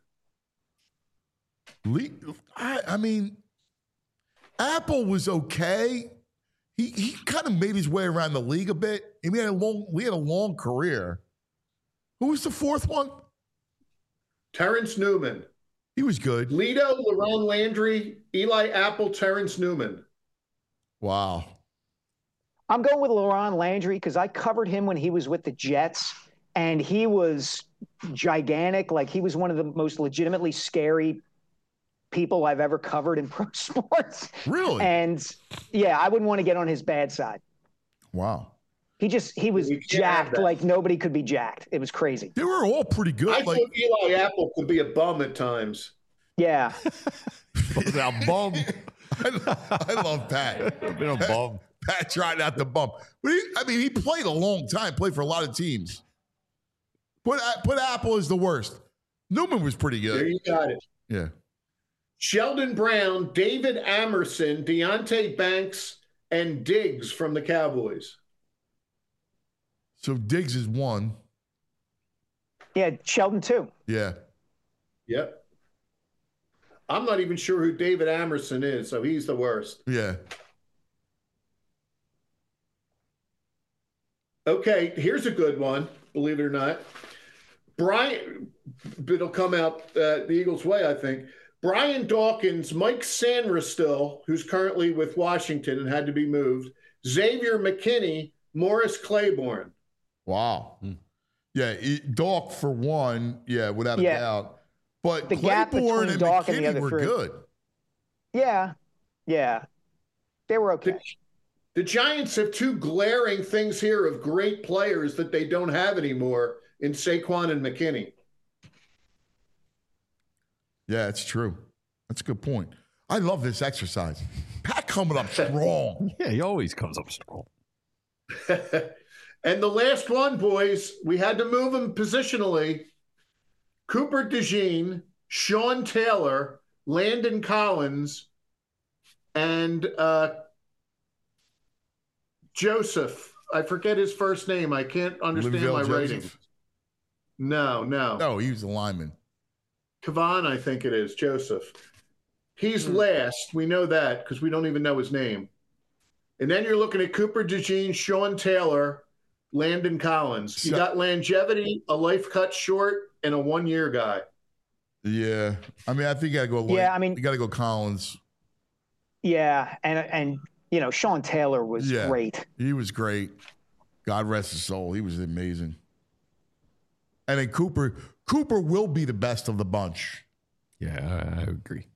I mean, Apple was okay. He kind of made his way around the league a bit. We had a long career. Who was the fourth one? Terrence Newman. He was good. Lito, LaRon Landry, Eli Apple, Terrence Newman. Wow. I'm going with LaRon Landry because I covered him when he was with the Jets, and he was gigantic. Like, he was one of the most legitimately scary people I've ever covered in pro sports. Really? And yeah, I wouldn't want to get on his bad side. Wow. He was jacked like nobody could be jacked. It was crazy. They were all pretty good. I thought Eli Apple could be a bum at times. Yeah. A bum. I love Pat. I've been a bum. Pat tried not to bump. But he played a long time, played for a lot of teams. Put Apple as the worst. Newman was pretty good. There you got it. Yeah. Sheldon Brown, David Amerson, Deonte Banks, and Diggs from the Cowboys. So Diggs is one. Yeah, Sheldon too. Yeah. Yep. I'm not even sure who David Amerson is, so he's the worst. Yeah. Okay, here's a good one, believe it or not. Brian, it'll come out the Eagles' way, I think. Brian Dawkins, Mike Sanderstill, who's currently with Washington and had to be moved, Xavier McKinney, Morris Claiborne. Wow. Yeah, Dawk for one, without a doubt. But the gap Claiborne between and Dawk and the McKinney other were three. good. Yeah. They were okay. The Giants have two glaring things here of great players that they don't have anymore in Saquon and McKinney. Yeah, it's true. That's a good point. I love this exercise. Pat coming up strong. Yeah, he always comes up strong. And the last one, boys, we had to move him positionally. Cooper DeJean, Sean Taylor, Landon Collins, and Joseph. I forget his first name. I can't understand Linville my Joseph? writing. No. No, he was a lineman. Kavan, I think it is, Joseph. He's last. We know that because we don't even know his name. And then you're looking at Cooper DeJean, Sean Taylor, Landon Collins. You got longevity, a life cut short, and a one-year guy. Yeah. I think you got to go. You got to go Collins. Yeah, and you know, Sean Taylor was great. He was great. God rest his soul. He was amazing. And then Cooper will be the best of the bunch. Yeah, I agree.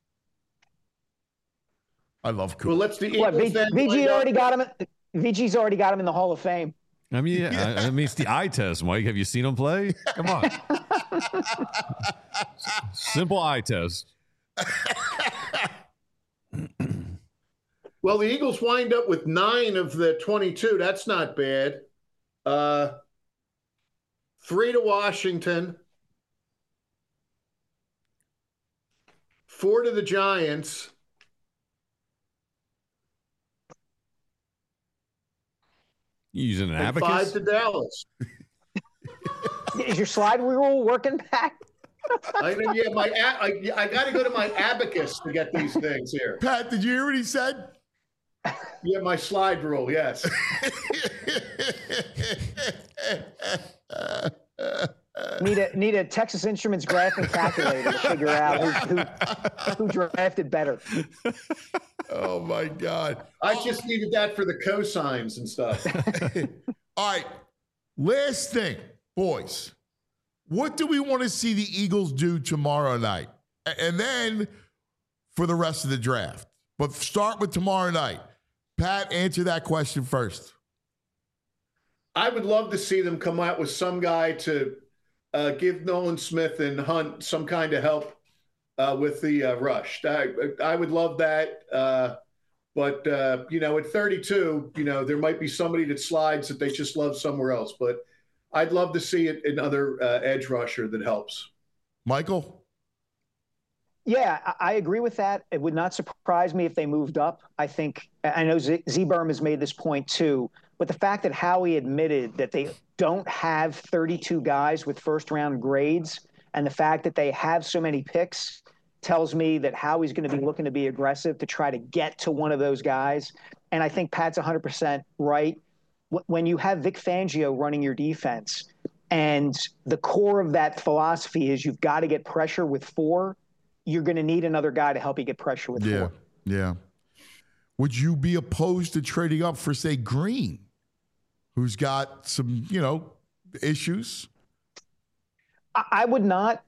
I love Cooper. Well, let's the Eagles then. VG's already got him in the Hall of Fame. I mean, it's the eye test, Mike. Have you seen him play? Come on. Simple eye test. Well, the Eagles wind up with 9 of the 22. That's not bad. 3 to Washington. 4 to the Giants. You using an And abacus? 5 to Dallas. Is your slide rule working, Pat? I got to go to my abacus to get these things here. Pat, did you hear what he said? Yeah, my slide rule, yes. Need a Texas Instruments graphing calculator to figure out who drafted better. Oh my God! I just needed that for the cosigns and stuff. All right, last thing, boys. What do we want to see the Eagles do tomorrow night, and then for the rest of the draft? But start with tomorrow night. Pat, answer that question first. I would love to see them come out with some guy to give Nolan Smith and Hunt some kind of help with the rush. I would love that. But at 32, there might be somebody that slides that they just love somewhere else. But I'd love to see it another edge rusher that helps. Michael? Yeah, I agree with that. It would not surprise me if they moved up. I know Z-Berm has made this point too, but the fact that Howie admitted that they don't have 32 guys with first-round grades, and the fact that they have so many picks tells me that Howie's going to be looking to be aggressive to try to get to one of those guys. And I think Pat's 100% right. When you have Vic Fangio running your defense, and the core of that philosophy is you've got to get pressure with 4, you're going to need another guy to help you get pressure with 4. Yeah. Would you be opposed to trading up for, say, Green, who's got some, issues? I would not.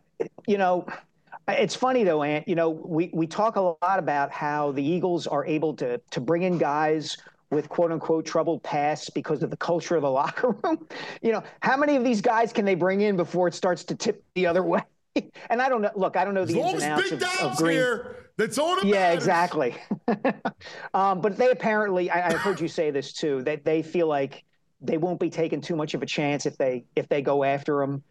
It's funny, though, Ant. We talk a lot about how the Eagles are able to bring in guys with quote-unquote troubled pasts because of the culture of the locker room. How many of these guys can they bring in before it starts to tip the other way? And I don't know. Look, I don't know the ins and outs of Green. Here, that's all that matters. Yeah, exactly. But they apparently, I heard you say this too, that they feel like they won't be taking too much of a chance if they go after him.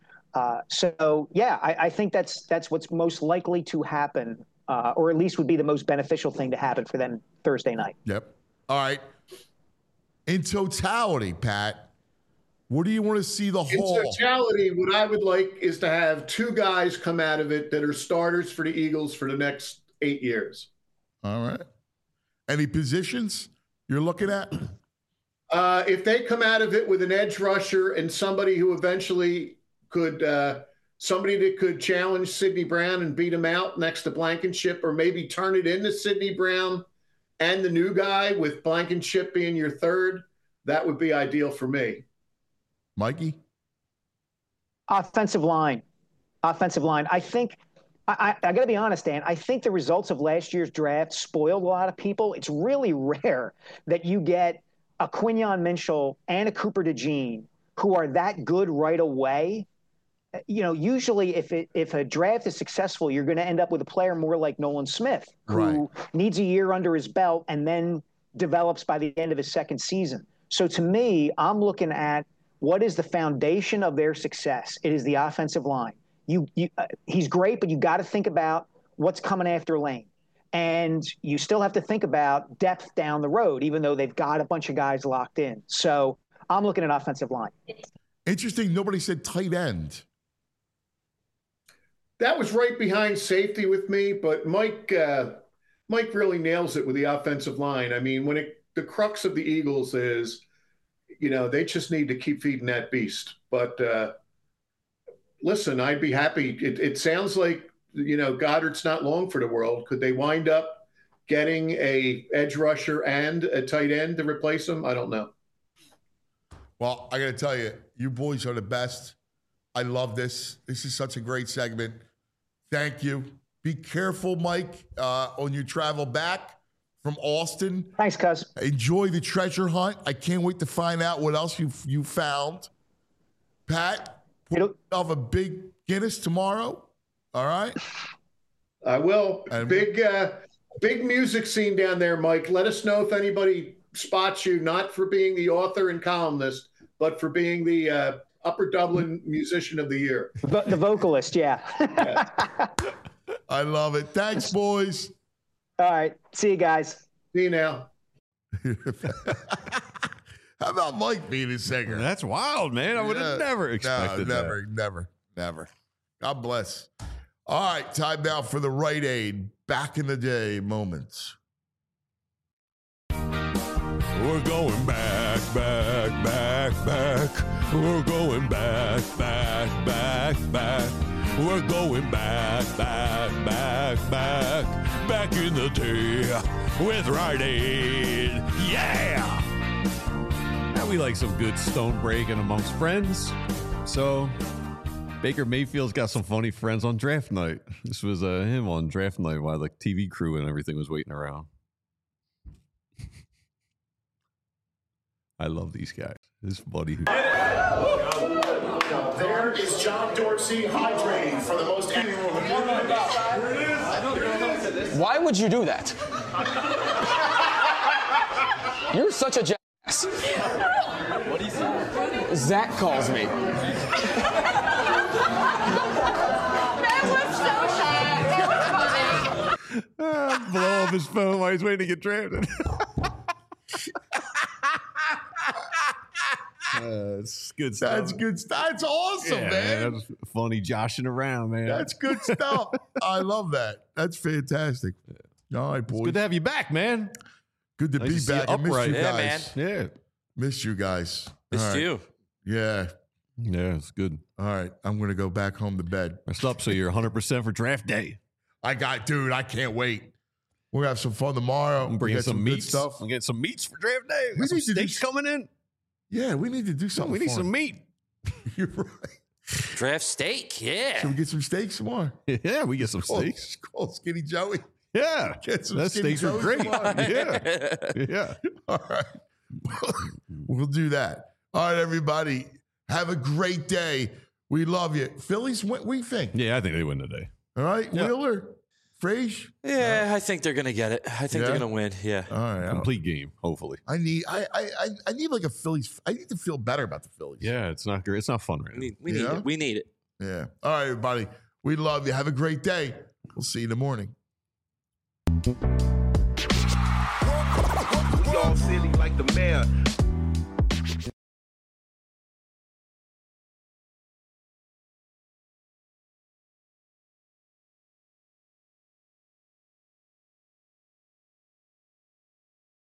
I think that's what's most likely to happen, or at least would be the most beneficial thing to happen for them Thursday night. Yep. All right. In totality, Pat, what do you want to see the whole? In totality, what I would like is to have 2 guys come out of it that are starters for the Eagles for the next 8 years. All right. Any positions you're looking at? If they come out of it with an edge rusher and somebody who eventually could, somebody that could challenge Sidney Brown and beat him out next to Blankenship, or maybe turn it into Sidney Brown and the new guy with Blankenship being your third, that would be ideal for me. Mikey? Offensive line. I think, I got to be honest, Dan, I think the results of last year's draft spoiled a lot of people. It's really rare that you get a Quinyon Minshall and a Cooper DeJean who are that good right away. Usually if a draft is successful, you're going to end up with a player more like Nolan Smith, who needs a year under his belt and then develops by the end of his second season. So to me, I'm looking at what is the foundation of their success. It is the offensive line. He's great, but you got to think about what's coming after Lane. And you still have to think about depth down the road, even though they've got a bunch of guys locked in. So I'm looking at offensive line. Interesting. Nobody said tight end. That was right behind safety with me, but Mike really nails it with the offensive line. I mean, the crux of the Eagles is, they just need to keep feeding that beast. But listen, I'd be happy. It sounds like, Goddard's not long for the world. Could they wind up getting a edge rusher and a tight end to replace him? I don't know. Well, I got to tell you, you boys are the best. I love this. This is such a great segment. Thank you. Be careful, Mike, on your travel back from Austin. Thanks, cuz. Enjoy the treasure hunt. I can't wait to find out what else you found. Pat, put yourself a big Guinness tomorrow. All right? I will. And big music scene down there, Mike. Let us know if anybody spots you, not for being the author and columnist, but for being the Upper Dublin Musician of the Year. The vocalist, yeah. I love it. Thanks, boys. All right. See you guys. See you now. How about Mike being a singer? That's wild, man. I would have never expected that. Never. God bless. All right, time now for the Rite Aid back in the day moments. We're going back. We're going back. We're going back in the day with Rite Aid. Yeah! Now we like some good stone breaking amongst friends. So Baker Mayfield's got some funny friends on draft night. This was him on draft night while the TV crew and everything was waiting around. I love these guys. This buddy who. There is John Dorsey hydrating for the most. Why would you do that? You're such a jackass. What do you say? Zach calls me. Blow up his phone while he's waiting to get drafted. It's good stuff. That's good stuff. That's awesome, Yeah, man. That's funny joshing around, man. That's good stuff. I love that. That's fantastic. All right, boys. It's good to have you back, man. Good to Nice be to see you back. I missed upright. you Yeah, guys. Yeah. Missed you guys. Missed All right. you. Yeah. Yeah, it's good. All right. I'm going to go back home to bed. Messed up, so you're 100% for draft day. Dude, I can't wait. We're going to have some fun tomorrow. I'm bringing We'll get some good meats. stuff. We'll get some meats for draft day. We We some need to do steaks coming in. Yeah, we need to do something. We need fun. some meat. You're right. Draft steak, yeah. Should we get some steaks tomorrow? Yeah, we get some steaks. Call Skinny Joey. Yeah. Get some That Skinny steaks are Joey great. tomorrow. Yeah. Yeah. All right. We'll do that. All right, everybody. Have a great day. We love you. Phillies, what do you think? Yeah, I think they win today. All right. Yeah. Wheeler, Frage. Yeah, I think they're gonna get it. I think they're Yeah? gonna win. Yeah. All right. Complete game, hopefully. I need like a Phillies. I need to feel better about the Phillies. Yeah, it's not great. It's not fun right now. We need it. We need it. Yeah. All right, everybody. We love you. Have a great day. We'll see you in the morning. We all silly like the mayor.